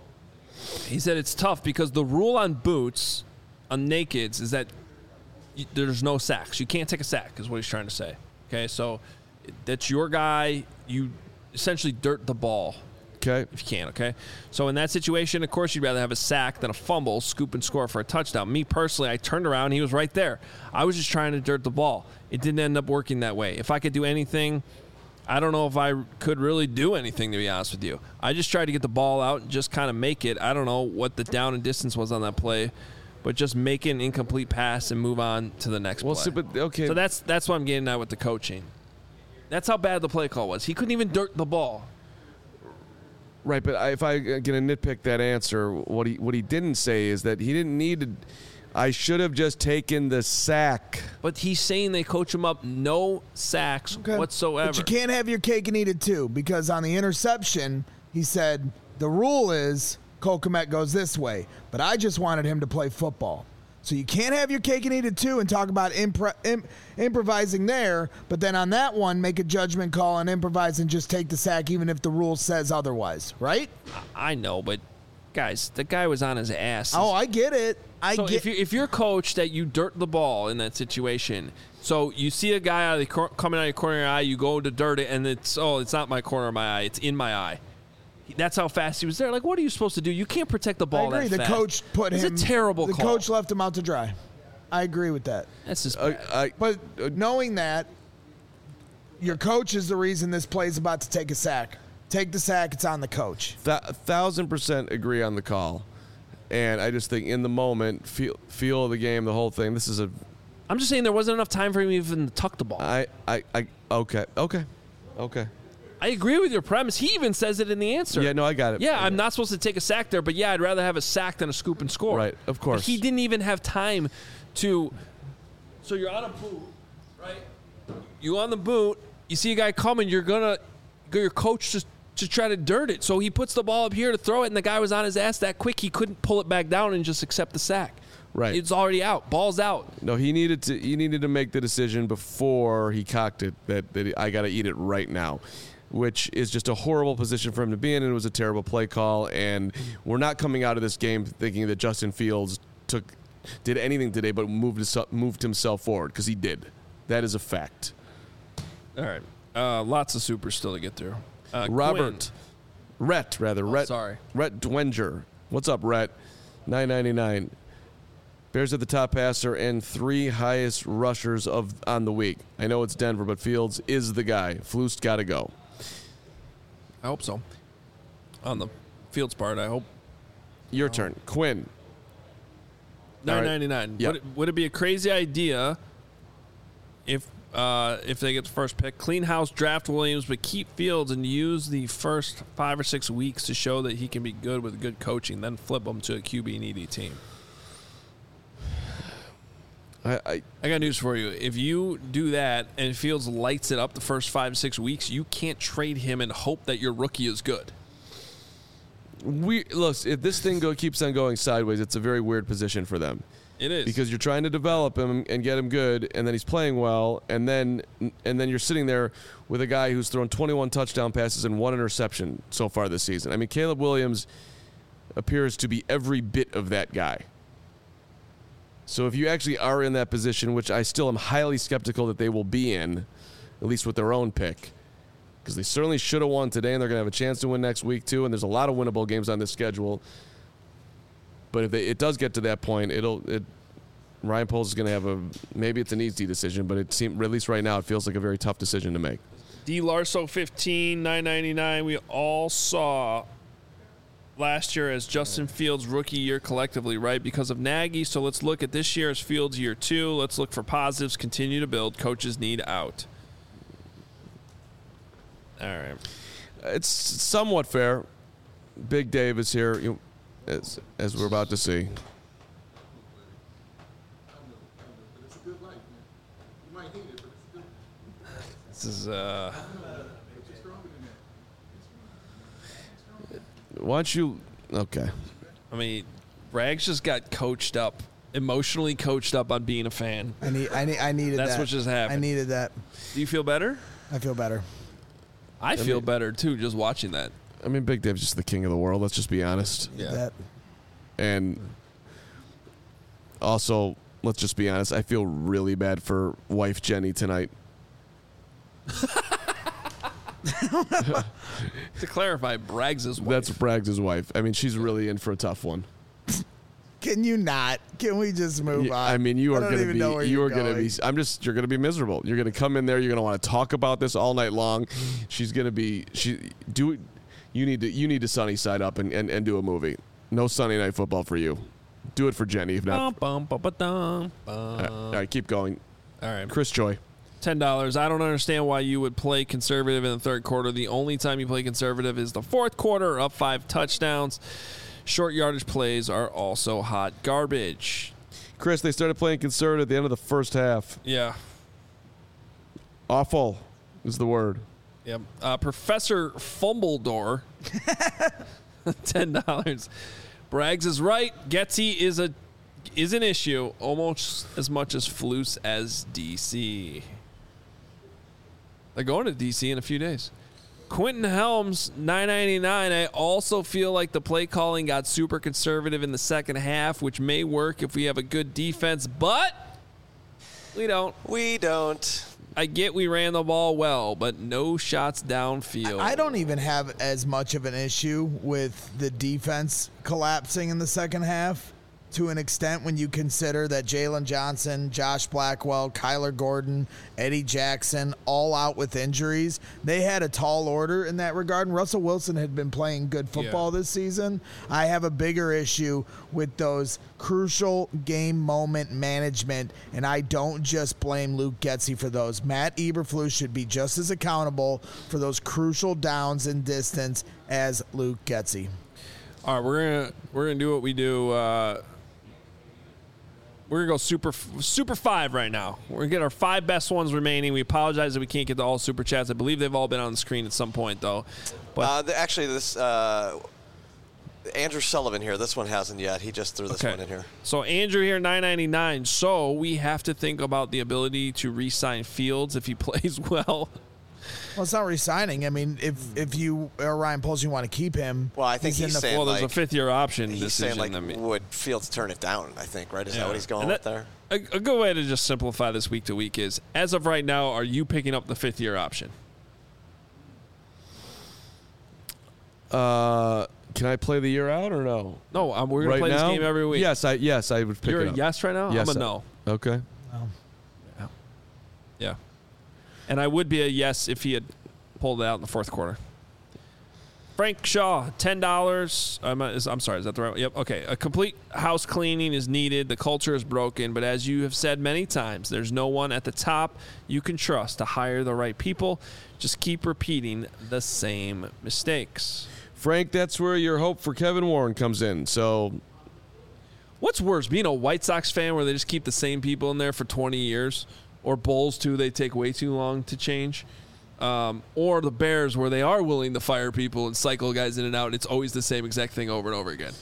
he said it's tough because the rule on boots, on nakeds, is that y- there's no sacks. You can't take a sack, is what he's trying to say. Okay, so that's your guy. You essentially dirt the ball. okay, If you can, okay? So in that situation, of course, you'd rather have a sack than a fumble, scoop and score for a touchdown. Me personally, I turned around, and he was right there. I was just trying to dirt the ball. It didn't end up working that way. If I could do anything, I don't know if I could really do anything, to be honest with you. I just tried to get the ball out and just kind of make it. I don't know what the down and distance was on that play, but just make an incomplete pass and move on to the next well, play. see, but okay, So that's that's what I'm getting at with the coaching. That's how bad the play call was. He couldn't even dirt the ball. right. But I, if I uh, gonna nitpick that answer, what he what he didn't say is that he didn't need to. I should have just taken the sack. But he's saying they coach him up no sacks whatsoever. But you can't have your cake and eat it too, because on the interception, he said the rule is Cole Kmet goes this way, but I just wanted him to play football. So you can't have your cake and eat it too and talk about impro- imp- improvising there, but then on that one, make a judgment call and improvise and just take the sack even if the rule says otherwise, right? I know, but guys, the guy was on his ass. Oh, I get it. I so get if you if you're coached that you dirt the ball in that situation, so you see a guy out of the cor- coming out of your corner of your eye, you go to dirt it, and it's oh, it's not my corner of my eye, it's in my eye. That's how fast he was there. Like, what are you supposed to do? You can't protect the ball I agree. that The fast. coach put it's him. It's a terrible the call. coach left him out to dry. I agree with that. That's just Uh, bad. I, But knowing that, your coach is the reason this play is about to take a sack. Take the sack. It's on the coach. Th- a thousand percent agree on the call, and I just think in the moment, feel feel of the game, the whole thing. This is a I'm just saying there wasn't enough time for him even to tuck the ball. I, I, I, okay, okay, okay. I agree with your premise. He even says it in the answer. Yeah, no, I got it. Yeah, I'm not supposed to take a sack there, but yeah, I'd rather have a sack than a scoop and score. Right, of course. But he didn't even have time to. So you're on a boot, right? You on the boot. You see a guy coming. You're gonna go your coach just to try to dirt it. So he puts the ball up here to throw it, and the guy was on his ass that quick he couldn't pull it back down and just accept the sack. Right. It's already out. Ball's out. No, he needed to. He needed to make the decision before he cocked it that, that I got to eat it right now, which is just a horrible position for him to be in, and it was a terrible play call. And we're not coming out of this game thinking that Justin Fields took did anything today but moved his, moved himself forward, because he did. That is a fact. All right. Uh, lots of supers still to get through. Uh, Robert, Quinn. Rhett rather. Rhett, sorry. Rhett Dwenger. What's up, Rhett? nine ninety-nine. Bears are the top passer and three highest rushers of on the week. I know it's Denver, but Fields is the guy. Flus got to go. I hope so. On the Fields part, I hope. Your turn. Quinn. nine ninety-nine. Yep. Would, it, would it be a crazy idea if uh, if they get the first pick, clean house, draft Williams, but keep Fields and use the first five or six weeks to show that he can be good with good coaching, then flip him to a Q B needy team? I, I I got news for you. If you do that and Fields lights it up the first five, six weeks, you can't trade him and hope that your rookie is good. we look. If this thing go keeps on going sideways, it's a very weird position for them. It is. Because you're trying to develop him and get him good, and then he's playing well, and then and then you're sitting there with a guy who's thrown twenty-one touchdown passes and one interception so far this season. I mean, Caleb Williams appears to be every bit of that guy. So if you actually are in that position, which I still am highly skeptical that they will be in, at least with their own pick, because they certainly should have won today, and they're going to have a chance to win next week too, and there's a lot of winnable games on this schedule. But if they, it does get to that point, it'll it, Ryan Poles is going to have a maybe it's an easy decision, but it seems, at least right now, it feels like a very tough decision to make. D. Larso fifteen, nine ninety-nine. We all saw last year as Justin Fields' rookie year collectively, right? Because of Nagy. So let's look at this year as Fields' year two. Let's look for positives. Continue to build. Coaches need out. All right. It's somewhat fair. Big Dave is here, you, as as we're about to see. This is uh. Why don't you? Okay. I mean, Rags just got coached up, emotionally coached up on being a fan. I need. I need. I needed That's that. what just happened. I needed that. Do you feel better? I feel better. I feel better too, just watching that. I mean, Big Dave's just the king of the world. Let's just be honest. Yeah. That. And also, let's just be honest. I feel really bad for wife Jenny tonight. To clarify, Braggs' wife. That's Braggs' wife. I mean, she's really in for a tough one. Can you not? Can we just move Yeah, on? I mean, you I are don't going to even be. know where You you're are going to going. be. I'm just. You're going to be miserable. You're going to come in there. You're going to want to talk about this all night long. She's going to be. She do. You need to. You need to sunny side up and, and, and do a movie. No Sunday Night Football for you. Do it for Jenny. If not, Bum, bum, bum, bum, bum. all right, all right, keep going. All right. Chris Joy. ten dollars. I don't understand why you would play conservative in the third quarter. The only time you play conservative is the fourth quarter, up five touchdowns. Short yardage plays are also hot garbage. Chris, they started playing conservative at the end of the first half. Yeah. Awful is the word. Yep. Uh, Professor Fumbledore, ten dollars. Braggs is right. Getsy is a is an issue almost as much as Flus as D C. They're going to D C in a few days. Quentin Helms, nine ninety-nine. I also feel like the play calling got super conservative in the second half, which may work if we have a good defense, but we don't. We don't. I get we ran the ball well, but no shots downfield. I don't even have as much of an issue with the defense collapsing in the second half. to an extent when you consider that Jalen Johnson, Josh Blackwell, Kyler Gordon, Eddie Jackson, all out with injuries. They had a tall order in that regard, and Russell Wilson had been playing good football Yeah. this season. I have a bigger issue with those crucial game moment management, and I don't just blame Luke Getsy for those. Matt Eberflus should be just as accountable for those crucial downs and distance as Luke Getsy. All right, we're gonna we're gonna do what we do. Uh, we're gonna go super super five right now. We're gonna get our five best ones remaining. We apologize that we can't get to all super chats. I believe they've all been on the screen at some point though. But Uh, the, actually, this uh, Andrew Sullivan here. This one hasn't yet. He just threw this okay. one in here. So Andrew here, nine ninety-nine. So we have to think about the ability to re-sign Fields if he plays well. Well, it's not re-signing. I mean, if if you or Ryan Poles, you want to keep him. Well, I think he's in the saying Well, there's like, a fifth-year option He's decision. saying like, I mean, would Fields turn it down? I think right. Is yeah. that what he's going And with that- there? A, a good way to just simplify this week to week is, as of right now, are you picking up the fifth-year option? Uh, can I play the year out or no? No, um, we're gonna right play now? this game every week. Yes, I yes I would pick You're it a up. yes right now. Yes, I'm a I- no. Okay. Yeah. And I would be a yes if he had pulled it out in the fourth quarter. Frank Shaw, ten dollars. I'm, is- I'm sorry, is that the right one? Yep, okay. A complete house cleaning is needed. The culture is broken. But as you have said many times, there's no one at the top you can trust to hire the right people. Just keep repeating the same mistakes. Frank, that's where your hope for Kevin Warren comes in. So What's worse, being a White Sox fan where they just keep the same people in there for twenty years, or Bulls too, they take way too long to change, um, or the Bears where they are willing to fire people and cycle guys in and out, and it's always the same exact thing over and over again.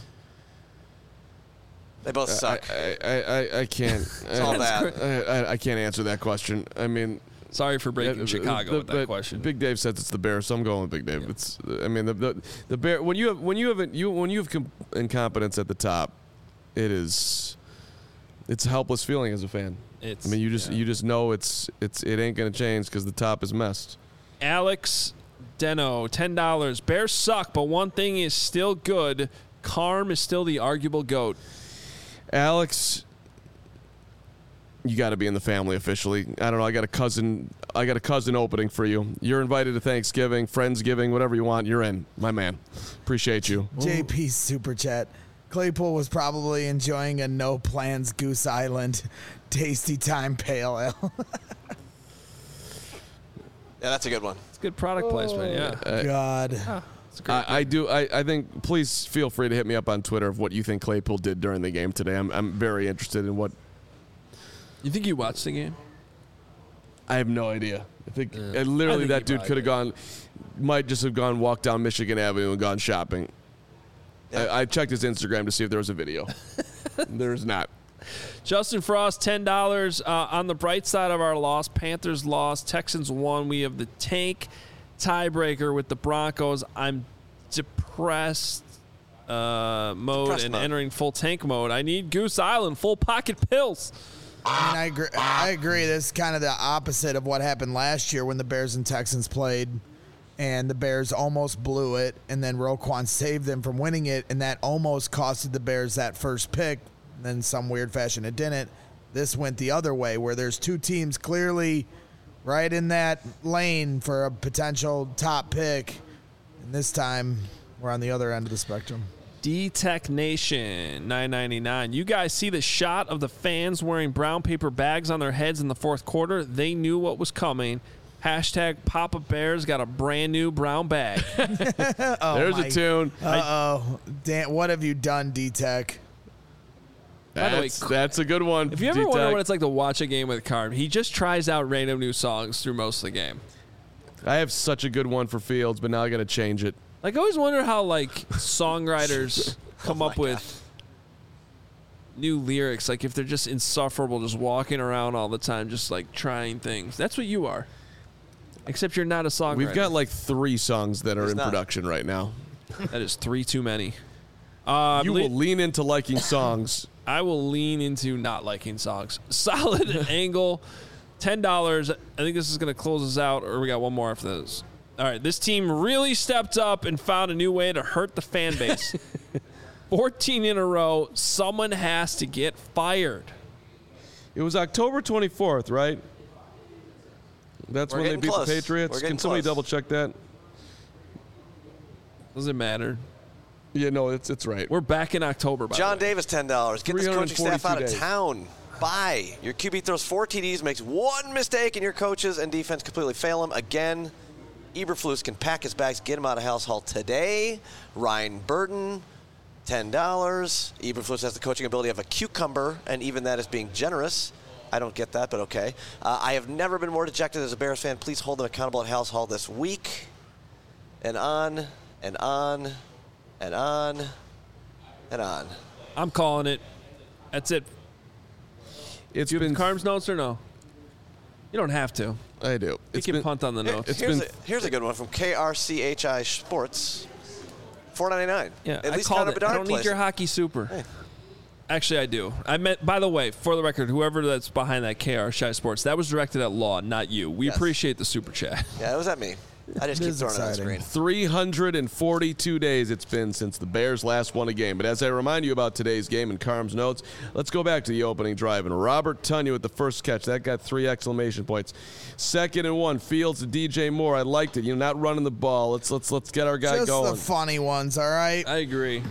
They both suck. I I, I, I can't. It's all bad. I, I, I can't answer that question. I mean, Sorry for breaking uh, Chicago the- with that but question. Big Dave says it's the Bears, so I'm going with Big Dave. It's. I mean, the the, the Bear when you have when you have you when you have com- incompetence at the top, it is. It's a helpless feeling as a fan. It's, I mean, you just yeah. you just know it's it's it ain't gonna change because the top is messed. Alex Deno, ten dollars. Bears suck, but one thing is still good. Carm is still the arguable GOAT. Alex, you got to be in the family officially. I don't know. I got a cousin. I got a cousin opening for you. You're invited to Thanksgiving, Friendsgiving, whatever you want. You're in, my man. Appreciate you. J P's super chat. Claypool was probably enjoying a no plans Goose Island tasty time pale ale. Yeah, that's a good one. It's good product placement, yeah. God. It's a great. I, I do. I, I think. Please feel free to hit me up on Twitter of what you think Claypool did during the game today. I'm I'm very interested in what. You think you watched the game? I have no idea. I think Yeah. uh, literally I think that he dude probably could have gone, might just have gone walk down Michigan Avenue and gone shopping. Yeah. I, I checked his Instagram to see if there was a video. There's not. Justin Frost, ten dollars. Uh, on the bright side of our loss, Panthers lost, Texans won. We have the tank tiebreaker with the Broncos. I'm depressed uh, mode Depressed and mode. entering full tank mode. I need Goose Island, full pocket pills. I mean, I agree. I agree. This is kind of the opposite of what happened last year when the Bears and Texans played, and the Bears almost blew it, and then Roquan saved them from winning it, and that almost costed the Bears that first pick. And then some weird fashion it didn't. This went the other way, where there's two teams clearly right in that lane for a potential top pick, and this time we're on the other end of the spectrum. D-Tech Nation, nine ninety-nine. You guys see the shot of the fans wearing brown paper bags on their heads in the fourth quarter? They knew what was coming. Hashtag Papa Bears got a brand new brown bag. Oh, There's my- a tune. Uh-oh. Dan, what have you done, D-Tech? By the way, That's, that's a good one. If you ever wonder D-Tech. what it's like to watch a game with Carm, he just tries out random new songs through most of the game. I have such a good one for Fields, but now I got to change it. Like, I always wonder how, like, songwriters come up with new lyrics. Like, if they're just insufferable, just walking around all the time, just, like, trying things. That's what you are. Except you're not a songwriter. We've got like three songs that are He's in not. production right now. That is three too many. Uh, You le- will lean into liking songs. I will lean into not liking songs. Solid Angle, ten dollars. I think this is going to close us out, or we got one more after this. All right, this team really stepped up and found a new way to hurt the fan base. fourteen in a row. Someone has to get fired. It was October twenty-fourth, right? That's We're when they getting beat close. the Patriots. We're getting Can somebody close. double check that? Does it matter? Yeah, no, it's it's right. We're back in October, by John the way. Davis, ten dollars. Get this coaching staff out of days. town. Bye. Your Q B throws four T Ds, makes one mistake, and your coaches and defense completely fail him. Again, Eberflus can pack his bags, get him out of House Hall today. Ryan Burton, ten dollars. Eberflus has the coaching ability of a cucumber, and even that is being generous. I don't get that, but okay. Uh, I have never been more dejected as a Bears fan. Please hold them accountable at House Hall this week. And on, and on, and on, and on. I'm calling it. That's it. It's Do you been have Carm's notes or no? You don't have to. I do. You It's can been punt on the Here- notes. It's here's, been- a, here's a good one from K R C H I Sports. four ninety-nine. Yeah, At I least called Connor it. I Bedard don't need plays your it. hockey super. Actually, I do. I meant, by the way, for the record, whoever that's behind that K R Shy Sports, that was directed at Law, not you. We Yes. appreciate the super chat. Yeah, it was at me. I just It keep is throwing it on the exciting. screen. three hundred forty-two days it's been since the Bears last won a game. But as I remind you about today's game and Carm's notes, let's go back to the opening drive. And Robert Tonyan with the first catch. That got three exclamation points. Second and one, Fields to D J Moore. I liked it. You know, not running the ball. Let's let's let's get our guy Just going. the funny ones, all right? I agree.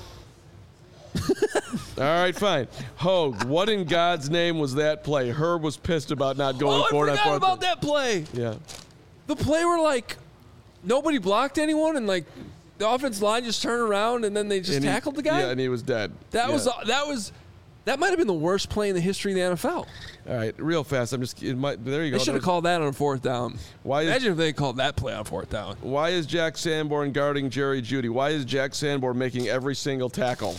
All right, fine. Hogue, what in God's name was that play? Herb was pissed about not going Oh, I for it. on forgot fourth about and- that play. Yeah. The play where, like, nobody blocked anyone, and, like, the offensive line just turned around, and then they just And he- tackled the guy? Yeah, and he was dead. that Yeah. was that was that might have been the worst play in the history of the N F L. All right, real fast. I'm just. It might, there you go. They should have There's- called that on fourth down. Why is- Imagine if they called that play on fourth down. Why is Jack Sanborn guarding Jerry Jeudy? Why is Jack Sanborn making every single tackle?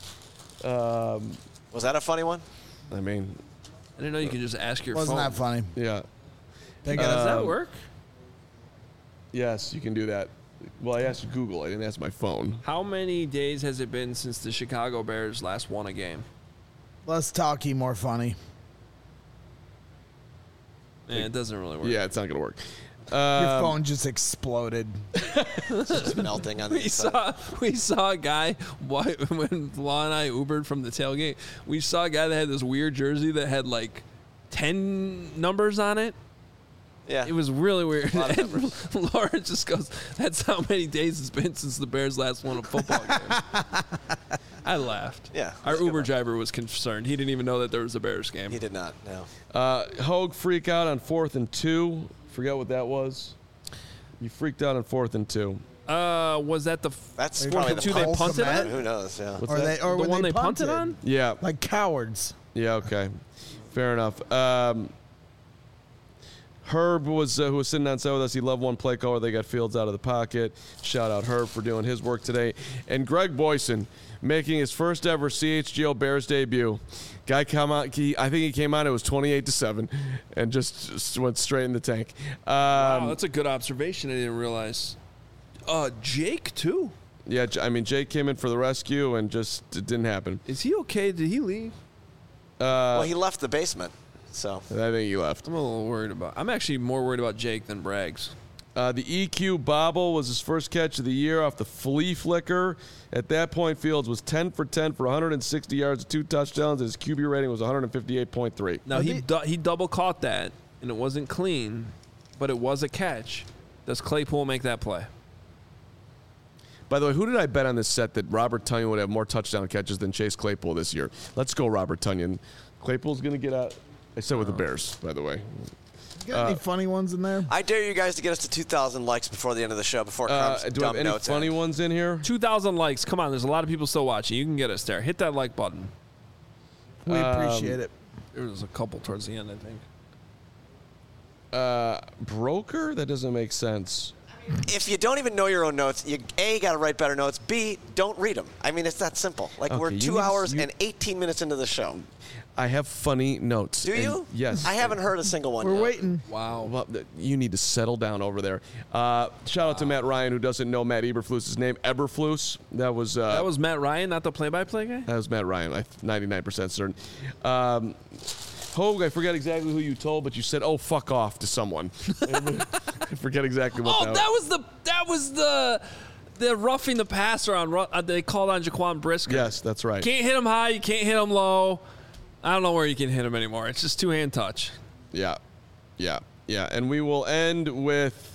Was that a funny one? I mean, I didn't know you could just ask your Wasn't phone. that funny? yeah. They Does got that Um, work? Yes, you can do that. Well, I asked Google. I didn't ask my phone. How many days has it been since the Chicago Bears last won a game? less talky, more funny. Yeah, it doesn't really work. Yeah, it's not going to work. Your Um, phone just exploded. Just melting on the We inside. saw we saw a guy why- when Law and I Ubered from the tailgate. We saw a guy that had this weird jersey that had like ten numbers on it. Yeah. It was really weird. lot of And Laura just goes, "That's how many days it's been since the Bears last won a football game." I laughed. Yeah, our that's a good Uber one. driver was concerned. He didn't even know that there was a Bears game. He did not, no. uh, Hogue freak out on fourth and two. Forget what that was. You freaked out on fourth and two. Uh, was that the That's Fourth probably and the two they punt punted Comet? on? Who knows, yeah. What's Or that? they, or the when one they they punted punted on? Yeah. like cowards. Yeah, okay. Fair enough. Um, Herb was uh, who was sitting on set with us. He loved one play caller. They got Fields out of the pocket. Shout out Herb for doing his work today. And Greg Boyson making his first ever C H G O Bears debut. Guy come out. He, I think he came out. It was twenty-eight to seven, and just, just went straight in the tank. Um, Wow, that's a good observation. I didn't realize. Uh, Jake too. Yeah, J- I mean Jake came in for the rescue, and just it didn't happen. Is he okay? Did he leave? well, he left the basement, so. I think he left. I'm a little worried about. I'm actually more worried about Jake than Braggs. Uh, the E Q bobble was his first catch of the year off the flea flicker. At that point, Fields was ten for ten for one hundred sixty yards, two touchdowns, and his Q B rating was one fifty-eight point three. Now Are he they- du- he double caught that, and it wasn't clean, but it was a catch. Does Claypool make that play? By the way, who did I bet on this set that Robert Tonyan would have more touchdown catches than Chase Claypool this year? Let's go, Robert Tonyan. Claypool's going to get out. I said with the Bears, by the way. Got any funny ones in there? I dare you guys to get us to two thousand likes before the end of the show, before Uh, Crumb's do I have dumb any notes funny end. ones in here? Two thousand likes. Come on, there's a lot of people still watching. You can get us there. Hit that like button. We appreciate it. There was a couple towards the end, I think. Uh, broker? That doesn't make sense. If you don't even know your own notes, you A, got to write better notes. B, don't read them. I mean, it's that simple. Like, Okay, we're you two need to- hours you- and eighteen minutes into the show. I have funny notes. Do and you? Yes. I haven't heard a single one We're yet. waiting. Wow. Well, th- you need to settle down over there. Uh, shout out to Matt Ryan, who doesn't know Matt Eberflus's name. Eberflus. That was uh, That was Matt Ryan, not the play-by-play guy? that was Matt Ryan. I'm ninety-nine percent certain. Um, Hogue, I forget exactly who you told, but you said, "Oh, fuck off" to someone. I forget exactly what Oh, that. that was the that was the they're roughing the passer on. Uh, they called on Jaquan Brisker. Yes, that's right. Can't hit him high. You can't hit him low. I don't know where you can hit him anymore. It's just two hand touch. Yeah, yeah, yeah. And we will end with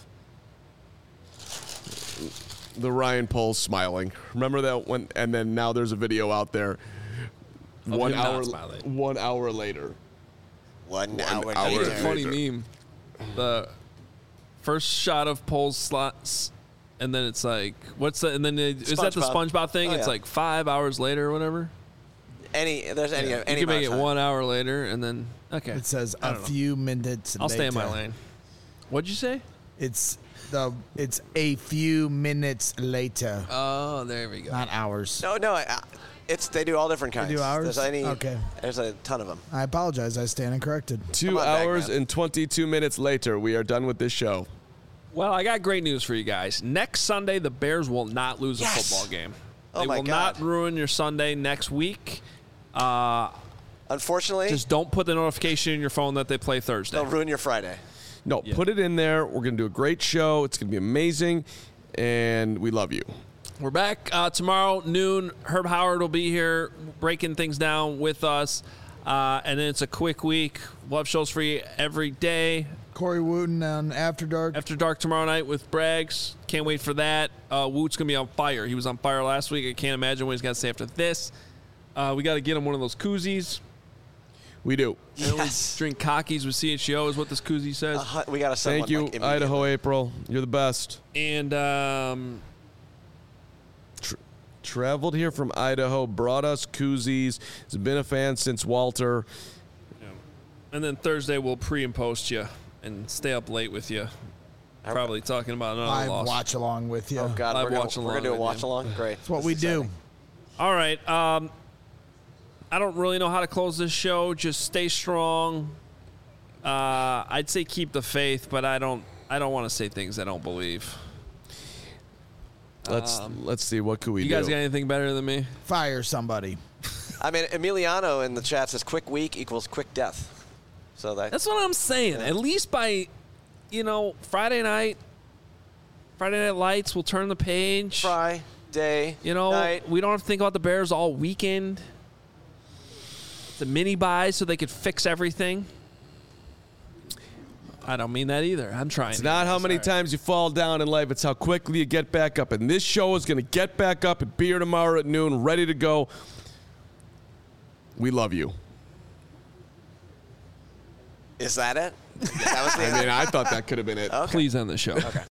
the Ryan Poles smiling. Remember that one? And then now there's a video out there. Of one him not hour. smiling. One hour later. One, One hour, hour It's later. a funny meme. The first shot of Poles slots, and then it's like, what's the? And then it, is that the SpongeBob. SpongeBob thing? Oh, It's yeah. like five hours later or whatever. Any, there's any, You any can make amount it of time. one hour later, and then okay. It says I a don't know. few minutes. I'll stay in my later. lane. What'd you say? It's the. It's a few minutes later, Oh, there we go. not hours. No, no, I- it's they do all different kinds. do hours? There's any, Okay. There's a ton of them. I apologize. I stand corrected. Two Come on, hours Bagman. and twenty-two minutes later, we are done with this show. Well, I got great news for you guys. Next Sunday, the Bears will not lose a Yes! football game. Oh they my will God. not ruin your Sunday next week. Uh, Unfortunately, just don't put the notification in your phone that they play Thursday. they'll ruin your Friday. No, Yeah. put it in there. We're going to do a great show. It's going to be amazing. And we love you. We're back uh, tomorrow, noon. Herb Howard will be here breaking things down with us. Uh, and then it's a quick week. We'll have shows for you every day. Corey Wooten on After Dark. After dark tomorrow night with Braggs. Can't wait for that. Uh, Woot's going to be on fire. He was on fire last week. I can't imagine what he's got to say after this. Uh, we got to get him one of those koozies. We do. And we Yes. drink cockies with C H O is what this koozie says. Uh, hu- we got to send Thank one, you, like, immediately. Idaho April. You're the best. And um, Traveled here from Idaho, brought us koozies. Has been a fan since Walter. and then Thursday we'll pre and post you and stay up late with you. Probably talking about another Live loss. watch along with you. Oh God, Live we're gonna, watch we're gonna along do a with watch you. along. Great. That's what This we is do. exciting. All right. Um, I don't really know how to close this show. Just stay strong. Uh, I'd say keep the faith, but I don't. I don't want to say things I don't believe. Let's let's see what could we You do. guys got anything better than me? Fire somebody. I mean, Emiliano in the chat says quick week equals quick death. So that That's what I'm saying. At least by, you know, Friday night, Friday Night Lights, we'll turn the page. Friday. You know, night. we don't have to think about the Bears all weekend. It's a mini buy so they could fix everything. I don't mean that either. I'm trying. It's not how many times you fall down in life, it's how quickly you get back up. And this show is going to get back up and be here tomorrow at noon, ready to go. We love you. Is that it? That was the I mean, I thought that could have been it. Okay. Please end the show. Okay.